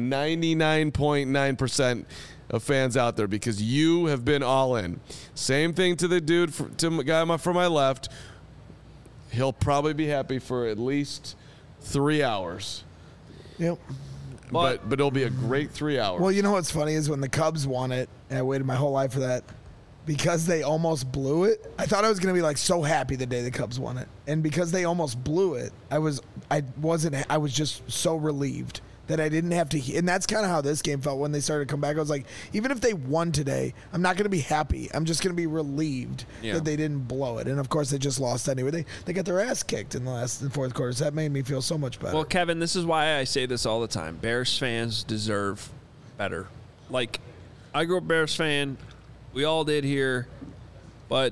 99.9% of fans out there, because you have been all in. Same thing to the dude, to the guy from my left. He'll probably be happy for at least 3 hours. Yep. But it'll be a great 3 hours. Well, you know what's funny is when the Cubs won it, and I waited my whole life for that, because they almost blew it. I thought I was going to be like so happy the day the Cubs won it, and because they almost blew it, I was just so relieved that I didn't have to. And that's kind of how this game felt when they started to come back. I was like, even if they won today, I'm not going to be happy. I'm just going to be relieved that they didn't blow it. And of course, they just lost anyway. They got their ass kicked in the fourth quarter. So that made me feel so much better. Well, Kevin, this is why I say this all the time. Bears fans deserve better. Like, I grew up a Bears fan. We all did here. But,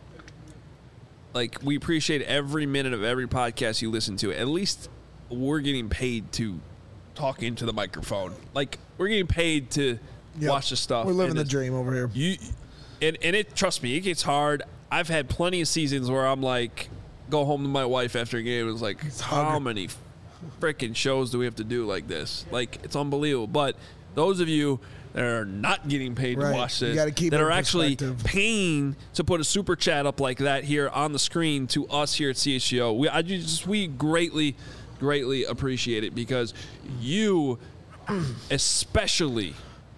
like, we appreciate every minute of every podcast you listen to. At least we're getting paid to talk into the microphone. Like, we're getting paid to watch the stuff. We're living the dream over here. Trust me, it gets hard. I've had plenty of seasons where I'm like, go home to my wife after a game. It's like, how many freaking shows do we have to do like this? Like, it's unbelievable. But those of you that are not getting paid to watch this, that are actually paying to put a super chat up like that here on the screen to us here at CHGO, we greatly appreciate it, because you especially,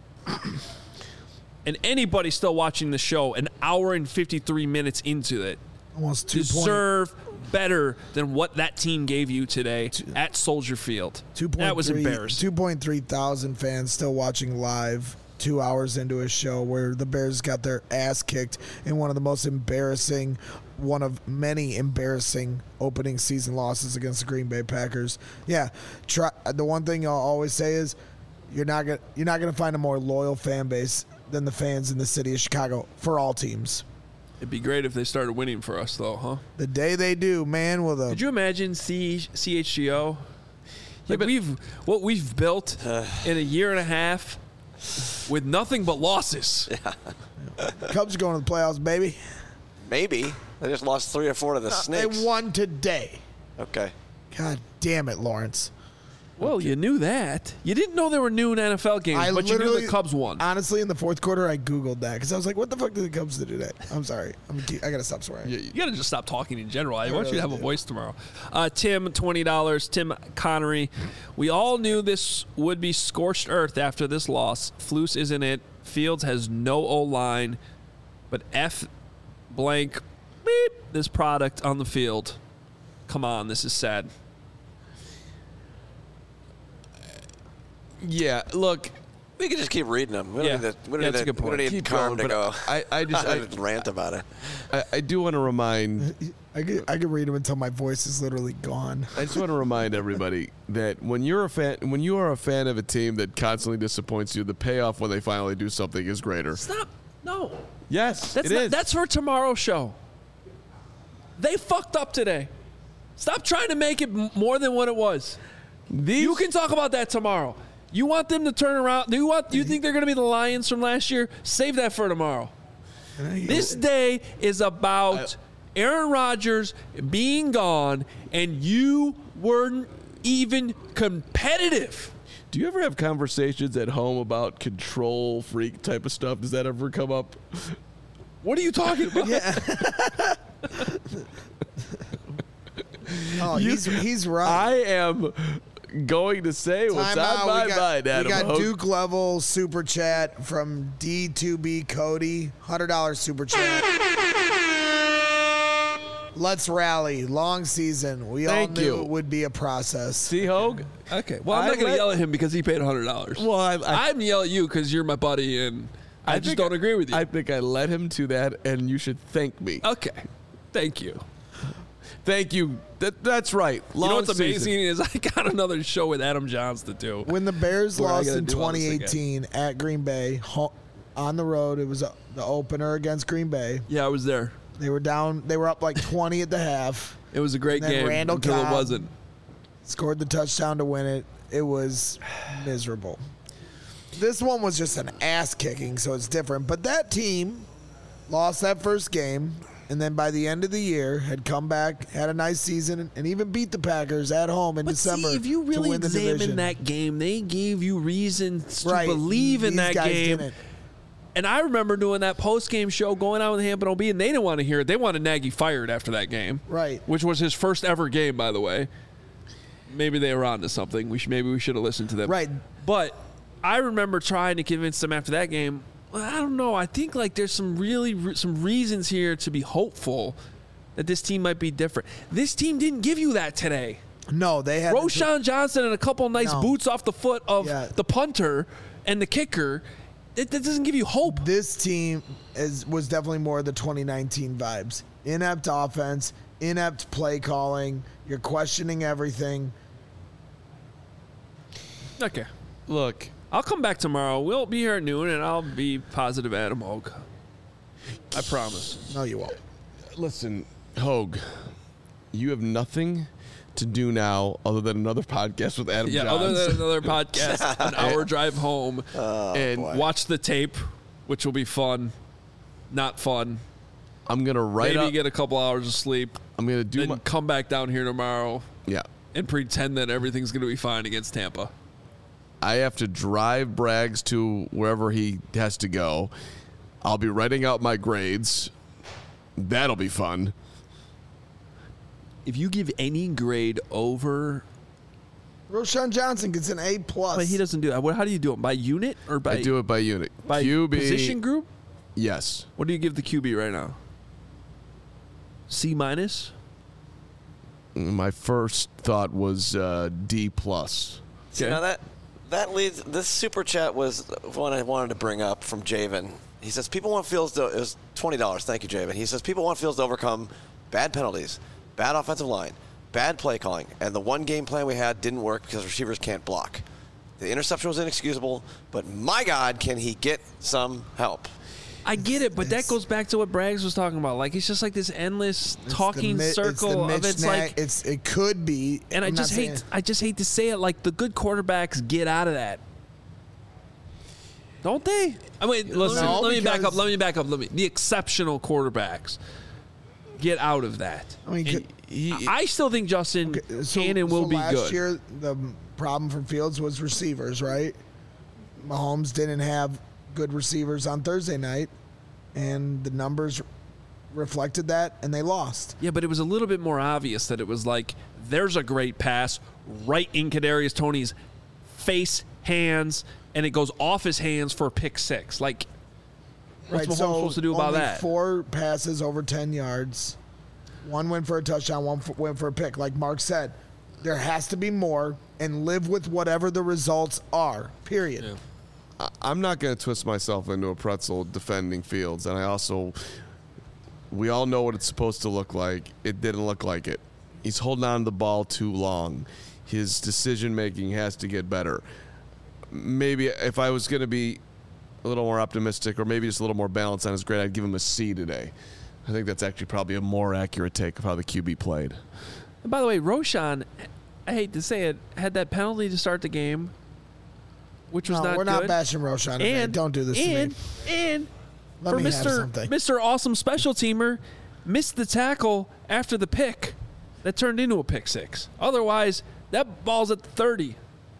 and anybody still watching the show an hour and 53 minutes into it, almost deserve better than what that team gave you today at Soldier Field. That was embarrassing. 2.3 thousand fans still watching live 2 hours into a show where the Bears got their ass kicked in one of many embarrassing opening season losses against the Green Bay Packers. Yeah, the one thing I'll always say is you're not gonna find a more loyal fan base than the fans in the city of Chicago for all teams. It'd be great if they started winning for us, though, huh? The day they do, man, Could you imagine CHGO? Like, what we've built in a year and a half with nothing but losses. Yeah. Cubs are going to the playoffs, baby. Maybe. They just lost 3 or 4 to the Snakes. They won today. Okay. God damn it, Lawrence. Well, you knew that. You didn't know there were noon NFL games, but you knew the Cubs won. Honestly, in the fourth quarter, I Googled that because I was like, what the fuck did the Cubs do today? I'm sorry. I got to stop swearing. You got to just stop talking in general. I want you to have a voice tomorrow. Tim, $20. Tim Connery. We all knew this would be scorched earth after this loss. Flus isn't it. Fields has no O-line. But F blank, beep, this product on the field. Come on, this is sad. Yeah, look. We could just keep reading them. We don't that's a good point. We don't need Chrome to go. I just rant about it. I do want to remind. I could read them until my voice is literally gone. I just want to remind everybody that when you are a fan of a team that constantly disappoints you, the payoff when they finally do something is greater. Stop. No. Yes, That's it is. That's for tomorrow's show. They fucked up today. Stop trying to make it more than what it was. You can talk about that tomorrow. You want them to turn around? Do you think they're going to be the Lions from last year? Save that for tomorrow. This day is about Aaron Rodgers being gone, and you weren't even competitive. Do you ever have conversations at home about control freak type of stuff? Does that ever come up? What are you talking about? Oh, he's right. I am going to say what's on my mind, Adam. We got Duke level super chat from D2B Cody, $100 super chat. Let's rally. Long season. We all knew it would be a process. See, Hogue? Okay. Well, I'm not going to yell at him because he paid $100. Well, I'm yell at you because you're my buddy and I just don't agree with you. I think I led him to that, and you should thank me. Okay. Thank you. Thank you. That's right. You know what's amazing is I got another show with Adam Johns to do. When the Bears lost in 2018 at Green Bay, on the road, it was the opener against Green Bay. Yeah, I was there. They were down. They were up like 20 at the half. It was a great game Randall until Cobb it wasn't. Scored the touchdown to win it. It was miserable. This one was just an ass kicking, so it's different. But that team lost that first game, and then by the end of the year had come back, had a nice season, and even beat the Packers at home in December. See, if you really examine that game, they gave you reasons to believe in that game. Didn't. And I remember doing that post-game show, going out with Hampton OB, and they didn't want to hear it. They wanted Nagy fired after that game. Right. Which was his first ever game, by the way. Maybe they were on to something. Maybe we should have listened to them. Right. But I remember trying to convince them after that game, well, I don't know. I think like there's some reasons here to be hopeful that this team might be different. This team didn't give you that today. No, they had Roschon Johnson and a couple of nice boots off the foot of the punter and the kicker. That doesn't give you hope. This team was definitely more of the 2019 vibes. Inept offense, inept play calling. You're questioning everything. Okay. Look. I'll come back tomorrow. We'll be here at noon, and I'll be positive Adam Hogue. I promise. No, you won't. Listen, Hogue, you have nothing to do now other than another podcast with Adam Johns. Other than another podcast, an hour drive home, and watch the tape, which will be fun. Not fun. I'm going to maybe get a couple hours of sleep. I'm going to come back down here tomorrow. Yeah. And pretend that everything's going to be fine against Tampa. I have to drive Braggs to wherever he has to go. I'll be writing out my grades. That'll be fun. If you give any grade over, Roschon Johnson gets an A+. But he doesn't do that. How do you do it? By unit or by? I do it by unit. By QB position group? Yes. What do you give the QB right now? C-? My first thought was D+. So now that leads. This super chat was one I wanted to bring up from Javen. He says people want Fields to. It was $20. Thank you, Javen. He says people want Fields to overcome bad penalties, bad offensive line, bad play calling, and the one game plan we had didn't work because receivers can't block. The interception was inexcusable, but my God, can he get some help? I get it, but that goes back to what Braggs was talking about. Like, it's just like this endless talking circle of it could be. And I just hate to say it, like the good quarterbacks get out of that. Don't they? I mean, listen, let me back up. The exceptional quarterbacks get out of that. I mean, I still think Justin can and will be good. Last year, the problem for Fields was receivers, right? Mahomes didn't have good receivers on Thursday night, and the numbers reflected that, and they lost. Yeah, but it was a little bit more obvious that it was like, there's a great pass right in Kadarius Toney's face, hands, and it goes off his hands for a pick six. Like, What's Mahomes supposed to do about only that? 4 passes over 10 yards. 1 went for a touchdown, 1 went for a pick. Like Mark said, there has to be more, and live with whatever the results are, period. Yeah. I'm not going to twist myself into a pretzel defending Fields, and we all know what it's supposed to look like. It didn't look like it. He's holding on to the ball too long. His decision-making has to get better. Maybe if I was going to be a little more optimistic or maybe just a little more balanced on his grade, I'd give him a C today. I think that's actually probably a more accurate take of how the QB played. And by the way, Roshan, I hate to say it, had that penalty to start the game, which was not good. We're not bashing Roshan today. Don't do this to me. And Let for me have something. Mr. Awesome Special Teamer, missed the tackle after the pick that turned into a pick six. Otherwise, that ball's at the 30.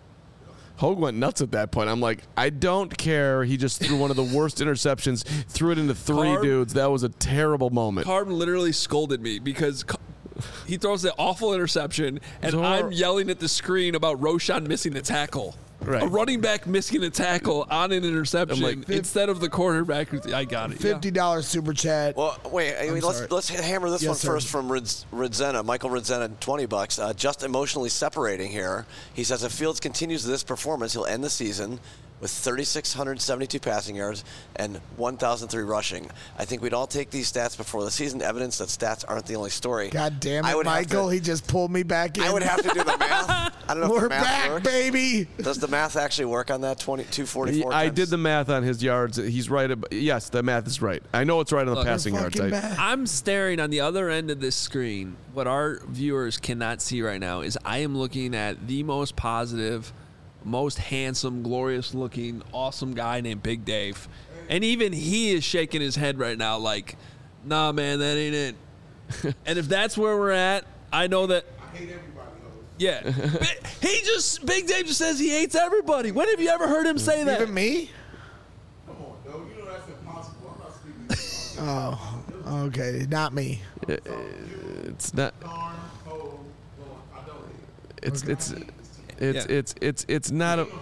Hogue went nuts at that point. I'm like, I don't care. He just threw one of the worst interceptions, threw it into 3 dudes. That was a terrible moment. Carm literally scolded me because he throws that awful interception, and I'm yelling at the screen about Roshan missing a tackle. Right. A running back missing a tackle on an interception instead of the quarterback. I got it. $50 super chat. Well, wait. Let's hammer this one first from Ridzena. Michael Ridzena, $20. Just emotionally separating here. He says if Fields continues this performance, he'll end the season with 3,672 passing yards and 1,003 rushing. I think we'd all take these stats before the season, evidence that stats aren't the only story. God damn it, Michael. He just pulled me back in. I would have to do the math. I don't know if the math back, works. Baby. Does the math actually work on that 244? I did the math on his yards. He's right. Yes, the math is right. I know it's right on the passing yards. I'm staring on the other end of this screen. What our viewers cannot see right now is I am looking at the most positive, most handsome, glorious-looking, awesome guy named Big Dave. And even he is shaking his head right now like, nah, man, that ain't it. And if that's where we're at, I know that. I hate everybody, though. Yeah. Big Dave just says he hates everybody. When have you ever heard him say that? Even me? Come on, though. You know that's impossible. I'm not speaking to you. Oh, okay. Not me. It's not. It's not a.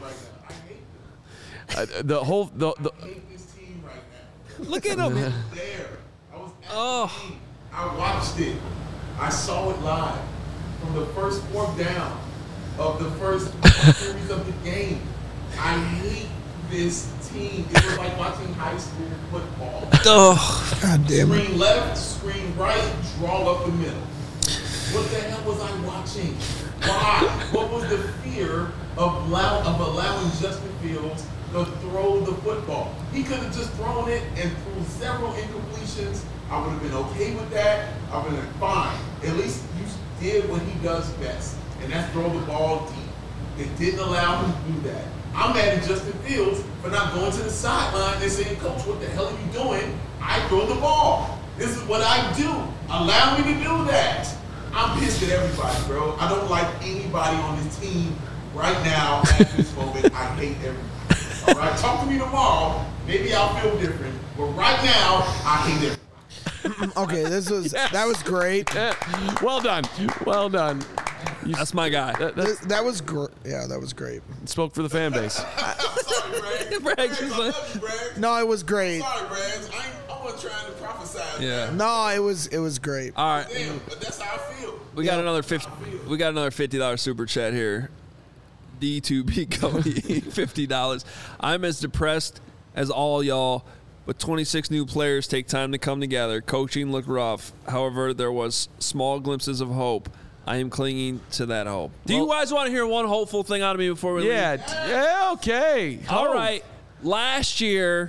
The whole the. I hate this team right now. Look at him. There. I was at the game. I watched it. I saw it live from the first 4th down of the first series of the game. I hate this team. It was like watching high school football. Oh, God damn it. Screen left, screen right, draw up the middle. What the hell was I watching? Why? What was the fear of allowing Justin Fields to throw the football? He could have just thrown it and threw several incompletions. I would have been okay with that. I would have been fine. At least you did what he does best, and that's throw the ball deep. It didn't allow him to do that. I'm mad at Justin Fields for not going to the sideline and saying, Coach, what the hell are you doing? I throw the ball. This is what I do. Allow me to do that. I'm pissed at everybody, bro. I don't like anybody on this team right now at this moment. I hate everybody. All right, talk to me tomorrow. Maybe I'll feel different. But right now, I hate everybody. Okay, that was great. Well done. Well done. That's my guy. That was great. Yeah, that was great. Spoke for the fan base. I'm sorry, Bragg. I love you, Bragg. No, it was great. Sorry, Bragg. I wasn't trying to prophesy. Yeah. No, it was great. All right. Damn, but that's how I feel. We got another $50 super chat here. D2B Cody, $50. I'm as depressed as all y'all, but 26 new players take time to come together. Coaching looked rough. However, there was small glimpses of hope. I am clinging to that hope. Do you guys want to hear one hopeful thing out of me before we leave? Yeah, okay. All right. Last year,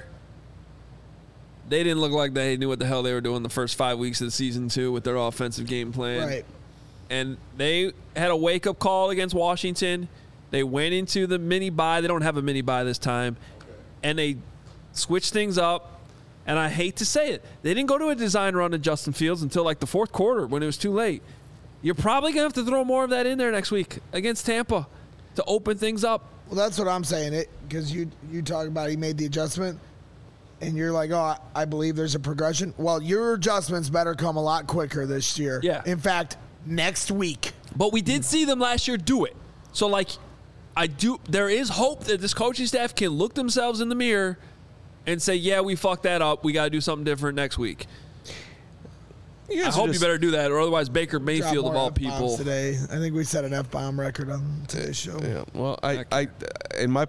they didn't look like they knew what the hell they were doing the first 5 weeks of the season, too, with their offensive game plan. Right. And they had a wake-up call against Washington. They went into the mini-bye. They don't have a mini-bye this time. And they switched things up. And I hate to say it, they didn't go to a design run to Justin Fields until like the fourth quarter when it was too late. You're probably going to have to throw more of that in there next week against Tampa to open things up. Well, that's what I'm saying. Because you talk about he made the adjustment, and you're like, oh, I believe there's a progression. Well, your adjustments better come a lot quicker this year. Yeah. In fact, next week. But we did see them last year do it. So, there is hope that this coaching staff can look themselves in the mirror and say, yeah, we fucked that up. We got to do something different next week. I hope you better do that, or otherwise Baker Mayfield of all people. Today, I think we set an F-bomb record on today's show. Yeah. Well, in my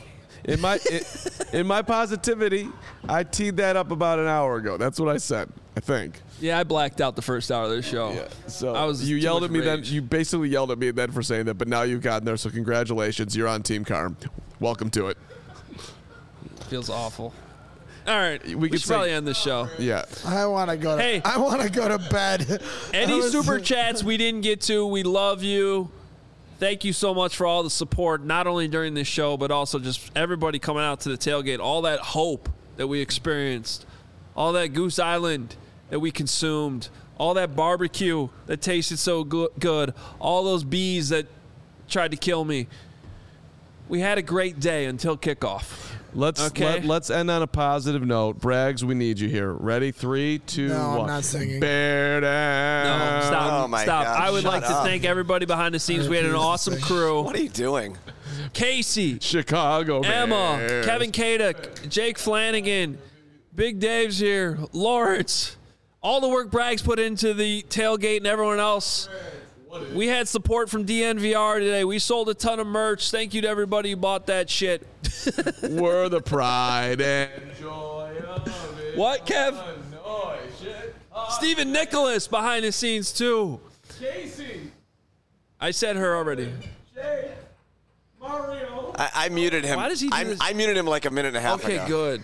positivity, I teed that up about an hour ago. That's what I said, I think. Yeah, I blacked out the first hour of the show. Yeah. So you yelled at me then. You basically yelled at me then for saying that, but now you've gotten there. So congratulations, you're on Team Carm. Welcome to it. Feels awful. All right, we should probably end the show. Yeah. I want to go. I want to go to bed. Any super chats we didn't get to, we love you. Thank you so much for all the support, not only during this show, but also just everybody coming out to the tailgate. All that hope that we experienced, all that Goose Island that we consumed, all that barbecue that tasted so good, all those bees that tried to kill me. We had a great day until kickoff. Let's end on a positive note. Braggs, we need you here. Ready? 3, 2, 1. I'm not singing. Bear down. No, stop. Oh my stop. God, I would like shut to up. thank everybody behind the scenes. We had an awesome crew. What are you doing? Casey, Chicago Emma, Bears. Kevin Kaduk, Jake Flanagan, Big Dave's here, Lawrence. All the work Braggs put into the tailgate and everyone else. We had support from DNVR today. We sold a ton of merch. Thank you to everybody who bought that shit. We're the pride and joy of it. What, Kev? Stephen Nicholas behind the scenes, too. Casey. I said her already. Jake. Mario. I muted him. Why does he do this? I muted him like a minute and a half ago. Okay, good.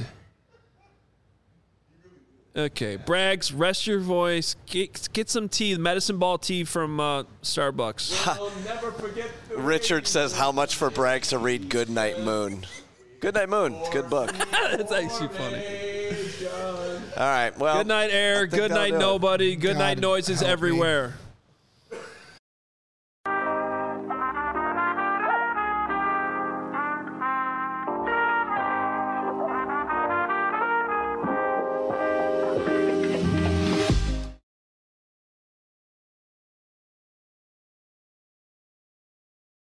Okay, Braggs, rest your voice. Get some tea, medicine ball tea from Starbucks. We'll never forget Richard says, how much for Braggs to read Goodnight Moon? Goodnight Moon. It's a good book. That's actually funny. All right, well. Good night, Air. Good night, nobody. Good night, noises everywhere.